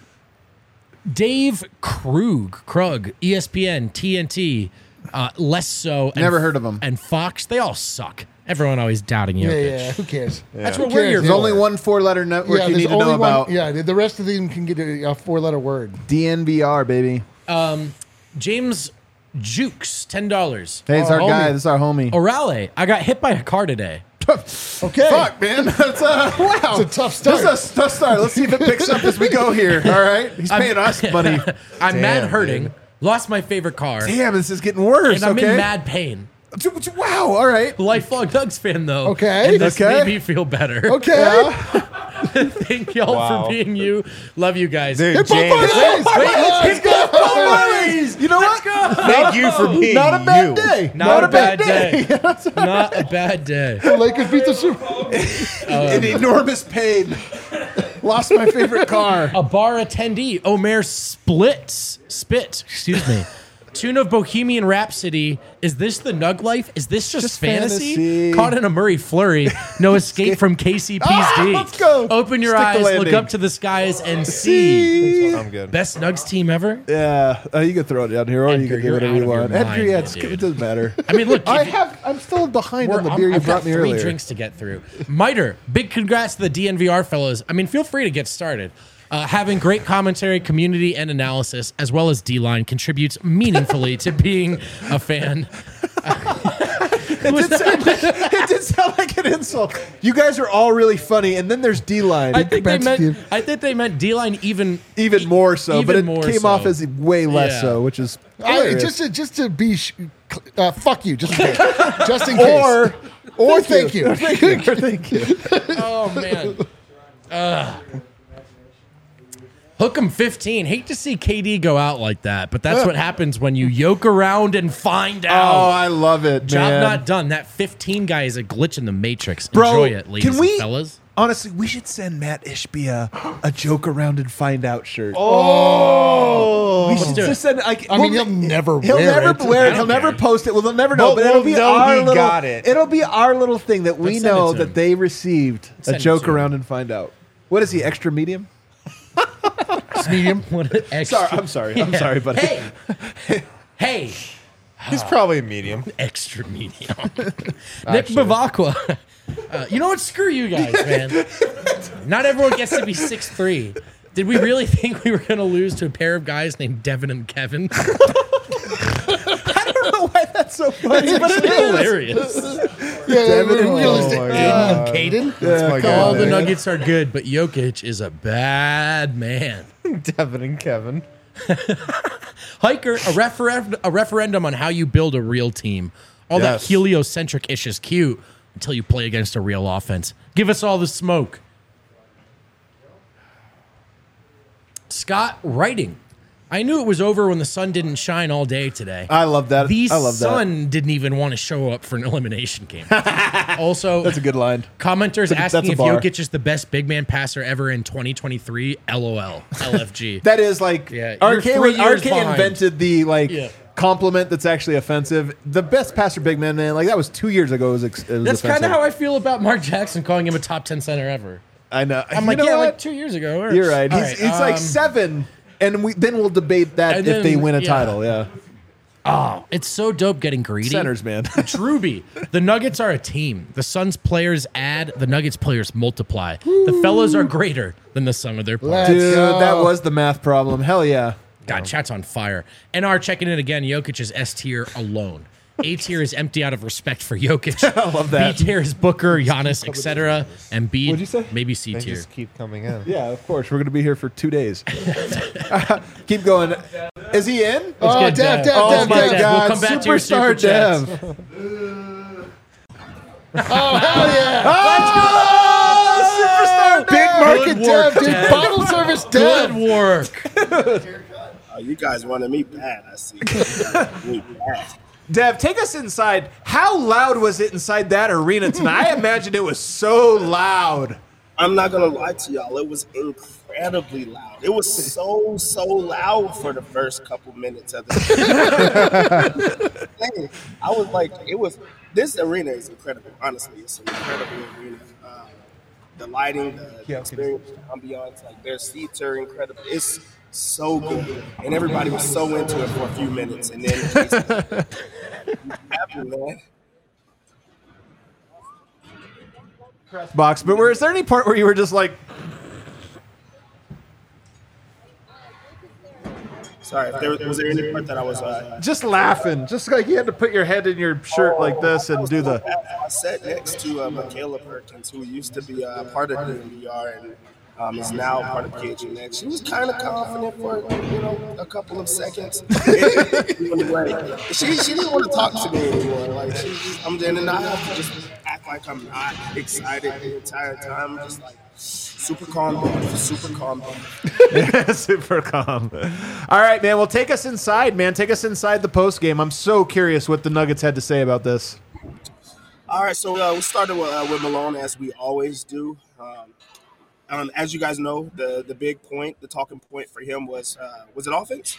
Speaker 4: Dave Krug, Krug, E S P N, T N T, uh, Less So. And,
Speaker 1: Never heard of 'em.
Speaker 4: And Fox, they all suck. Everyone always doubting
Speaker 3: Yeah,
Speaker 4: Jokic.
Speaker 3: yeah. Who cares?
Speaker 4: That's
Speaker 3: Who
Speaker 4: what we're
Speaker 3: cares?
Speaker 4: here
Speaker 1: There's
Speaker 4: for.
Speaker 1: only one four-letter network
Speaker 3: Yeah,
Speaker 1: you
Speaker 3: there's
Speaker 1: need to
Speaker 3: only
Speaker 1: know
Speaker 3: one.
Speaker 1: about.
Speaker 3: Yeah, the rest of them can get a, a four-letter word.
Speaker 1: D N V R, baby.
Speaker 4: James Jukes, ten dollars.
Speaker 1: Hey, it's
Speaker 3: Oh,
Speaker 1: our
Speaker 3: homie.
Speaker 1: guy. This is our homie.
Speaker 4: Orale, I got hit by a car today.
Speaker 3: Okay.
Speaker 1: Fuck, man. That's uh, wow.
Speaker 3: It's a tough start.
Speaker 1: This is a tough start. Let's see if it picks up as we go here. All right. He's paying us money.
Speaker 4: I'm
Speaker 2: Damn,
Speaker 4: mad hurting.
Speaker 2: dude.
Speaker 4: Lost my favorite car.
Speaker 1: Damn, this is getting worse.
Speaker 4: And I'm
Speaker 1: okay.
Speaker 4: in mad pain.
Speaker 1: Wow. All right.
Speaker 4: Lifelong Nugs fan, though.
Speaker 3: Okay.
Speaker 4: And this
Speaker 1: Okay.
Speaker 4: made me feel better.
Speaker 3: Okay.
Speaker 4: Thank y'all
Speaker 2: Wow.
Speaker 4: for being you. Love you guys.
Speaker 2: Dude,
Speaker 3: Hip hop
Speaker 2: James,
Speaker 3: parlays.
Speaker 4: Wait,
Speaker 3: Let's go.
Speaker 1: You know what?
Speaker 2: thank you for being
Speaker 1: Not a bad
Speaker 2: you.
Speaker 1: day.
Speaker 4: Not, a bad day. Not a bad day.
Speaker 3: The Lakers beat the Super.
Speaker 1: In enormous pain. Lost my favorite car.
Speaker 4: A bar attendee, Omer Splits, Spit, excuse me. Tune of Bohemian Rhapsody. Is this the Nug life? Is this just,
Speaker 1: Just
Speaker 4: fantasy?
Speaker 1: fantasy.
Speaker 4: Caught in a Murray flurry. No escape from K C P's
Speaker 1: Ah,
Speaker 4: D.
Speaker 1: let's go.
Speaker 4: Open your
Speaker 1: Stick the
Speaker 4: eyes, look
Speaker 1: landing.
Speaker 4: up to the skies, and see.
Speaker 2: I'm good.
Speaker 4: Best Nugs team ever?
Speaker 1: Yeah, uh, you can throw it down here, or you
Speaker 4: Edgar,
Speaker 1: can do
Speaker 4: you're
Speaker 1: whatever
Speaker 4: out
Speaker 1: you
Speaker 4: of your
Speaker 1: want.
Speaker 4: mind,
Speaker 1: Edgar, yeah, it's,
Speaker 4: dude.
Speaker 1: it doesn't matter.
Speaker 4: I mean, look.
Speaker 1: I
Speaker 4: if-
Speaker 1: have. I'm still behind
Speaker 4: We're-
Speaker 1: on the
Speaker 4: I'm-
Speaker 1: beer you
Speaker 4: I've
Speaker 1: brought
Speaker 4: got
Speaker 1: me
Speaker 4: three
Speaker 1: earlier.
Speaker 4: drinks to get through. Miter, big congrats to the D N V R fellows. I mean, feel free to get started. Uh, having great commentary, community, and analysis, as well as D-line, contributes meaningfully to being a fan.
Speaker 1: It did, sound like, it did sound like an insult. You guys are all really funny, and then there's D-line.
Speaker 4: I think they
Speaker 3: Thanks,
Speaker 4: meant.
Speaker 3: Steve.
Speaker 4: I think they meant D-line even.
Speaker 1: even more so,
Speaker 4: even
Speaker 1: but it
Speaker 4: more
Speaker 1: came
Speaker 4: so.
Speaker 1: off as way less
Speaker 4: Yeah.
Speaker 1: so, which is
Speaker 3: I,
Speaker 1: hilarious.
Speaker 3: just to just to be sh- uh, fuck you, just in case, just in case,
Speaker 1: or
Speaker 3: or thank you.
Speaker 1: thank you, or thank you.
Speaker 4: Oh man. Uh, Hook 'em fifteen. Hate to see K D go out like that, but that's what happens when you yoke around and find
Speaker 1: Oh,
Speaker 4: out.
Speaker 1: I love it,
Speaker 4: Job
Speaker 1: man.
Speaker 4: not done. That fifteen guy is a glitch in the matrix.
Speaker 1: Bro,
Speaker 4: Enjoy it, ladies
Speaker 1: can we,
Speaker 4: and fellas.
Speaker 1: honestly, we should send Matt Ishbia a joke around and find out shirt. Oh, we should
Speaker 4: do it.
Speaker 1: just send. Like,
Speaker 3: I mean, he'll never
Speaker 1: He'll
Speaker 3: wear
Speaker 1: never
Speaker 3: it.
Speaker 1: wear
Speaker 4: I
Speaker 1: it. He'll
Speaker 4: don't
Speaker 1: never
Speaker 4: care.
Speaker 1: post it. Well, they'll never know.
Speaker 2: But
Speaker 1: But, it'll
Speaker 2: we'll
Speaker 1: be
Speaker 2: know
Speaker 1: our
Speaker 2: he
Speaker 1: little.
Speaker 2: got it.
Speaker 1: It'll be our little thing that we
Speaker 4: Let's send it
Speaker 1: know
Speaker 4: to
Speaker 1: that
Speaker 4: him.
Speaker 1: they received
Speaker 4: Send
Speaker 1: a
Speaker 4: it
Speaker 1: joke
Speaker 4: to him.
Speaker 1: around and find out. What is he? Extra medium?
Speaker 4: Medium. What an extra.
Speaker 1: Sorry, I'm sorry. I'm
Speaker 4: Yeah.
Speaker 1: sorry, buddy.
Speaker 4: Hey, hey,
Speaker 2: He's probably a medium.
Speaker 4: extra medium. Nick Bavacqua. Uh, you know what? Screw you guys, man. Not everyone gets to be six three. Did we really think we were going to lose to a pair of guys named Devin and Kevin?
Speaker 1: I don't know why that's so funny, but it is.
Speaker 4: Hilarious.
Speaker 3: Yeah,
Speaker 1: Devin and-
Speaker 3: realistic.
Speaker 2: Oh my
Speaker 3: Aiden
Speaker 2: God.
Speaker 3: and Caden.
Speaker 2: That's my guy.
Speaker 4: All the
Speaker 2: man.
Speaker 4: Nuggets are good, but Jokic is a bad man.
Speaker 2: Devin and Kevin.
Speaker 4: Hiker, a, refer- a referendum on how you build a real team. All
Speaker 2: Yes.
Speaker 4: that heliocentric ish is cute until you play against a real offense. Give us all the smoke. Scott writing. I knew it was over when the sun didn't shine all day today.
Speaker 1: I love that.
Speaker 4: The
Speaker 1: I love that.
Speaker 4: sun didn't even want to show up for an elimination game. Also,
Speaker 1: That's a good line.
Speaker 4: commenters
Speaker 1: That's a-
Speaker 4: asking
Speaker 1: that's a
Speaker 4: if
Speaker 1: bar.
Speaker 4: Jokic is the best big man passer ever in twenty twenty-three. LOL. L F G.
Speaker 1: That is like
Speaker 4: Yeah,
Speaker 1: R
Speaker 4: you're
Speaker 1: K.
Speaker 4: three
Speaker 1: was- R
Speaker 4: years
Speaker 1: K
Speaker 4: behind.
Speaker 1: invented the like
Speaker 4: Yeah.
Speaker 1: compliment that's actually offensive. The best passer, big man, man. Like that was two years ago. It was, ex- it was
Speaker 4: That's kind
Speaker 1: offensive.
Speaker 4: of how I feel about Mark Jackson calling him a top ten center ever.
Speaker 1: I know.
Speaker 4: I'm
Speaker 1: You
Speaker 4: like,
Speaker 1: know
Speaker 4: yeah,
Speaker 1: what?
Speaker 4: like two years ago. Or-
Speaker 1: You're right.
Speaker 4: All
Speaker 1: He's, he's like
Speaker 4: um,
Speaker 1: seven, and we then we'll debate that
Speaker 4: And
Speaker 1: if they
Speaker 4: then-
Speaker 1: win a
Speaker 4: yeah.
Speaker 1: title. Yeah,
Speaker 4: Oh, it's so dope getting greedy.
Speaker 1: centers, man.
Speaker 4: Truby, the Nuggets are a team. The Suns players add, the Nuggets players multiply. The fellas are greater than the sum of their parts.
Speaker 3: Let's
Speaker 1: Dude,
Speaker 3: go.
Speaker 1: that was the math problem. Hell yeah.
Speaker 4: God, chat's on fire. N R checking in again. Jokic is S tier alone. A tier is empty out of respect for Jokic.
Speaker 1: I love that.
Speaker 4: B tier is Booker, Giannis, et cetera. And B,
Speaker 1: What'd you say?
Speaker 4: maybe C
Speaker 2: They
Speaker 4: tier.
Speaker 2: just keep coming in.
Speaker 1: Yeah, of course. We're gonna be here for two days. Keep going. Is he in?
Speaker 3: Oh,
Speaker 4: get
Speaker 3: Dev,
Speaker 4: Dev.
Speaker 3: Dev,
Speaker 1: Oh
Speaker 3: Dev,
Speaker 1: my
Speaker 3: Dev.
Speaker 4: We'll
Speaker 1: God!
Speaker 4: come back to your
Speaker 1: Superstar
Speaker 4: super chats.
Speaker 1: Dev.
Speaker 3: Oh, hell yeah.
Speaker 1: Oh, superstar
Speaker 3: Big
Speaker 1: Dev.
Speaker 3: market
Speaker 4: Good work,
Speaker 3: Dev, dude.
Speaker 4: Dev.
Speaker 3: Bottle service
Speaker 4: Good
Speaker 3: Dev.
Speaker 4: work.
Speaker 7: Oh, you guys wanted me bad, I see. You guys wanted me bad.
Speaker 1: Dev, take us inside. How loud was it inside that arena tonight? I imagine it was so loud.
Speaker 7: I'm not gonna lie to y'all, it was incredibly loud. It was so, so loud for the first couple minutes of the game. I was like, it was, this arena is incredible, honestly. It's an incredible arena. Uh, the lighting, the experience, the ambiance, like their seats are incredible. It's so good. And everybody was so into it for a few minutes. And then, happy, man.
Speaker 1: Box, but was there any part where you were just like,
Speaker 7: Sorry, if there was, was there any part that I was uh,
Speaker 1: just laughing, just like you had to put your head in your shirt like this and do the.
Speaker 7: I sat next to uh, Michaela Perkins, who used to be uh, part of the N B R and um, is now part of P H N X. She was kind of confident for you know a couple of seconds. Like, she she didn't want to talk to me anymore. Like she, I'm then and I have to just act like I'm not excited the entire time. I'm just like super calm, down, super calm. Down.
Speaker 1: Super calm. All right, man. Well, take us inside, man. Take us inside the post game. I'm so curious what the Nuggets had to say about this.
Speaker 7: All right, so uh, we started with, uh, with Malone as we always do. Um, um, as you guys know, the the big point, the talking point for him was uh, was it offense?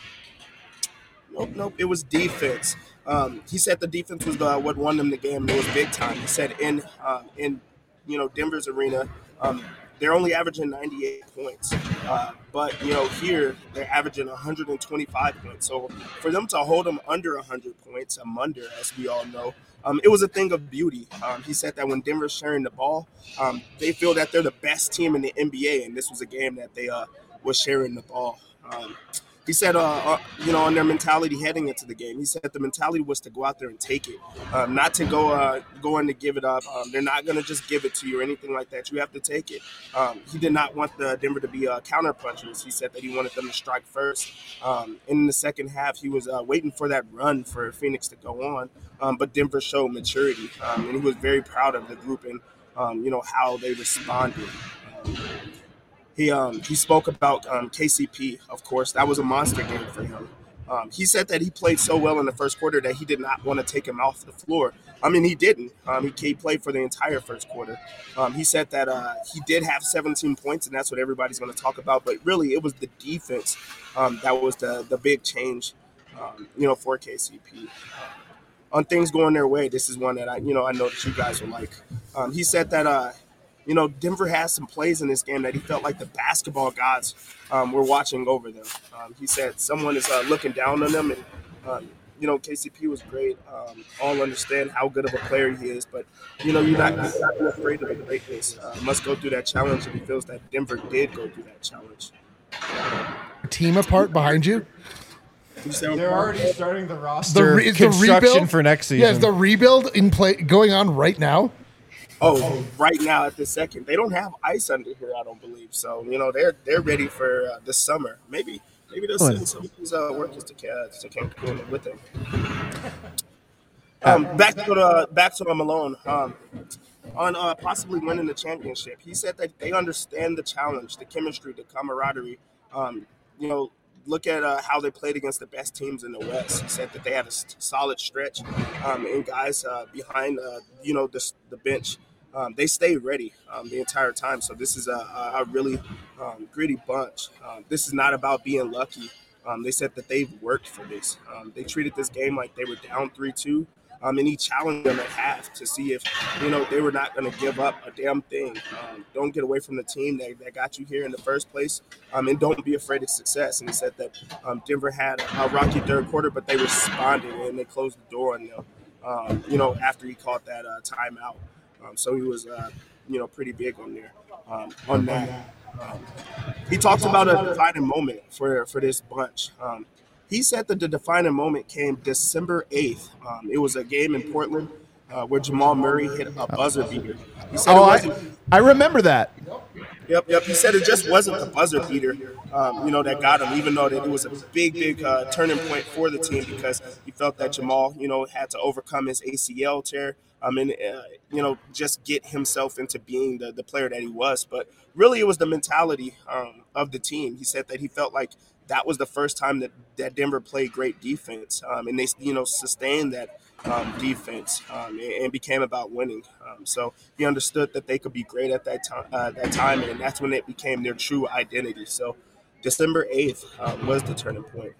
Speaker 7: Nope, nope. It was defense. Um, he said the defense was the, what won them the game. It was big time. He said in um, in you know Denver's arena. Um, They're only averaging ninety-eight points, uh, but you know here they're averaging one hundred twenty-five points. So for them to hold them under one hundred points, I'm under, as we all know, um, it was a thing of beauty. Um, he said that when Denver's sharing the ball, um, they feel that they're the best team in the N B A, and this was a game that they uh, was sharing the ball. Um, He said, uh, uh, you know, on their mentality heading into the game, he said the mentality was to go out there and take it, um, not to go uh, go in to give it up. Um, they're not going to just give it to you or anything like that. You have to take it. Um, he did not want the Denver to be uh, counter punchers. He said that he wanted them to strike first. Um, in the second half, he was uh, waiting for that run for Phoenix to go on, um, but Denver showed maturity, um, and he was very proud of the group and, um, you know, how they responded. Um, He um, he spoke about um, K C P, of course. That was a monster game for him. Um, he said that he played so well in the first quarter that he did not want to take him off the floor. I mean, he didn't. Um, he, he played for the entire first quarter. Um, he said that uh, he did have seventeen points, and that's what everybody's going to talk about. But really, it was the defense um, that was the, the big change, um, you know, for K C P. On things going their way, this is one that I, you know, I know that you guys will like. Um, he said that uh, – You know, Denver has some plays in this game that he felt like the basketball gods um, were watching over them. Um, he said someone is uh, looking down on them, and um, you know, K C P was great. Um, all understand how good of a player he is, but you know, you're not, you're not afraid of the greatness. Uh, must go through that challenge, and he feels that Denver did go through that challenge.
Speaker 3: Team apart behind you.
Speaker 2: They're already starting the roster
Speaker 3: The re- is the
Speaker 2: construction
Speaker 3: rebuild
Speaker 2: for next season.
Speaker 3: Yeah, is the rebuild in play going on right now?
Speaker 7: Oh, right now at this second, they don't have ice under here. I don't believe so. You know, they're they're ready for uh, the summer. Maybe maybe they'll send some of these uh, workers to Ca- to Cancun with them. Um, back to the back to Malone. Um, on uh, possibly winning the championship, he said that they understand the challenge, the chemistry, the camaraderie. Um, you know, look at uh, how they played against the best teams in the West. He said that they had a st- solid stretch, um, and guys uh, behind, uh, you know, the, the bench. Um, they stayed ready um, the entire time. So this is a, a really um, gritty bunch. Um, this is not about being lucky. Um, they said that they've worked for this. Um, they treated this game like they were down three two. Um, and he challenged them at half to see if, you know, they were not going to give up a damn thing. Um, don't get away from the team that, that got you here in the first place, um, and don't be afraid of success. And he said that um, Denver had a rocky third quarter, but they responded and they closed the door on them, um, you know, after he caught that uh, timeout. Um, so he was, uh, you know, pretty big on there, um, on that. Um, he talked about a defining moment for, for this bunch. Um, He said that the defining moment came December eighth. Um, it was a game in Portland uh, where Jamal Murray hit a buzzer beater. He said
Speaker 1: Oh,
Speaker 7: it
Speaker 1: I,
Speaker 7: wasn't.
Speaker 1: I remember that.
Speaker 7: Yep, yep. He said it just wasn't the buzzer beater, um, you know, that got him, even though that it was a big, big uh, turning point for the team because he felt that Jamal, you know, had to overcome his A C L tear um, and, uh, you know, just get himself into being the, the player that he was. But really it was the mentality um, of the team. He said that he felt like that was the first time that, that Denver played great defense, um, and they, you know, sustained that um, defense um, and, and became about winning. Um, so he understood that they could be great at that time, uh, that time, and that's when it became their true identity. So December eighth um, was the turning point.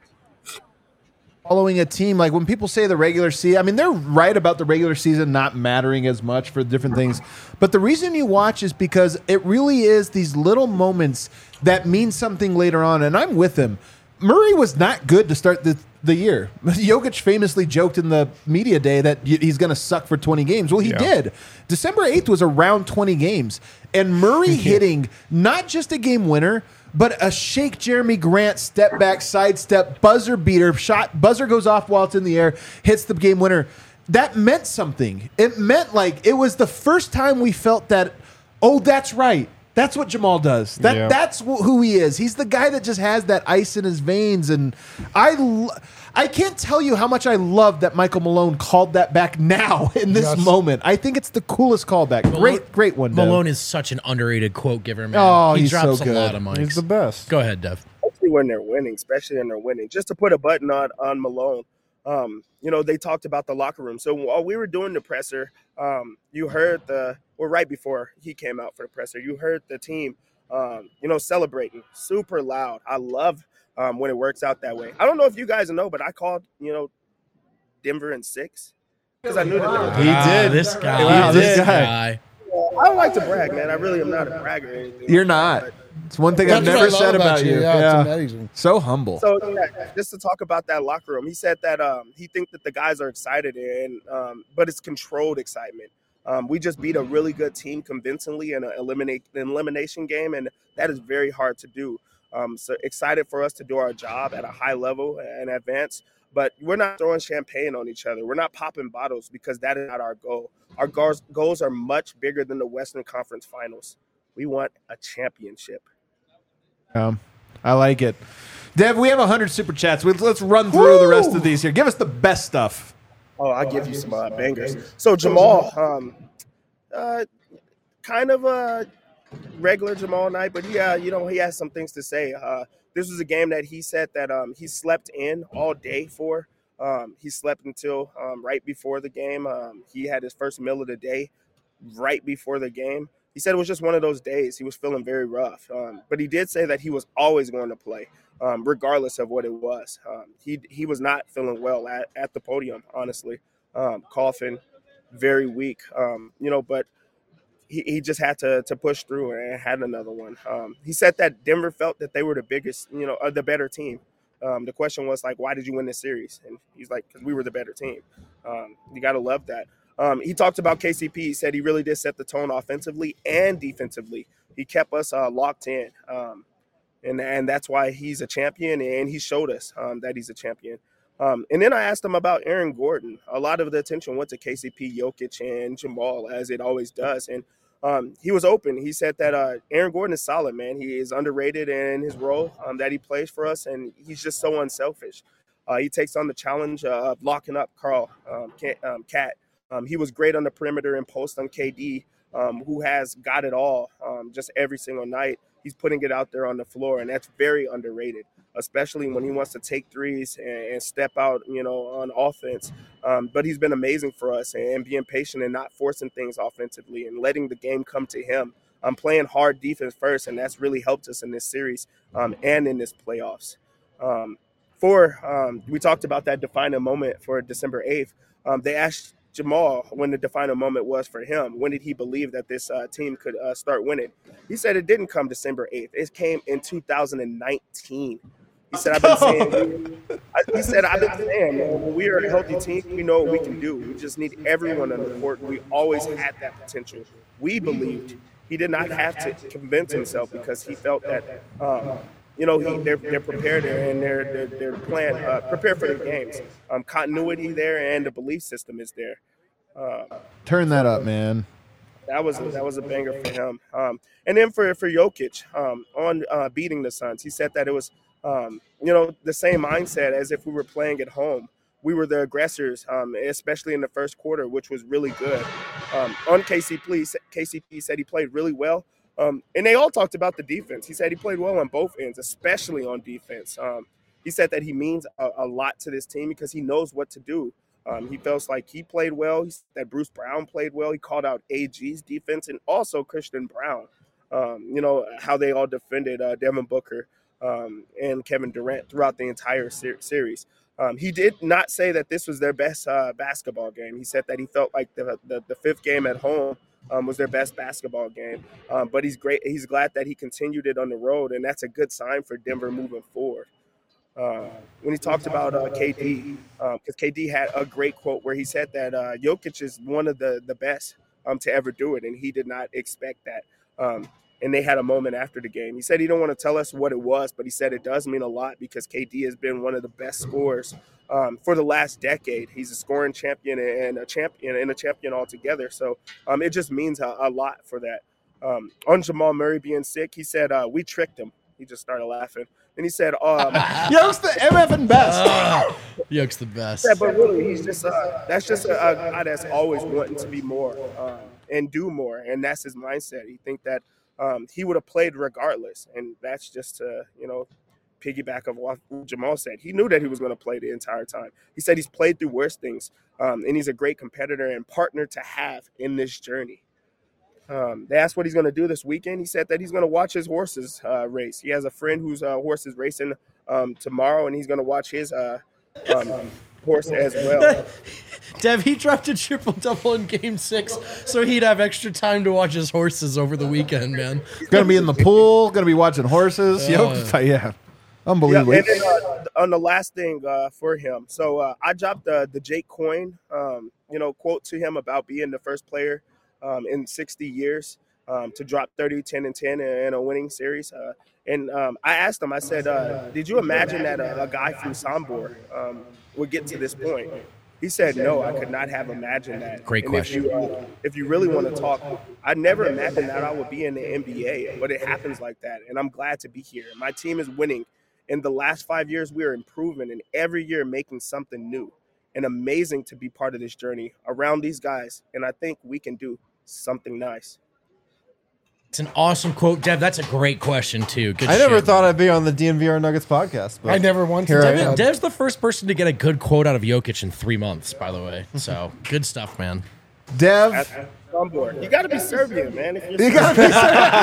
Speaker 1: Following a team, like when people say the regular season, I mean, they're right about the regular season not mattering as much for different things. But the reason you watch is because it really is these little moments that mean something later on. And I'm with him. Murray was not good to start the, the year. Jokic famously joked in the media day that he's going to suck for twenty games. Well, he
Speaker 2: Yeah.
Speaker 1: did. December eighth was around twenty games. And Murray hitting not just a game winner, but a Shake Jeremy Grant step back, sidestep, buzzer beater, shot, buzzer goes off while it's in the air, hits the game winner. That meant something. It meant like it was the first time we felt that, oh, that's right. That's what Jamal does. That
Speaker 2: Yeah.
Speaker 1: That's wh- who he is. He's the guy that just has that ice in his veins. And I, lo- I can't tell you how much I love that Michael Malone called that back now in this
Speaker 3: Yes.
Speaker 1: moment. I think it's the coolest callback. Great, great one, Dev.
Speaker 4: Malone is such an underrated quote giver, man.
Speaker 1: Oh,
Speaker 4: he
Speaker 1: he's
Speaker 4: drops
Speaker 1: so
Speaker 4: a
Speaker 1: good.
Speaker 4: lot of mics.
Speaker 2: He's the best.
Speaker 4: Go ahead, Dev.
Speaker 7: Especially when they're winning, especially when they're winning. Just to put a button on on Malone, um, you know, they talked about the locker room. So while we were doing the presser, um, you heard the, well, right before he came out for the presser, you heard the team, um, you know, celebrating super loud. I love um, when it works out that way. I don't know if you guys know, but I called, you know, Denver in six because I knew that they were
Speaker 2: He
Speaker 4: Ah,
Speaker 2: did.
Speaker 4: This guy.
Speaker 1: Wow,
Speaker 4: this
Speaker 1: this guy.
Speaker 4: guy.
Speaker 7: I don't like to brag, man. I really am not a bragger or anything.
Speaker 1: You're not. It's one thing I've
Speaker 3: That's what
Speaker 1: never
Speaker 3: I love
Speaker 1: said about you.
Speaker 3: Yeah,
Speaker 1: Yeah.
Speaker 3: it's amazing.
Speaker 1: So humble.
Speaker 7: So yeah, just to talk about that locker room, he said that um, he thinks that the guys are excited, and um, but it's controlled excitement. Um, we just beat a really good team convincingly in an eliminate an elimination game, and that is very hard to do. Um, so excited for us to do our job at a high level and advance. But we're not throwing champagne on each other. We're not popping bottles because that is not our goal. Our goals, goals are much bigger than the Western Conference Finals. We want a championship.
Speaker 1: Um, I like it. Dev, we have one hundred super chats. We- Let's run through the rest of these here. Give us the best stuff.
Speaker 7: Oh, I'll give you some uh, bangers. So Jamal, um, uh, kind of a regular Jamal night, but yeah, you know, he has some things to say. Uh, this was a game that he said that um, he slept in all day for. Um, he slept until um, right before the game. Um, he had his first meal of the day right before the game. He said it was just one of those days. He was feeling very rough. Um, but he did say that he was always going to play, um, regardless of what it was. Um, he he was not feeling well at, at the podium, honestly. Um, coughing, very weak, um, you know, but he, he just had to to push through and had another one. Um, he said that Denver felt that they were the biggest, you know, uh, the better team. Um, the question was like, why did you win this series? And he's like, because we were the better team. Um, you got to love that. Um, he talked about K C P. He said he really did set the tone offensively and defensively. He kept us uh, locked in, um, and and that's why he's a champion, and he showed us um, that he's a champion. Um, and then I asked him about Aaron Gordon. A lot of the attention went to K C P, Jokic, and Jamal, as it always does. And um, he was open. He said that uh, Aaron Gordon is solid, man. He is underrated in his role um, that he plays for us, and he's just so unselfish. Uh, he takes on the challenge uh, of locking up Carl um, Cat. Um, Cat. Um, he was great on the perimeter and post on K D, um, who has got it all um, just every single night. He's putting it out there on the floor, and that's very underrated, especially when he wants to take threes and, and step out, you know, on offense. Um, but he's been amazing for us and, and being patient and not forcing things offensively and letting the game come to him. I'm playing hard defense first, and that's really helped us in this series um, and in this playoffs. Um, for um, we talked about that defining moment for December eighth. Um, they asked Jamal when the defining moment was for him. When did he believe that this uh, team could uh, start winning? He said it didn't come December eighth. It came in two thousand nineteen. He said, I've been saying, he said, I've been saying, man, when we are a healthy team, we know what we can do. We just need everyone on the court. We always had that potential. We believed. He did not have to convince himself because he felt that, um, you know, he, they're, they're prepared and they're, they're, they're plan, uh, prepared for their games. Um, continuity there and the belief system is there. Uh,
Speaker 1: Turn that up, man.
Speaker 7: That was a, that was a banger for him. Um, and then for for Jokic um, on uh, beating the Suns, he said that it was um, you know the same mindset as if we were playing at home. We were the aggressors, um, especially in the first quarter, which was really good. Um, on K C P, K C P said he played really well, um, and they all talked about the defense. He said he played well on both ends, especially on defense. Um, he said that he means a, a lot to this team because he knows what to do. Um, he feels like he played well. He said that Bruce Brown played well. He called out A G's defense and also Christian Brown. Um, you know, how they all defended uh, Devin Booker um, and Kevin Durant throughout the entire ser- series. Um, he did not say that this was their best uh, basketball game. He said that he felt like the, the, the fifth game at home um, was their best basketball game. Um, but he's great. He's glad that he continued it on the road, and that's a good sign for Denver moving forward. Uh, when he talked about uh, K D, because um, K D had a great quote where he said that uh, Jokic is one of the, the best um, to ever do it, and he did not expect that. Um, and they had a moment after the game. He said he don't want to tell us what it was, but he said it does mean a lot because K D has been one of the best scorers um, for the last decade. He's a scoring champion and a champion and a champion altogether. So um, it just means a, a lot for that. Um, on Jamal Murray being sick, he said, uh, we tricked him. He just started laughing. And he said, um,
Speaker 1: Yo's the M F and best.
Speaker 4: Uh, Yoke's the best.
Speaker 7: said, but really, he's just uh, that's just a, a guy that's always wanting to be more um, and do more. And that's his mindset. He think that um, he would have played regardless. And that's just to, you know, piggyback of what Jamal said. He knew that he was going to play the entire time. He said he's played through worse things. Um, and he's a great competitor and partner to have in this journey. Um, they asked what he's going to do this weekend. He said that he's going to watch his horses uh, race. He has a friend whose uh, horse is racing um, tomorrow, and he's going to watch his uh, um, horse as well.
Speaker 4: Dev, he dropped a triple double in game six, so he'd have extra time to watch his horses over the weekend, man.
Speaker 1: Gonna be in the pool. Gonna be watching horses. Yo, yeah, unbelievable.
Speaker 7: Yeah, and then, uh, on the last thing uh, for him, so uh, I dropped the the Jake Coyne, um, you know, quote to him about being the first player um, in sixty years um, to drop thirty, ten, and ten in a winning series. Uh, and um, I asked him, I said, uh, did you imagine that a, a guy from Sombor um, would get to this point? He said, no, I could not have imagined that.
Speaker 4: Great
Speaker 7: and
Speaker 4: question.
Speaker 7: If you, uh, if you really want to talk, I never imagined that I would be in the N B A, but it happens like that. And I'm glad to be here. My team is winning. In the last five years, we are improving, and every year making something new. And amazing to be part of this journey around these guys. And I think we can do something nice.
Speaker 4: It's an awesome quote, Dev. That's a great question too. Good
Speaker 2: I never
Speaker 4: shit.
Speaker 2: thought I'd be on the D N V R Nuggets podcast. But
Speaker 3: I never once.
Speaker 2: Here I
Speaker 3: did
Speaker 2: am.
Speaker 3: that.
Speaker 4: Dev's the first person to get a good quote out of Jokic in three months, by the way. So good stuff, man.
Speaker 1: Dev,
Speaker 7: At, at Sombor. You got to be Serbian, man. If you're
Speaker 1: you gotta be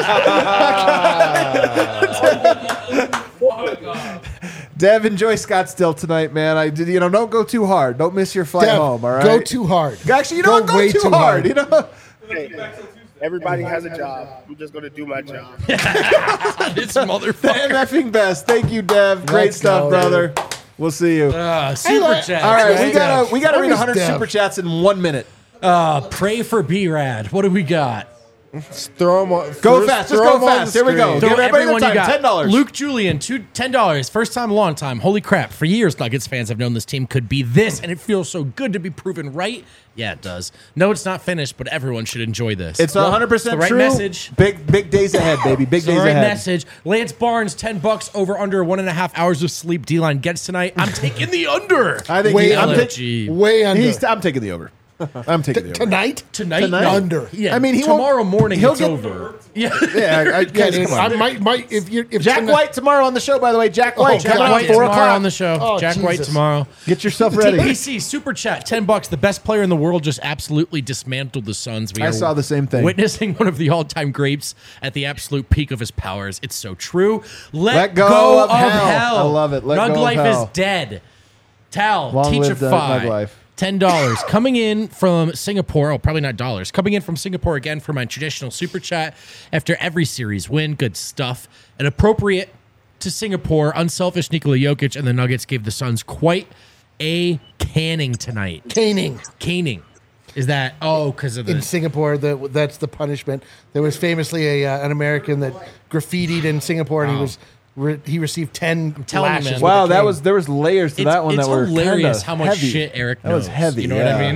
Speaker 1: Dev, enjoy Scottsdale tonight, man. I did, you know, don't go too hard. Don't miss your flight
Speaker 3: Dev,
Speaker 1: home. All right.
Speaker 3: Go too hard.
Speaker 7: Uh,
Speaker 1: Actually, you don't go,
Speaker 3: way
Speaker 1: too,
Speaker 3: too
Speaker 1: hard,
Speaker 3: hard.
Speaker 1: You know.
Speaker 7: Hey, everybody has a job. I'm just going to do my job.
Speaker 4: This
Speaker 1: The
Speaker 4: motherfucker.
Speaker 1: MFing best. Thank you, Dev. Great
Speaker 3: Let's
Speaker 1: stuff,
Speaker 3: go,
Speaker 1: brother. We'll see you.
Speaker 4: Uh, super
Speaker 3: look.
Speaker 4: chat.
Speaker 1: All right, we
Speaker 3: Dev.
Speaker 1: gotta we gotta
Speaker 3: Where
Speaker 1: read
Speaker 3: is
Speaker 1: one hundred
Speaker 3: Dev?
Speaker 1: super chats in one minute.
Speaker 4: Uh, pray for B-Rad. What do we got?
Speaker 2: Throw 'em on,
Speaker 1: Go
Speaker 2: just
Speaker 1: fast. Just
Speaker 2: throw
Speaker 1: go
Speaker 2: 'em on
Speaker 1: fast.
Speaker 2: the
Speaker 1: Here we go.
Speaker 2: screen.
Speaker 1: Give
Speaker 4: Throw
Speaker 1: everybody
Speaker 4: everyone
Speaker 1: the
Speaker 4: you
Speaker 1: time.
Speaker 4: got.
Speaker 1: ten dollars.
Speaker 4: Luke Julian, two, ten dollars. First time, long time. Holy crap. For years, Nuggets fans have known this team could be this, and it feels so good to be proven right. Yeah, it does. No, it's not finished, but everyone should enjoy this.
Speaker 1: It's
Speaker 4: Well,
Speaker 1: one hundred percent
Speaker 4: it's the
Speaker 1: true.
Speaker 4: right message.
Speaker 1: Big big days ahead, baby. Big
Speaker 4: It's the
Speaker 1: days
Speaker 4: right
Speaker 1: ahead.
Speaker 4: message. Lance Barnes, ten bucks over under one and a half hours of sleep. D-line gets tonight. I'm taking the under.
Speaker 1: I think
Speaker 3: Way
Speaker 1: he, I'm,
Speaker 3: under.
Speaker 1: ta-
Speaker 4: Gee.
Speaker 3: Way under.
Speaker 1: he's, I'm taking the over. I'm taking the over.
Speaker 3: Tonight?
Speaker 4: Tonight,
Speaker 1: Tonight?
Speaker 4: no.
Speaker 3: Under.
Speaker 4: Yeah,
Speaker 1: I mean, he won't-
Speaker 4: tomorrow morning
Speaker 1: he'll
Speaker 4: it's
Speaker 1: get-
Speaker 4: over. Yeah,
Speaker 1: Yeah, I, I,
Speaker 3: Yeah,
Speaker 1: guys,
Speaker 3: dude,
Speaker 1: come
Speaker 3: I
Speaker 1: on.
Speaker 3: might, might, if you, if
Speaker 1: Jack
Speaker 3: tonight-
Speaker 1: White tomorrow on the show. By the way, Jack White
Speaker 3: Jack
Speaker 1: coming
Speaker 4: Jack
Speaker 1: on
Speaker 4: White
Speaker 1: four
Speaker 4: tomorrow
Speaker 1: o'clock
Speaker 4: on the show.
Speaker 3: Oh,
Speaker 4: Jack White
Speaker 3: Jesus.
Speaker 4: tomorrow.
Speaker 1: Get yourself
Speaker 4: T
Speaker 1: ready.
Speaker 4: B C Super Chat, ten bucks. The best player in the world just absolutely dismantled the Suns. We
Speaker 1: I
Speaker 4: are
Speaker 1: saw the same thing.
Speaker 4: Witnessing one of the all-time greats at the absolute peak of his powers. It's so true. Let,
Speaker 1: Let go
Speaker 4: go,
Speaker 1: of
Speaker 4: of,
Speaker 1: hell.
Speaker 4: hell.
Speaker 1: I love it. Let
Speaker 4: Nug
Speaker 1: go of
Speaker 4: life
Speaker 1: hell.
Speaker 4: is dead. Tal,
Speaker 1: Long
Speaker 4: teach a
Speaker 1: live the
Speaker 4: five.
Speaker 1: Nug life.
Speaker 4: ten dollars. Coming in from Singapore. Oh, probably not dollars. Coming in from Singapore again for my traditional super chat after every series win. Good stuff. And appropriate to Singapore, unselfish Nikola Jokic and the Nuggets gave the Suns quite a canning tonight.
Speaker 3: Caning.
Speaker 4: Caning. Is that, oh, because of
Speaker 3: In
Speaker 4: the.
Speaker 3: Singapore, the, that's the punishment. There was famously a uh, an American that graffitied in Singapore, and he was re- he received ten
Speaker 4: telling you,
Speaker 3: lashes.
Speaker 4: man.
Speaker 3: with
Speaker 1: Wow,
Speaker 3: a
Speaker 1: that
Speaker 3: cane.
Speaker 1: was there was layers to
Speaker 4: It's,
Speaker 1: that one
Speaker 4: it's
Speaker 1: that were
Speaker 4: hilarious
Speaker 1: kinda
Speaker 4: how much
Speaker 1: heavy.
Speaker 4: shit Eric
Speaker 1: That
Speaker 4: knows.
Speaker 1: was heavy.
Speaker 4: You know
Speaker 1: yeah.
Speaker 4: what I mean?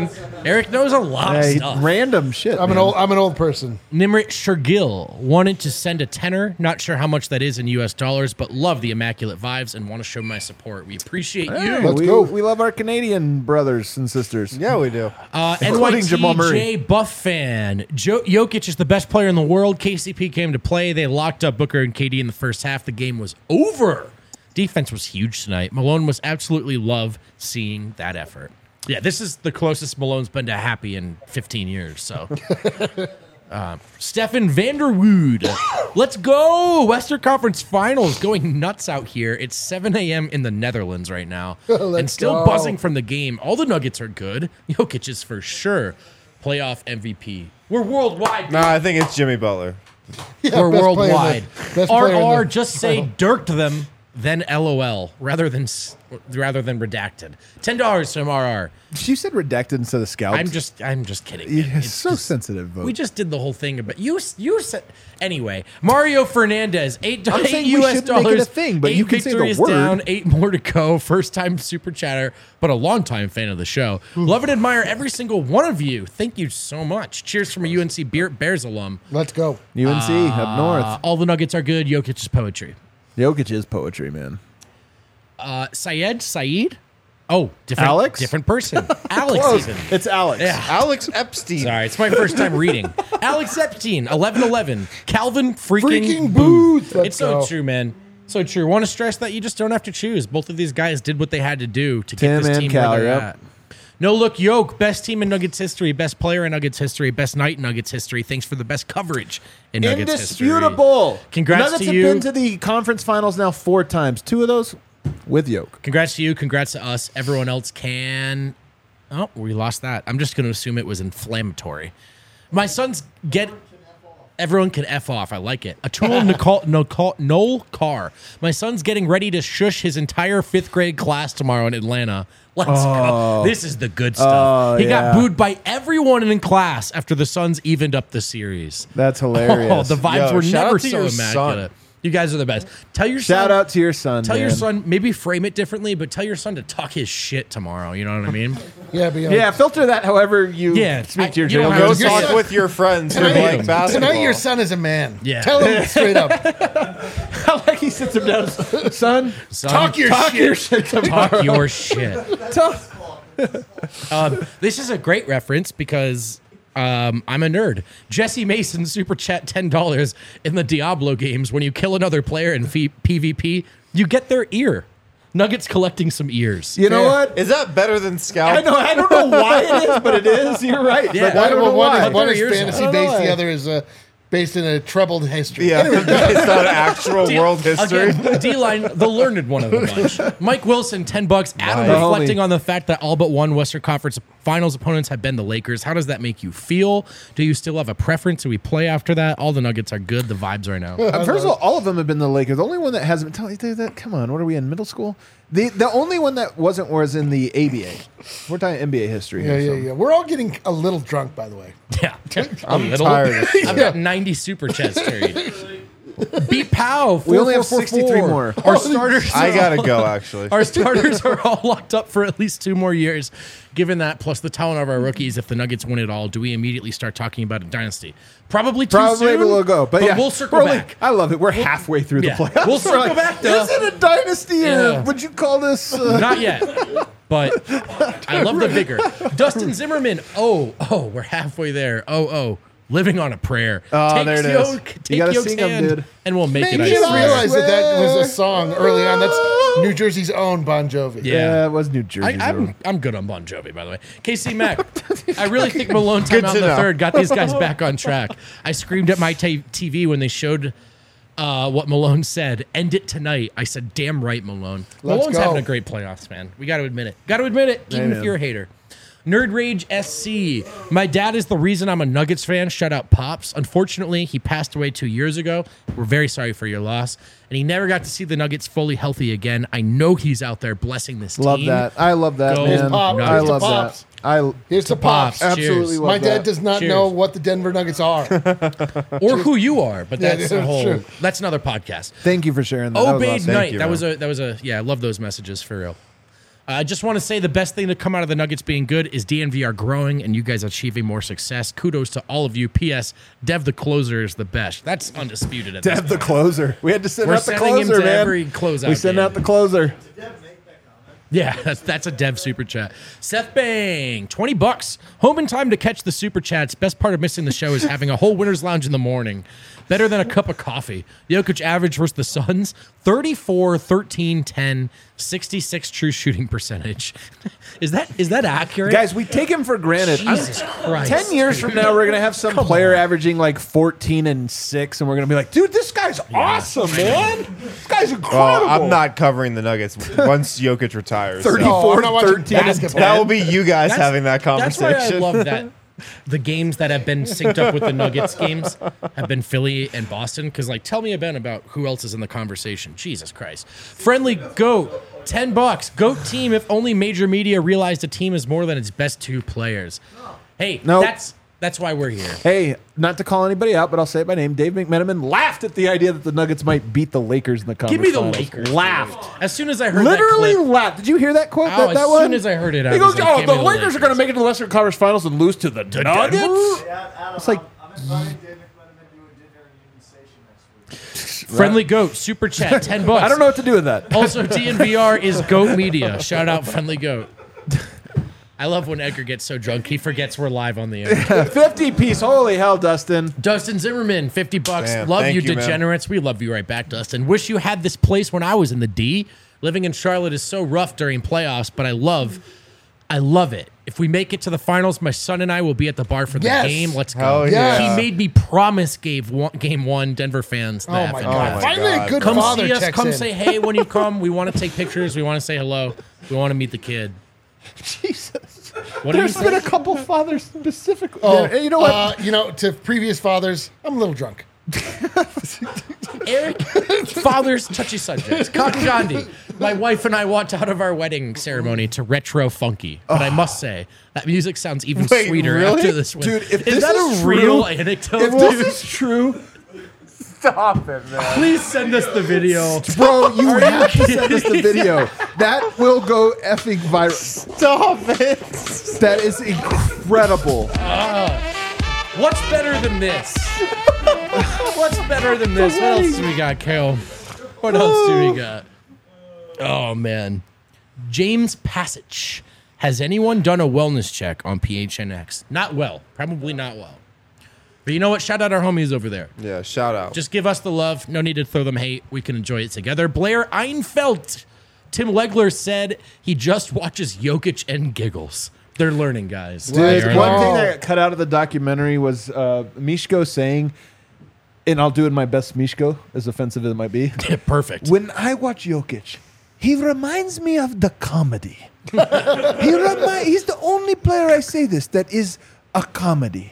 Speaker 4: Eric knows a lot of
Speaker 1: Hey,
Speaker 4: stuff.
Speaker 1: random shit.
Speaker 3: I'm an
Speaker 1: man.
Speaker 3: old. I'm an old person.
Speaker 4: Nimrit Shergill wanted to send a tenner. Not sure how much that is in U S dollars, but love the immaculate vibes and want to show my support. We appreciate
Speaker 1: Hey,
Speaker 4: you.
Speaker 3: Let's
Speaker 1: we,
Speaker 3: go.
Speaker 1: we love our Canadian brothers and sisters.
Speaker 2: Yeah, we do.
Speaker 4: Uh,
Speaker 1: Including Jamal
Speaker 4: N Y T J
Speaker 1: Murray.
Speaker 4: Buff fan. Jo- Jokic is the best player in the world. K C P came to play. They locked up Booker and K D in the first half. The game was over. Defense was huge tonight. Malone was absolutely love seeing that effort. Yeah, this is the closest Malone's been to happy in fifteen years. So, uh, Stefan Vanderwood, let's go! Western Conference Finals going nuts out here. It's seven a.m. in the Netherlands right now, and still
Speaker 3: go.
Speaker 4: buzzing from the game. All the Nuggets are good. Jokic is for sure playoff M V P. We're worldwide.
Speaker 2: No, I think it's Jimmy Butler.
Speaker 3: Yeah,
Speaker 4: We're
Speaker 3: best player in the-
Speaker 4: worldwide.
Speaker 3: best
Speaker 4: R
Speaker 3: player in
Speaker 4: R
Speaker 3: the-
Speaker 4: just say dirked them, then LOL rather than s- rather than redacted. Ten dollars from R R.
Speaker 1: You said redacted instead of scalped.
Speaker 4: I'm just I'm just kidding.
Speaker 1: Yeah,
Speaker 4: man.
Speaker 1: it's so sensitive. Vote.
Speaker 4: We just did the whole thing, but you you said anyway. Mario Fernandez, eight,
Speaker 1: I'm
Speaker 4: eight
Speaker 1: saying we
Speaker 4: U S
Speaker 1: shouldn't make it
Speaker 4: dollars.
Speaker 1: a thing, but
Speaker 4: eight
Speaker 1: you can say the
Speaker 4: victories
Speaker 1: word.
Speaker 4: down, eight more to go. First time super chatter, but a long time fan of the show. Love and admire every single one of you. Thank you so much. Cheers from a U N C Bear- Bears alum.
Speaker 3: Let's go.
Speaker 1: U N C up
Speaker 4: Uh,
Speaker 1: north.
Speaker 4: all the Nuggets are good. Jokic is poetry.
Speaker 1: Jokic is poetry, man.
Speaker 4: Uh, Syed Saeed. Oh, different
Speaker 1: Alex?
Speaker 4: different person. Alex
Speaker 1: Close.
Speaker 4: even.
Speaker 1: It's Alex.
Speaker 4: Yeah.
Speaker 2: Alex Epstein.
Speaker 4: Sorry, it's my first time reading. Alex Epstein, eleven eleven. Calvin freaking,
Speaker 3: Freaking
Speaker 4: Booth.
Speaker 3: Booth. Let's
Speaker 4: It's so
Speaker 3: go.
Speaker 4: true, man. So true. Want to stress that you just don't have to choose. Both of these guys did what they had to do to
Speaker 1: Tim
Speaker 4: get this
Speaker 1: and
Speaker 4: team
Speaker 1: Cal,
Speaker 4: where they're
Speaker 1: yep.
Speaker 4: at. No look, Yoke, best team in Nuggets history, best player in Nuggets history, best night in Nuggets history. Thanks for the best coverage in Nuggets history.
Speaker 1: Indisputable.
Speaker 4: Congrats
Speaker 1: Nuggets
Speaker 4: to
Speaker 1: have
Speaker 4: you.
Speaker 1: been to the conference finals now four times. Two of those with Yoke.
Speaker 4: Congrats to you. Congrats to us. Everyone else can. Oh, we lost that. I'm just going to assume it was inflammatory. My sons get. Everyone can F off. I like it. Atul Nicole, Nicole, Noel Carr. My son's getting ready to shush his entire fifth grade class tomorrow in Atlanta. Let's go. This is the good stuff.
Speaker 1: Oh,
Speaker 4: he
Speaker 1: yeah.
Speaker 4: got booed by everyone in class after the Suns evened up the series.
Speaker 1: That's hilarious.
Speaker 4: Oh, the vibes
Speaker 2: Yo,
Speaker 4: were
Speaker 2: shout
Speaker 4: never
Speaker 2: out to
Speaker 4: so
Speaker 2: your son.
Speaker 4: immaculate. You guys are the best. Tell your
Speaker 1: Shout
Speaker 4: son,
Speaker 1: out to your son.
Speaker 4: Tell your
Speaker 1: man.
Speaker 4: son, maybe frame it differently, but tell your son to talk his shit tomorrow. You know what I mean?
Speaker 3: Yeah, but, you know,
Speaker 1: Yeah, filter that however you
Speaker 4: Yeah,
Speaker 1: speak
Speaker 4: I-
Speaker 1: to your
Speaker 4: you don't
Speaker 1: children.
Speaker 2: Go
Speaker 4: have to-
Speaker 2: talk
Speaker 3: son-
Speaker 2: with your friends who
Speaker 3: Tonight-
Speaker 2: like basketball.
Speaker 3: Tonight your son is a man.
Speaker 4: Yeah.
Speaker 3: Tell him straight up.
Speaker 1: I like he sits him down. Son,
Speaker 4: Son,
Speaker 3: Talk your
Speaker 1: talk
Speaker 3: shit.
Speaker 1: your shit tomorrow.
Speaker 4: talk your shit.
Speaker 1: Talk-
Speaker 4: Um, this is a great reference because um, I'm a nerd. Jesse Mason super chat ten dollars in the Diablo games. When you kill another player in P- PvP, you get their ear. Nuggets collecting some ears.
Speaker 1: You know
Speaker 3: Yeah.
Speaker 1: what?
Speaker 2: Is that better than Scout?
Speaker 1: I know. I don't know why it is, but it is. You're right.
Speaker 4: Yeah.
Speaker 1: But I don't
Speaker 3: Well,
Speaker 1: know
Speaker 3: one
Speaker 1: why.
Speaker 3: is, one is
Speaker 4: Years ago.
Speaker 3: fantasy
Speaker 1: I don't know
Speaker 3: based,
Speaker 1: why.
Speaker 3: the other is uh, based in a troubled history.
Speaker 2: Yeah, it's not actual world history.
Speaker 4: Again, D-line, the learned one of the bunch. Mike Wilson, ten bucks. Adam
Speaker 1: Nice.
Speaker 4: reflecting
Speaker 1: Homie.
Speaker 4: on the fact that all but one Western Conference Finals opponents have been the Lakers. How does that make you feel? Do you still have a preference? Do we play after that? All the Nuggets are good. The vibes right now.
Speaker 1: Uh, First of all, all of them have been the Lakers. The only one that hasn't been. Tell you that. Come on, what are we in middle school? The the only one that wasn't was in the A B A. We're talking N B A history.
Speaker 3: Yeah,
Speaker 1: here,
Speaker 3: yeah,
Speaker 1: so.
Speaker 3: yeah. We're all getting a little drunk, by the way.
Speaker 4: Yeah,
Speaker 2: I'm tired of shit.
Speaker 4: I've got ninety super chats carried. Beat Pow.
Speaker 1: We only have
Speaker 4: four four four.
Speaker 1: sixty-three more.
Speaker 4: Our starters.
Speaker 2: I gotta go, actually.
Speaker 4: Our starters are all locked up for at least two more years. Given that, plus the talent of our rookies, if the Nuggets win it all, do we immediately start talking about a dynasty? Probably too
Speaker 1: Probably
Speaker 4: soon.
Speaker 1: we'll go, but, yeah,
Speaker 4: we'll circle
Speaker 1: we're only-
Speaker 4: back.
Speaker 1: I love it. We're halfway through
Speaker 4: yeah.
Speaker 1: the playoffs.
Speaker 4: We'll
Speaker 1: We're
Speaker 4: circle
Speaker 1: like,
Speaker 4: back, though.
Speaker 1: Is it a dynasty, or
Speaker 4: Yeah.
Speaker 1: would you call this? Uh,
Speaker 4: Not yet, but I love the vigor. Dustin Zimmerman. Oh, oh, we're halfway there. Oh, oh. Living on a prayer.
Speaker 1: Oh,
Speaker 4: take
Speaker 1: there it is.
Speaker 4: Yoke,
Speaker 1: You
Speaker 4: take
Speaker 1: gotta
Speaker 4: Yoke's
Speaker 1: sing 'em,
Speaker 4: hand,
Speaker 1: dude.
Speaker 4: and we'll make
Speaker 3: Maybe
Speaker 4: it. I
Speaker 3: you didn't
Speaker 4: swear.
Speaker 3: realize that that was a song early on. That's New Jersey's own Bon Jovi.
Speaker 4: Yeah.
Speaker 1: yeah, it was New Jersey.
Speaker 4: I, I'm I'm good on Bon Jovi, by the way. K C Mack, I really think Malone time out
Speaker 2: to
Speaker 4: in the
Speaker 2: know.
Speaker 4: third got these guys back on track. I screamed at my t- TV when they showed uh, what Malone said. End it tonight. I said, "Damn right, Malone."
Speaker 3: Let's
Speaker 4: Malone's
Speaker 3: go.
Speaker 4: having a great playoffs, man. We got to admit it. Got to admit it, even if
Speaker 1: man.
Speaker 4: you're a hater. Nerd Rage S C. My dad is the reason I'm a Nuggets fan. Shout out Pops. Unfortunately, he passed away two years ago. We're very sorry for your loss. And he never got to see the Nuggets fully healthy again. I know he's out there blessing this
Speaker 1: love
Speaker 4: team.
Speaker 1: that. I love that,
Speaker 4: Go
Speaker 1: man.
Speaker 3: Pop.
Speaker 1: I
Speaker 3: Here's to
Speaker 1: love
Speaker 3: Pops.
Speaker 1: that. I
Speaker 3: Here's to
Speaker 4: Pops.
Speaker 3: Pops.
Speaker 1: absolutely
Speaker 4: Cheers.
Speaker 1: love
Speaker 3: My
Speaker 1: that.
Speaker 3: dad does not
Speaker 4: Cheers.
Speaker 3: know what the Denver Nuggets are.
Speaker 4: Or who you are, but
Speaker 3: Yeah,
Speaker 4: that's
Speaker 3: yeah,
Speaker 4: a
Speaker 3: that's
Speaker 4: whole.
Speaker 3: true.
Speaker 4: That's another podcast.
Speaker 1: Thank you for sharing that. That was
Speaker 4: Obeyed
Speaker 1: awesome.
Speaker 4: Knight.
Speaker 2: you,
Speaker 4: that
Speaker 2: man.
Speaker 4: was a. That was a. Yeah, I love those messages for real. I just want to say the best thing to come out of the Nuggets being good is D N V R growing and you guys achieving more success. Kudos to all of you. P S. Dev the closer is the best. That's undisputed at this
Speaker 1: Dev the
Speaker 4: point.
Speaker 1: closer. We had to send
Speaker 4: We're
Speaker 1: out the
Speaker 4: sending him
Speaker 1: closer,
Speaker 4: to
Speaker 1: man.
Speaker 4: every closeout
Speaker 1: we send
Speaker 4: game.
Speaker 1: out the closer.
Speaker 4: Yeah, that's that's a Dev super chat. Seth Bang, twenty bucks. Home in time to catch the super chats. Best part of missing the show is having a whole winner's lounge in the morning. Better than a cup of coffee. Jokic average versus the Suns, thirty-four, thirteen, ten, sixty-six true shooting percentage. is that is that accurate?
Speaker 1: Guys, we take him for granted. I'm-
Speaker 4: Jesus Christ.
Speaker 1: Ten years from now, we're gonna have some player averaging like fourteen and six, and we're gonna be like, "Dude, this guy's awesome, man. This guy's incredible."
Speaker 2: Well, I'm not covering the Nuggets once Jokic retires. so
Speaker 3: Oh, I'm
Speaker 1: thirty-four,
Speaker 3: not watching
Speaker 1: thirteen, and
Speaker 3: basketball.
Speaker 2: That will be you guys
Speaker 4: That's-
Speaker 2: having that
Speaker 4: That's why I
Speaker 2: conversation.
Speaker 4: love that the games that have been synced up with the Nuggets games have been Philly and Boston. Because, like, tell me about about who else is in the conversation. Jesus Christ. Friendly Goat, ten bucks. Goat team if only major media realized a team is more than its best two players. Hey,
Speaker 1: Nope.
Speaker 4: that's that's why we're here.
Speaker 1: Hey, not to call anybody out, but I'll say it by name. Dave McMenamin laughed at the idea that the Nuggets might beat the Lakers in the conference
Speaker 4: Give me the
Speaker 1: finals.
Speaker 4: Lakers.
Speaker 1: Laughed.
Speaker 4: As soon as I heard
Speaker 1: Literally
Speaker 4: that clip,
Speaker 1: laughed. Did you hear that quote?
Speaker 4: Oh,
Speaker 1: that,
Speaker 4: as
Speaker 1: that one?
Speaker 4: soon as I heard it, I
Speaker 1: he
Speaker 4: was
Speaker 1: goes,
Speaker 4: like,
Speaker 1: "Oh,
Speaker 4: give
Speaker 1: the
Speaker 4: me the
Speaker 1: Lakers are
Speaker 4: Lakers."
Speaker 1: going to make it to the Western Conference Finals and lose to the, Nuggets."
Speaker 6: Yeah, Adam,
Speaker 1: It's like-
Speaker 6: I'm, I'm inviting Dave McMenamin to a dinner in Union Station next week.
Speaker 4: Friendly Goat, super chat, ten bucks.
Speaker 1: I don't know what to do with that.
Speaker 4: Also, D N V R is Goat Media. Shout out Friendly Goat. I love when Edgar gets so drunk he forgets we're live on the air.
Speaker 1: fifty piece. Holy hell, Dustin.
Speaker 4: Dustin Zimmerman, fifty bucks.
Speaker 2: Man,
Speaker 4: love
Speaker 2: thank
Speaker 4: you,
Speaker 2: you, man.
Speaker 4: degenerates. We love you right back, Dustin. Wish you had this place when I was in the D. Living in Charlotte is so rough during playoffs, but I love, I love it. If we make it to the finals, my son and I will be at the bar for the
Speaker 3: Yes.
Speaker 4: game. Let's go.
Speaker 2: Hell
Speaker 3: yeah.
Speaker 4: He made me promise game one, game one Denver fans.
Speaker 3: Oh
Speaker 4: that
Speaker 3: my
Speaker 4: and
Speaker 3: god!
Speaker 2: my
Speaker 3: Finally,
Speaker 2: God.
Speaker 3: a good
Speaker 4: Come
Speaker 3: father
Speaker 4: see us.
Speaker 3: checks
Speaker 4: Come
Speaker 3: in.
Speaker 4: say hey when you come. We want to take pictures. We want to say hello. We want to meet the kid.
Speaker 1: Jesus.
Speaker 4: What do you
Speaker 1: There's been
Speaker 4: say?
Speaker 1: a couple fathers specifically.
Speaker 3: Oh,
Speaker 1: you know what?
Speaker 3: Uh, you know, to previous fathers, I'm a little drunk.
Speaker 4: Eric, father's touchy subjects. Cotton Gandhi. My wife and I walked out of our wedding ceremony to retro funky, but I must say that music sounds even
Speaker 2: Wait,
Speaker 4: sweeter
Speaker 2: really?
Speaker 4: after this one.
Speaker 1: Dude, if
Speaker 4: is
Speaker 1: this
Speaker 4: that
Speaker 1: is
Speaker 4: a real
Speaker 1: true-
Speaker 4: anecdote?
Speaker 1: if this is true,
Speaker 2: Stop it, man.
Speaker 4: Please send us the video.
Speaker 1: bro, you have to send us the video. That will go effing viral.
Speaker 2: Stop it.
Speaker 1: That is incredible.
Speaker 4: What's better than this? What's better than this? What else do we got, Kale? What else do we got? Oh, man. James Passage. Has anyone done a wellness check on P H N X? Not well. Probably not well. But you know what? Shout out our homies over there.
Speaker 2: Yeah, shout out.
Speaker 4: Just give us the love. No need to throw them hate. We can enjoy it together. Blair Einfeld. Tim Legler said he just watches Jokic and giggles. They're learning, guys.
Speaker 1: Dude,
Speaker 4: They are
Speaker 1: one
Speaker 4: learning.
Speaker 1: thing that got cut out of the documentary was uh, Mishko saying, and I'll do it in my best Mishko, as offensive as it might be.
Speaker 4: Perfect.
Speaker 1: When I watch Jokic, he reminds me of the comedy. he remi- he's the only player, I say this, that is a comedy.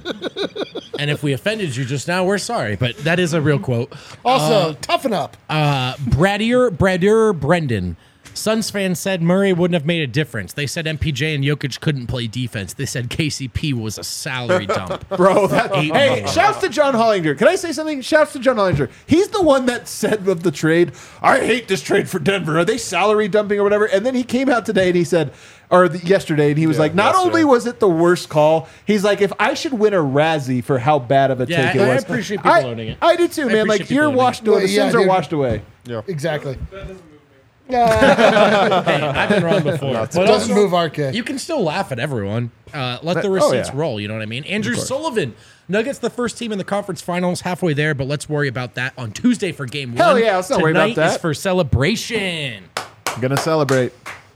Speaker 4: And if we offended you just now, we're sorry. But that is a real quote.
Speaker 3: Also, toughen up.
Speaker 4: Uh, Bradier, Bradier Brendan. Suns fans said Murray wouldn't have made a difference. They said M P J and Jokic couldn't play defense. They said K C P was a salary dump.
Speaker 1: Bro, that,
Speaker 4: Eight
Speaker 1: hey,
Speaker 4: million.
Speaker 1: shouts to John Hollinger. Can I say something? Shouts to John Hollinger. He's the one that said of the trade, I hate this trade for Denver. Are they salary dumping or whatever? And then he came out today and he said, or the, yesterday, and he was
Speaker 2: Yeah,
Speaker 1: like, not
Speaker 2: yesterday.
Speaker 1: only was it the worst call, he's like, if I should win a Razzie for how bad of a
Speaker 4: Yeah,
Speaker 1: take it
Speaker 4: I
Speaker 1: was.
Speaker 4: appreciate people
Speaker 1: I,
Speaker 4: owning it.
Speaker 1: I do too,
Speaker 4: I
Speaker 1: man. Like,
Speaker 4: appreciate
Speaker 1: you're
Speaker 4: people owning
Speaker 1: washed away.
Speaker 3: it.
Speaker 1: The
Speaker 3: Yeah,
Speaker 1: sins are
Speaker 3: dude.
Speaker 1: washed away.
Speaker 3: Exactly.
Speaker 4: Hey, I've been wrong before. But
Speaker 3: Doesn't
Speaker 4: also,
Speaker 3: move R K.
Speaker 4: you can still laugh at everyone. Uh, let the
Speaker 1: Oh,
Speaker 4: receipts
Speaker 1: yeah.
Speaker 4: roll. You know what I mean? Andrew Sullivan. Nuggets the first team in the conference finals, halfway there, but let's worry about that on Tuesday for game
Speaker 1: Hell
Speaker 4: one.
Speaker 1: yeah, let's not worry about
Speaker 4: Tonight
Speaker 1: that.
Speaker 4: is for celebration.
Speaker 1: I'm going to celebrate.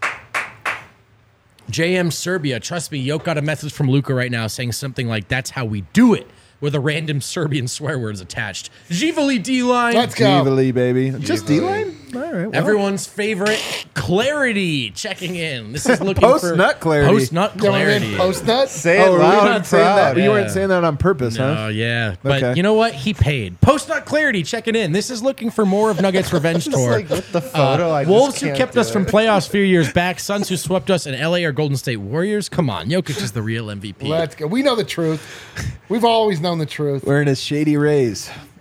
Speaker 4: J M Serbia. Trust me, Yoke got a message from Luca right now saying something like, that's how we do it, with a random Serbian swear words attached. Jivali D-line.
Speaker 3: Let's go.
Speaker 1: Evilly, baby. Just D-line? All right. well.
Speaker 4: Everyone's favorite, Clarity, checking in. This is looking
Speaker 1: Post
Speaker 4: for
Speaker 1: nut clarity.
Speaker 4: Post nut
Speaker 3: Going in
Speaker 4: clarity.
Speaker 3: post nut.
Speaker 2: Say it
Speaker 1: Oh, were we
Speaker 2: loud
Speaker 1: not
Speaker 2: and
Speaker 1: saying that?
Speaker 2: proud.
Speaker 1: You weren't
Speaker 4: Yeah.
Speaker 1: saying that on purpose, huh?
Speaker 4: Oh yeah, but
Speaker 1: Okay.
Speaker 4: you know what? He paid. Post nut clarity checking in. This is looking for more of Nuggets revenge tour.
Speaker 2: Like, with the photo, I just
Speaker 4: Wolves who
Speaker 2: can't
Speaker 4: kept
Speaker 2: do
Speaker 4: us from
Speaker 2: it.
Speaker 4: playoffs a few years back. Suns who swept us in L A or Golden State Warriors. Come on, Jokic is the real M V P.
Speaker 3: Let's go. We know the truth. We've always known the truth.
Speaker 1: Wearing his shady rays.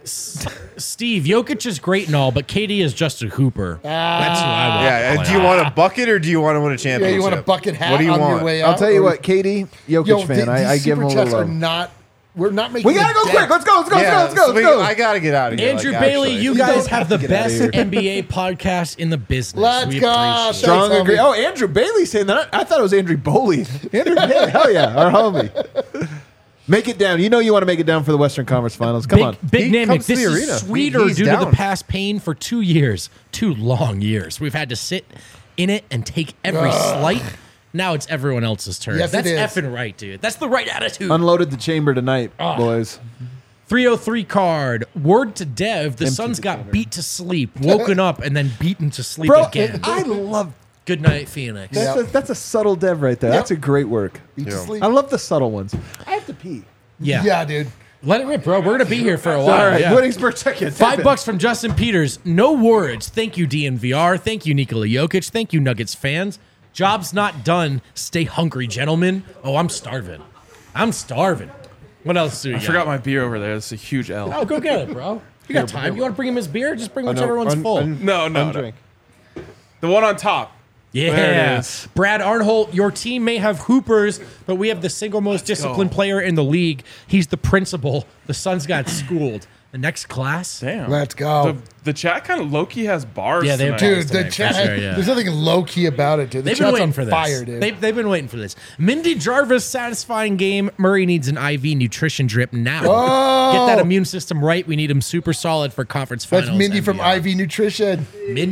Speaker 4: Steve, Jokic is great and all, but K D is just a hooper. That's who I want.
Speaker 2: Yeah, and do you want a bucket or do you want to win a
Speaker 3: Yeah,
Speaker 2: championship?
Speaker 3: you want a bucket hat
Speaker 2: What do you
Speaker 3: on
Speaker 2: want?
Speaker 3: your way out?
Speaker 1: I'll tell you
Speaker 3: or-
Speaker 1: what, Katie, Jokic
Speaker 3: Yo,
Speaker 1: fan.
Speaker 3: th-
Speaker 1: I, I
Speaker 3: these
Speaker 1: give him a
Speaker 3: super
Speaker 1: little
Speaker 3: chats are
Speaker 1: love.
Speaker 3: not. We're not making.
Speaker 1: We gotta
Speaker 3: a
Speaker 1: go
Speaker 3: dent.
Speaker 1: quick. Let's go. Let's go.
Speaker 2: Yeah,
Speaker 1: let's go. Let's go.
Speaker 2: we-
Speaker 1: Let's go.
Speaker 2: I gotta get out of here.
Speaker 4: Andrew
Speaker 2: like,
Speaker 4: Bailey,
Speaker 2: actually.
Speaker 4: you guys have the
Speaker 1: Get outta
Speaker 4: best
Speaker 1: here.
Speaker 4: N B A podcast in the business.
Speaker 3: Let's
Speaker 4: We
Speaker 3: go.
Speaker 4: appreciate it.
Speaker 1: Strong
Speaker 3: Thanks,
Speaker 1: agree.
Speaker 3: homie.
Speaker 1: Oh, Andrew Bailey saying that. I thought it was Andrew Boley. Andrew Bailey. Hell yeah. Our homie. Make it down. You know you want to make it down for the Western Conference Finals. Come
Speaker 4: Big,
Speaker 1: on.
Speaker 4: Big
Speaker 2: He
Speaker 4: Namick,
Speaker 2: comes to
Speaker 4: this
Speaker 2: the
Speaker 4: is
Speaker 2: arena.
Speaker 4: sweeter
Speaker 2: He- he's
Speaker 4: due to
Speaker 2: down.
Speaker 4: the past pain for two years, two long years. We've had to sit in it and take every slight. Now it's everyone else's turn.
Speaker 3: Yes, it
Speaker 4: That's
Speaker 3: is.
Speaker 4: effing right, dude. That's the right attitude.
Speaker 1: Unloaded the chamber tonight,
Speaker 4: Ah.
Speaker 1: boys.
Speaker 4: three oh three card. Word to Dev, the
Speaker 1: Empty
Speaker 4: Suns
Speaker 1: the
Speaker 4: got
Speaker 1: chamber.
Speaker 4: beat to sleep, woken up, and then beaten to sleep
Speaker 1: Bro,
Speaker 4: again.
Speaker 1: I love
Speaker 4: Good night, Phoenix.
Speaker 1: that's, a, that's a subtle dev right there. That's a great work.
Speaker 3: Beat to
Speaker 2: Yeah.
Speaker 3: sleep.
Speaker 1: I love the subtle ones. I have to pee.
Speaker 4: Yeah.
Speaker 3: Yeah, dude.
Speaker 4: Let it rip, bro. We're going to be here for a while.
Speaker 1: All right.
Speaker 4: yeah.
Speaker 1: Williamsburg, check it.
Speaker 4: Five bucks from Justin Peters. No words. Thank you, D N V R. Thank you, Nikola Jokic. Thank you, Nuggets fans. Job's not done. Stay hungry, gentlemen. Oh, I'm starving. I'm starving. What else do you
Speaker 5: I
Speaker 4: got?
Speaker 5: forgot my beer over there. That's a huge L.
Speaker 4: Oh, go get it, bro. You got time. You want to bring him his beer? Just bring whichever one's
Speaker 1: un-
Speaker 4: full.
Speaker 1: un-
Speaker 5: No, no, no.
Speaker 1: Undrink.
Speaker 5: The one on top. There it
Speaker 4: Yeah.
Speaker 5: is.
Speaker 4: Brad Arnholt, your team may have hoopers, but we have the single most disciplined player in the league. He's the principal. The Suns got schooled. The next class?
Speaker 5: Damn.
Speaker 3: Let's go.
Speaker 5: The, the chat kind of low key has bars.
Speaker 4: Yeah, they have
Speaker 5: tonight.
Speaker 3: Dude, the
Speaker 4: tonight, for
Speaker 3: chat.
Speaker 4: sure, yeah.
Speaker 3: There's nothing low key about it, dude. The
Speaker 4: They've been
Speaker 3: chat's
Speaker 4: waiting
Speaker 3: on
Speaker 4: for this.
Speaker 3: fire, dude.
Speaker 4: They've, they've been waiting for this. Mindy Jarvis, satisfying game. Murray needs an I V nutrition drip now.
Speaker 3: Oh!
Speaker 4: Get that immune system right. We need him super solid for conference finals.
Speaker 3: That's Mindy
Speaker 4: and
Speaker 3: from
Speaker 4: beyond.
Speaker 3: I V Nutrition.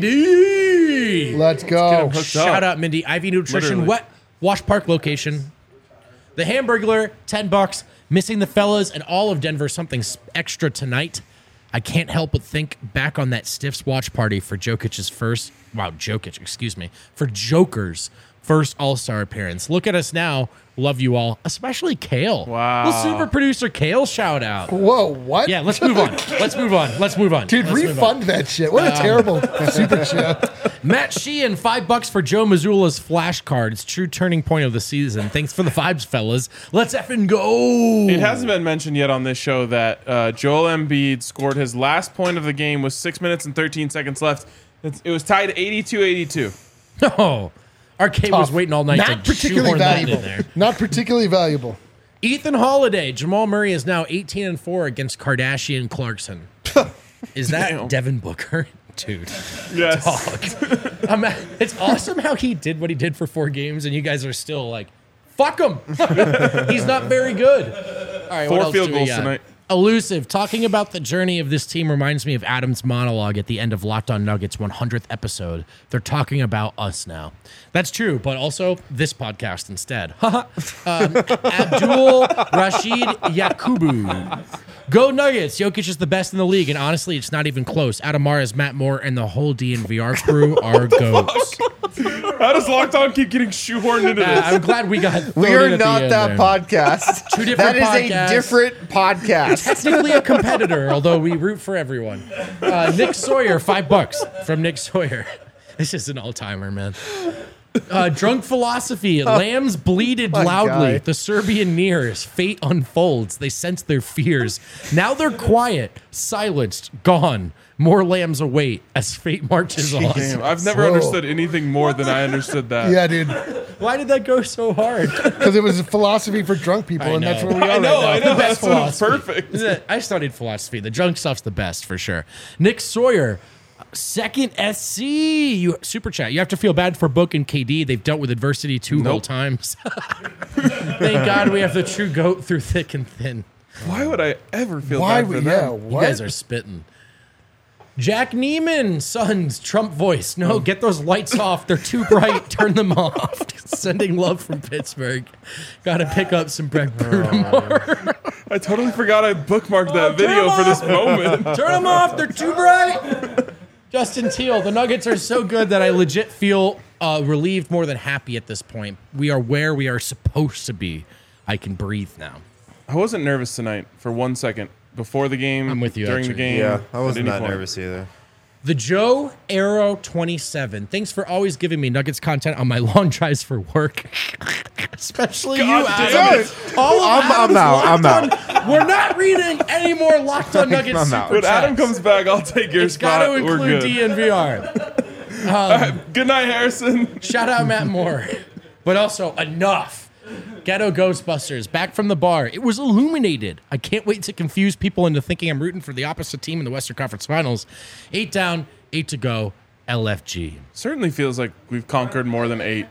Speaker 4: Mindy.
Speaker 3: Let's go.
Speaker 5: him hooked
Speaker 4: Shout
Speaker 5: up.
Speaker 4: out Mindy. I V nutrition.
Speaker 5: Literally.
Speaker 4: What? Wash Park location. The Hamburglar, ten bucks. Missing the fellas and all of Denver something s- extra tonight. I can't help but think back on that Stiffs watch party for Jokic's first, wow, Jokic, excuse me, for Joker's first All-Star appearance. Look at us now. Love you all, especially Kale.
Speaker 5: Wow.
Speaker 4: Little super producer Kale shout out.
Speaker 3: Whoa, what?
Speaker 4: Yeah, let's move on. Let's move on. Let's move on.
Speaker 3: Dude,
Speaker 4: Let's move on.
Speaker 3: refund that shit. What a terrible super chat.
Speaker 4: Matt Sheehan, five bucks for Joe Mazzulla's flashcards. True turning point of the season. Thanks for the vibes, fellas. Let's effing go.
Speaker 5: It hasn't been mentioned yet on this show that uh, Joel Embiid scored his last point of the game with six minutes and thirteen seconds left. It's, it was tied eighty-two eighty-two.
Speaker 4: No. Arcade was
Speaker 3: Tough.
Speaker 4: waiting all night
Speaker 3: Not
Speaker 4: to
Speaker 3: particularly
Speaker 4: shoehorn that in
Speaker 3: valuable.
Speaker 4: there.
Speaker 3: Not particularly valuable.
Speaker 4: Ethan Holiday, Jamal Murray is now eighteen and four against Kardashian Clarkson. Is that
Speaker 5: Damn.
Speaker 4: Devin Booker? Dude.
Speaker 5: Yes.
Speaker 4: I'm, it's awesome how he did what he did for four games and you guys are still like, fuck him. He's not very good. All right, what
Speaker 5: Four
Speaker 4: else
Speaker 5: field
Speaker 4: do we
Speaker 5: goals
Speaker 4: got?
Speaker 5: tonight.
Speaker 4: Elusive. Talking about the journey of this team reminds me of Adam's monologue at the end of Locked On Nuggets one hundredth episode. They're talking about us now. That's true, but also this podcast instead. um, Abdul Rashid Yakubu. Go Nuggets. Jokic is the best in the league, and honestly, it's not even close. Adamara's Matt Moore and the whole D N V R crew are goats.
Speaker 5: How does Locked On keep getting shoehorned into
Speaker 4: Uh,
Speaker 5: this?
Speaker 4: I'm glad we got
Speaker 2: We
Speaker 4: thrown
Speaker 2: are
Speaker 4: in at the
Speaker 2: not
Speaker 4: end
Speaker 2: that
Speaker 4: there.
Speaker 2: podcast.
Speaker 4: Two different
Speaker 2: That is
Speaker 4: podcasts.
Speaker 2: a different podcast.
Speaker 4: Technically a competitor, although we root for everyone. Uh, Nick Sawyer, five bucks from Nick Sawyer. This is an all-timer, man. Uh, drunk philosophy. Lambs bleated
Speaker 2: my
Speaker 4: loudly.
Speaker 2: guy.
Speaker 4: The Serbian nears. Fate unfolds. They sense their fears. Now they're quiet, silenced, gone. More lambs await as fate marches on.
Speaker 5: Damn, I've never
Speaker 3: Whoa.
Speaker 5: understood anything more than I understood that.
Speaker 3: Yeah, dude.
Speaker 4: Why did that go so hard?
Speaker 3: Because it was a philosophy for drunk people,
Speaker 4: I
Speaker 3: and that's
Speaker 4: know.
Speaker 3: where we are
Speaker 5: I know,
Speaker 3: right
Speaker 5: I
Speaker 3: now.
Speaker 5: know.
Speaker 4: The best
Speaker 5: That's
Speaker 4: philosophy.
Speaker 5: perfect.
Speaker 4: Isn't it? I studied philosophy. The drunk stuff's the best for sure. Nick Sawyer, second S C. You super chat. You have to feel bad for Book and K D. They've dealt with adversity two whole
Speaker 5: Nope.
Speaker 4: times. Thank God we have the true goat through thick and thin.
Speaker 5: Why would I ever feel
Speaker 3: Why
Speaker 5: bad for
Speaker 3: we?
Speaker 5: them?
Speaker 3: Yeah,
Speaker 4: You
Speaker 3: what?
Speaker 4: guys are spitting. Jack Neiman, Sons, Trump voice. No, get those lights off. They're too bright. Turn them off. Sending love from Pittsburgh. Got to pick up some Breck Brew tomorrow.
Speaker 5: I totally forgot I bookmarked that video
Speaker 4: turn
Speaker 5: for this
Speaker 4: off.
Speaker 5: moment.
Speaker 4: Turn them off. They're too bright. Justin Teal, the Nuggets are so good that I legit feel uh, relieved more than happy at this point. We are where we are supposed to be. I can breathe now.
Speaker 5: I wasn't nervous tonight for one second. Before the game,
Speaker 4: I'm with you,
Speaker 5: during
Speaker 4: actually.
Speaker 5: the game.
Speaker 2: Yeah, I
Speaker 5: at
Speaker 2: wasn't
Speaker 5: any
Speaker 2: that
Speaker 5: point.
Speaker 2: nervous either.
Speaker 4: The Joe Arrow twenty-seven. Thanks for always giving me Nuggets content on my long drives for work. Especially
Speaker 5: God
Speaker 4: you,
Speaker 5: damn
Speaker 4: Adam.
Speaker 5: it.
Speaker 4: All of
Speaker 2: I'm- I'm
Speaker 4: Adam's
Speaker 2: out, I'm
Speaker 4: Locked On- We're not reading any more Locked On Nuggets
Speaker 2: I'm
Speaker 4: super
Speaker 2: out.
Speaker 5: When Adam
Speaker 4: chats.
Speaker 5: comes back, I'll take your
Speaker 4: It's got
Speaker 5: spot.
Speaker 4: to
Speaker 5: We're
Speaker 4: include
Speaker 5: good.
Speaker 4: D N V R.
Speaker 5: All right, good night, Harrison.
Speaker 4: Shout out Matt Moore. But also, enough. Ghetto Ghostbusters, back from the bar. It was illuminated. I can't wait to confuse people into thinking I'm rooting for the opposite team in the Western Conference Finals. Eight down, eight to go. L F G.
Speaker 5: Certainly feels like we've conquered more than eight.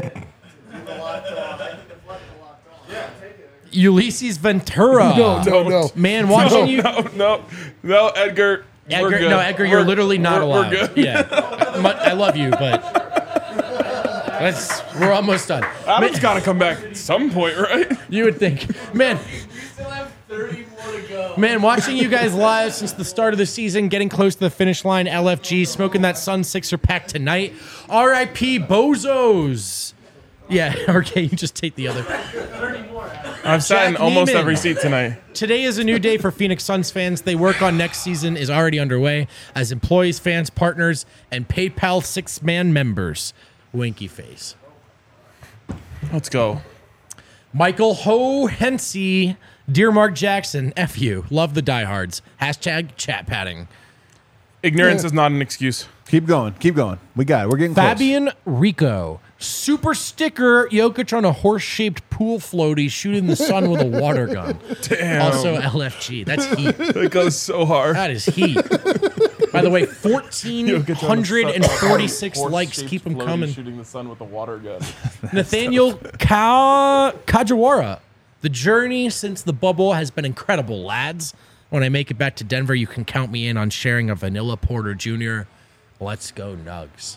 Speaker 4: Ulysses Ventura.
Speaker 3: No, no, no.
Speaker 4: Man, watching you.
Speaker 5: No, no, no, Edgar. we're
Speaker 4: Edgar,
Speaker 5: good.
Speaker 4: no, Edgar, you're
Speaker 5: We're-
Speaker 4: literally not
Speaker 5: we're-
Speaker 4: allowed.
Speaker 5: We're good.
Speaker 4: Yeah, Mu- I love you, but let's. We're almost done.
Speaker 5: Adam's got to come back at some point, right?
Speaker 4: You would think, man.
Speaker 6: still have thirty more to go.
Speaker 4: Man, watching you guys live since the start of the season, getting close to the finish line. L F G smoking that Sun Sixer pack tonight. R I P Bozos. Yeah, okay, you just take the other.
Speaker 5: I've sat in
Speaker 4: Jack
Speaker 5: almost
Speaker 4: Neiman.
Speaker 5: every seat tonight.
Speaker 4: Today is a new day for Phoenix Suns fans. They work on next season is already underway as employees, fans, partners, and PayPal six-man members. Winky face.
Speaker 5: Let's go.
Speaker 4: Michael Ho Hensey, Dear Mark Jackson, F you. Love the diehards. Hashtag chat padding.
Speaker 5: Ignorance is not an excuse.
Speaker 1: Keep going. Keep going. We got it. We're getting close.
Speaker 4: Fabian Rico. Super sticker Jokic on a horse-shaped pool floaty shooting the sun with a water gun.
Speaker 5: Damn.
Speaker 4: Also L F G. That's heat.
Speaker 5: It goes so hard.
Speaker 4: That is heat. By the way, fourteen forty-six likes. Keep them coming.
Speaker 5: Shooting the sun with a water gun.
Speaker 4: Nathaniel Ka- Kajiwara. The journey since the bubble has been incredible, lads. When I make it back to Denver, you can count me in on sharing a Vanilla Porter Junior Let's go, Nugs.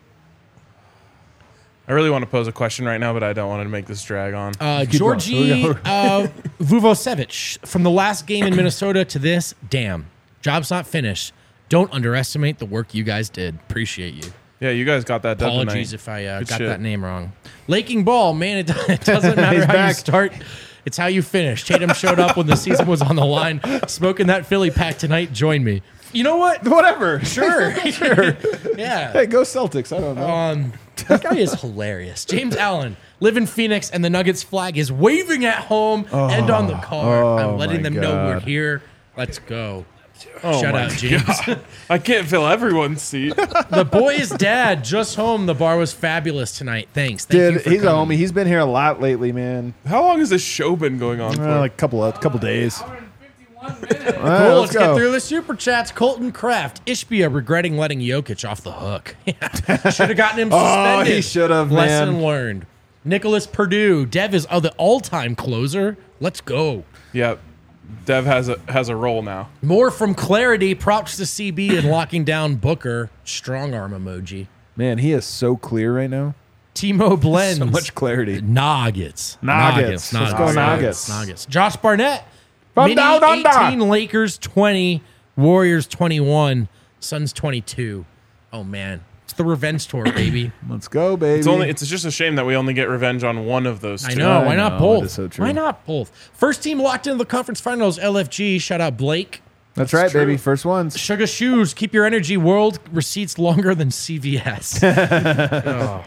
Speaker 5: I really want to pose a question right now, but I don't want to make this drag on.
Speaker 4: Uh,
Speaker 1: Keep going.
Speaker 4: Georgi uh, Vuvosevic. From the last game in Minnesota to this, damn. Job's not finished. Don't underestimate the work you guys did. Appreciate you.
Speaker 5: Yeah, you guys got that done
Speaker 4: Apologies
Speaker 5: tonight.
Speaker 4: if I uh,
Speaker 5: Good
Speaker 4: got
Speaker 5: shit.
Speaker 4: that name wrong. Laking Ball, man, it, it doesn't matter how you
Speaker 1: back.
Speaker 4: start. It's how you finish. Tatum showed up when the season was on the line. Smoking that Philly pack tonight. Join me. You know what?
Speaker 1: Whatever.
Speaker 4: Sure. sure. Yeah.
Speaker 1: Hey, go Celtics. I don't know.
Speaker 4: Um, that guy is hilarious. James Allen, live in Phoenix, and the Nuggets flag is waving at home and on the car.
Speaker 1: oh
Speaker 4: I'm letting
Speaker 1: my
Speaker 4: them know we're
Speaker 1: God.
Speaker 4: here. Let's go.
Speaker 5: Oh
Speaker 4: Shout
Speaker 5: my
Speaker 4: out, James.
Speaker 5: God. I can't fill everyone's seat.
Speaker 4: The boy's dad just home. The bar was fabulous tonight. Thanks. Thank you
Speaker 1: Dude,
Speaker 4: for
Speaker 1: he's
Speaker 4: coming.
Speaker 1: a homie. He's been here a lot lately, man.
Speaker 5: How long has this show been going on for?
Speaker 1: Uh, like a couple of couple days.
Speaker 6: one hundred fifty-one minutes.
Speaker 1: All
Speaker 4: Cool,
Speaker 1: right,
Speaker 4: let's,
Speaker 1: let's
Speaker 4: get
Speaker 1: go.
Speaker 4: through the super chats. Colton Kraft, Ishbia regretting letting Jokic off the hook. Should have gotten him
Speaker 1: Oh,
Speaker 4: suspended.
Speaker 1: he should have,
Speaker 4: Lesson
Speaker 1: man.
Speaker 4: learned. Nicholas Purdue, Dev is uh, the all-time closer. Let's go.
Speaker 5: Yeah, Dev has a has a role now.
Speaker 4: More from Clarity. Props to C B in locking down Booker. Strong arm emoji.
Speaker 1: Man, he is so clear right now.
Speaker 4: Timo Blends.
Speaker 1: So much clarity.
Speaker 4: Nuggets.
Speaker 1: Nuggets. Let's go Nuggets.
Speaker 4: Nuggets. Josh Barnett.
Speaker 1: From
Speaker 4: Mini
Speaker 1: down under.
Speaker 4: eighteen, Lakers twenty, Warriors twenty-one, Suns twenty-two. Oh, man. It's the revenge tour, baby.
Speaker 1: Let's go, baby.
Speaker 5: It's only it's just a shame that we only get revenge on one of those two.
Speaker 4: I know. Why
Speaker 1: I
Speaker 4: not
Speaker 1: know,
Speaker 4: both?
Speaker 1: it is so true.
Speaker 4: Why not both? First team locked into the conference finals, L F G. Shout out Blake.
Speaker 1: That's right, baby. First ones.
Speaker 4: Sugar Shoes. Keep your energy. World receipts longer than C V S. Oh.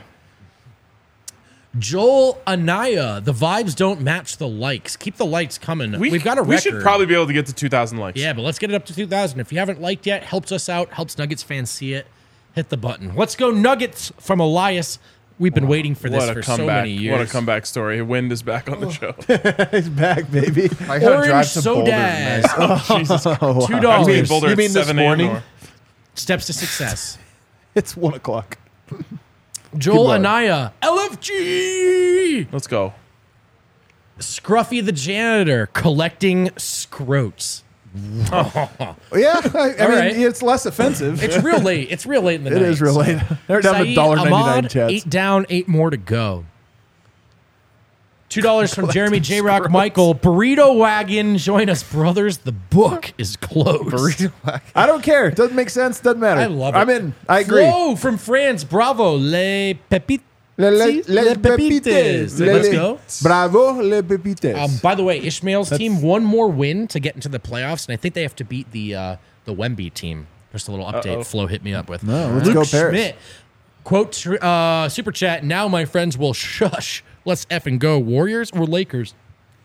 Speaker 4: Joel Anaya. The vibes don't match the likes. Keep the likes coming.
Speaker 5: We,
Speaker 4: We've got a record.
Speaker 5: We should probably be able to get to two thousand likes.
Speaker 4: Yeah, but let's get it up to two thousand. If you haven't liked yet, helps us out, helps Nuggets fans see it. Hit the button. Let's go Nuggets from Elias. We've been waiting for this
Speaker 5: What a
Speaker 4: for so
Speaker 5: comeback!
Speaker 4: many years.
Speaker 5: What a comeback story. Wind is back on the show.
Speaker 1: He's back, baby.
Speaker 2: I gotta
Speaker 4: Orange
Speaker 2: drive to Boulder
Speaker 4: Sodaz.
Speaker 2: tonight.
Speaker 5: Oh, Jesus Christ.
Speaker 1: Oh,
Speaker 4: Two
Speaker 1: wow.
Speaker 4: dollars.
Speaker 5: I'm in Boulder
Speaker 1: You
Speaker 5: at
Speaker 1: mean this
Speaker 5: seven a.m.
Speaker 1: morning?
Speaker 5: tomorrow.
Speaker 4: Steps to success.
Speaker 1: It's one o'clock.
Speaker 4: Joel
Speaker 1: going.
Speaker 4: Anaya. L F G.
Speaker 5: Let's go.
Speaker 4: Scruffy the janitor collecting scrotes.
Speaker 1: Yeah, I, I
Speaker 4: All
Speaker 1: mean,
Speaker 4: right.
Speaker 1: it's less offensive.
Speaker 4: It's real late. It's real late in the
Speaker 1: It
Speaker 4: night.
Speaker 1: is real
Speaker 4: so-
Speaker 1: late. They're down to
Speaker 4: Saeed
Speaker 1: one ninety-nine
Speaker 4: Ahmad,
Speaker 1: chats.
Speaker 4: Eight down, eight more to go. Two dollars from Jeremy J. Rock Michael. Burrito Wagon, join us, brothers. The book is closed.
Speaker 1: I don't care. Doesn't make sense. Doesn't matter.
Speaker 4: I love it.
Speaker 1: I'm in. I agree.
Speaker 4: Flo from France. Bravo. Les Pepites.
Speaker 1: Le, le,
Speaker 4: Les
Speaker 1: les
Speaker 4: Pepites.
Speaker 1: pepites.
Speaker 4: Let's
Speaker 1: Le-
Speaker 4: go.
Speaker 1: Bravo, les pepites.
Speaker 4: Um, by the way, Ishmael's team one more win to get into the playoffs, and I think they have to beat the uh, the Wemby team. Just a little update.
Speaker 5: Uh-oh.
Speaker 4: Flo hit me up with.
Speaker 1: No, let's
Speaker 4: Luke
Speaker 1: go Paris.
Speaker 4: Schmidt. Quote uh, super chat. Now my friends will shush. Let's effing go. Warriors or Lakers?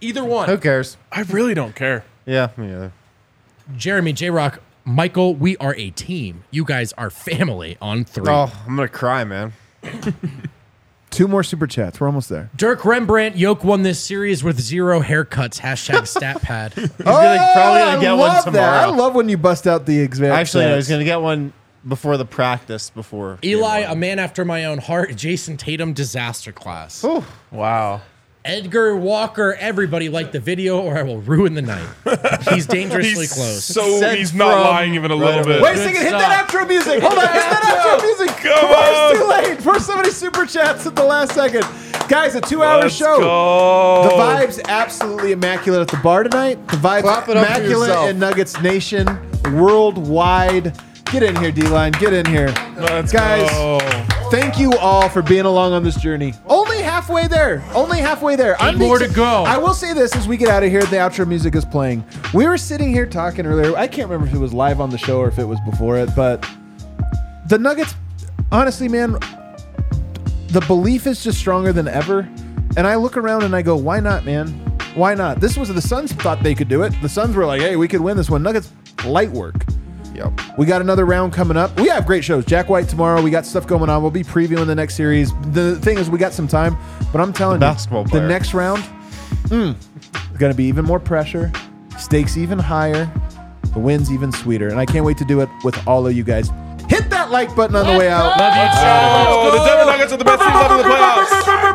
Speaker 4: Either one.
Speaker 2: Who cares?
Speaker 5: I really don't care.
Speaker 2: Yeah, me either.
Speaker 4: Jeremy, J-Rock, Michael, we are a team. You guys are family on three.
Speaker 2: Oh, I'm gonna cry, man.
Speaker 1: Two more super chats. We're almost there.
Speaker 4: Dirk Rembrandt, Yoke won this series with zero haircuts. Hashtag stat pad.
Speaker 2: He's gonna, probably gonna get
Speaker 1: I
Speaker 2: one
Speaker 1: love
Speaker 2: tomorrow.
Speaker 1: that. I love when you bust out the exact.
Speaker 2: Actually, no,
Speaker 1: stats.
Speaker 2: he's gonna get one before the practice. Before
Speaker 4: Eli,
Speaker 2: game
Speaker 4: a man after my own heart. Jason Tatum, disaster class.
Speaker 2: one. Ooh.
Speaker 5: Wow.
Speaker 4: Edgar Walker, everybody like the video or I will ruin the night. He's dangerously
Speaker 5: He's
Speaker 4: close.
Speaker 5: so
Speaker 2: Sent
Speaker 5: he's not
Speaker 2: from
Speaker 5: lying even a little
Speaker 2: right
Speaker 5: bit.
Speaker 2: away.
Speaker 1: Wait a second, hit that outro music. Hold on, hit that outro music.
Speaker 5: Come
Speaker 1: Come on,
Speaker 5: on.
Speaker 1: it's too late. For so many super chats at the last second. Guys, a two-hour
Speaker 5: Let's
Speaker 1: show.
Speaker 5: go.
Speaker 1: The vibe's absolutely immaculate at the bar tonight. The vibe's
Speaker 2: Clap it up for
Speaker 1: immaculate
Speaker 2: yourself.
Speaker 1: in Nuggets Nation, worldwide. Get in here, D-Line. Get in here.
Speaker 5: Let's
Speaker 1: Guys,
Speaker 5: go.
Speaker 1: thank you all for being along on this journey. Only halfway there. Only halfway there.
Speaker 4: Eight more to
Speaker 1: ex-
Speaker 4: go.
Speaker 1: I will say this as we get out of here, the outro music is playing. We were sitting here talking earlier. I can't remember if it was live on the show or if it was before it, but the Nuggets, honestly, man, the belief is just stronger than ever. And I look around and I go, why not, man? Why not? This was the Suns thought they could do it. The Suns were like, hey, we could win this one. Nuggets, light work.
Speaker 2: Yep.
Speaker 1: We got another round coming up. We have great shows. Jack White tomorrow. We got stuff going on. We'll be previewing the next series. The thing is, we got some time, but I'm telling
Speaker 2: The
Speaker 1: you,
Speaker 2: basketball
Speaker 1: the
Speaker 2: player.
Speaker 1: next round, mm, it's going to be even more pressure, stakes even higher, the win's even sweeter. And I can't wait to do it with all of you guys. Hit that like button on the way out.
Speaker 4: Love you, Chad.
Speaker 5: Oh, the Denver Nuggets are the best team left in the playoffs.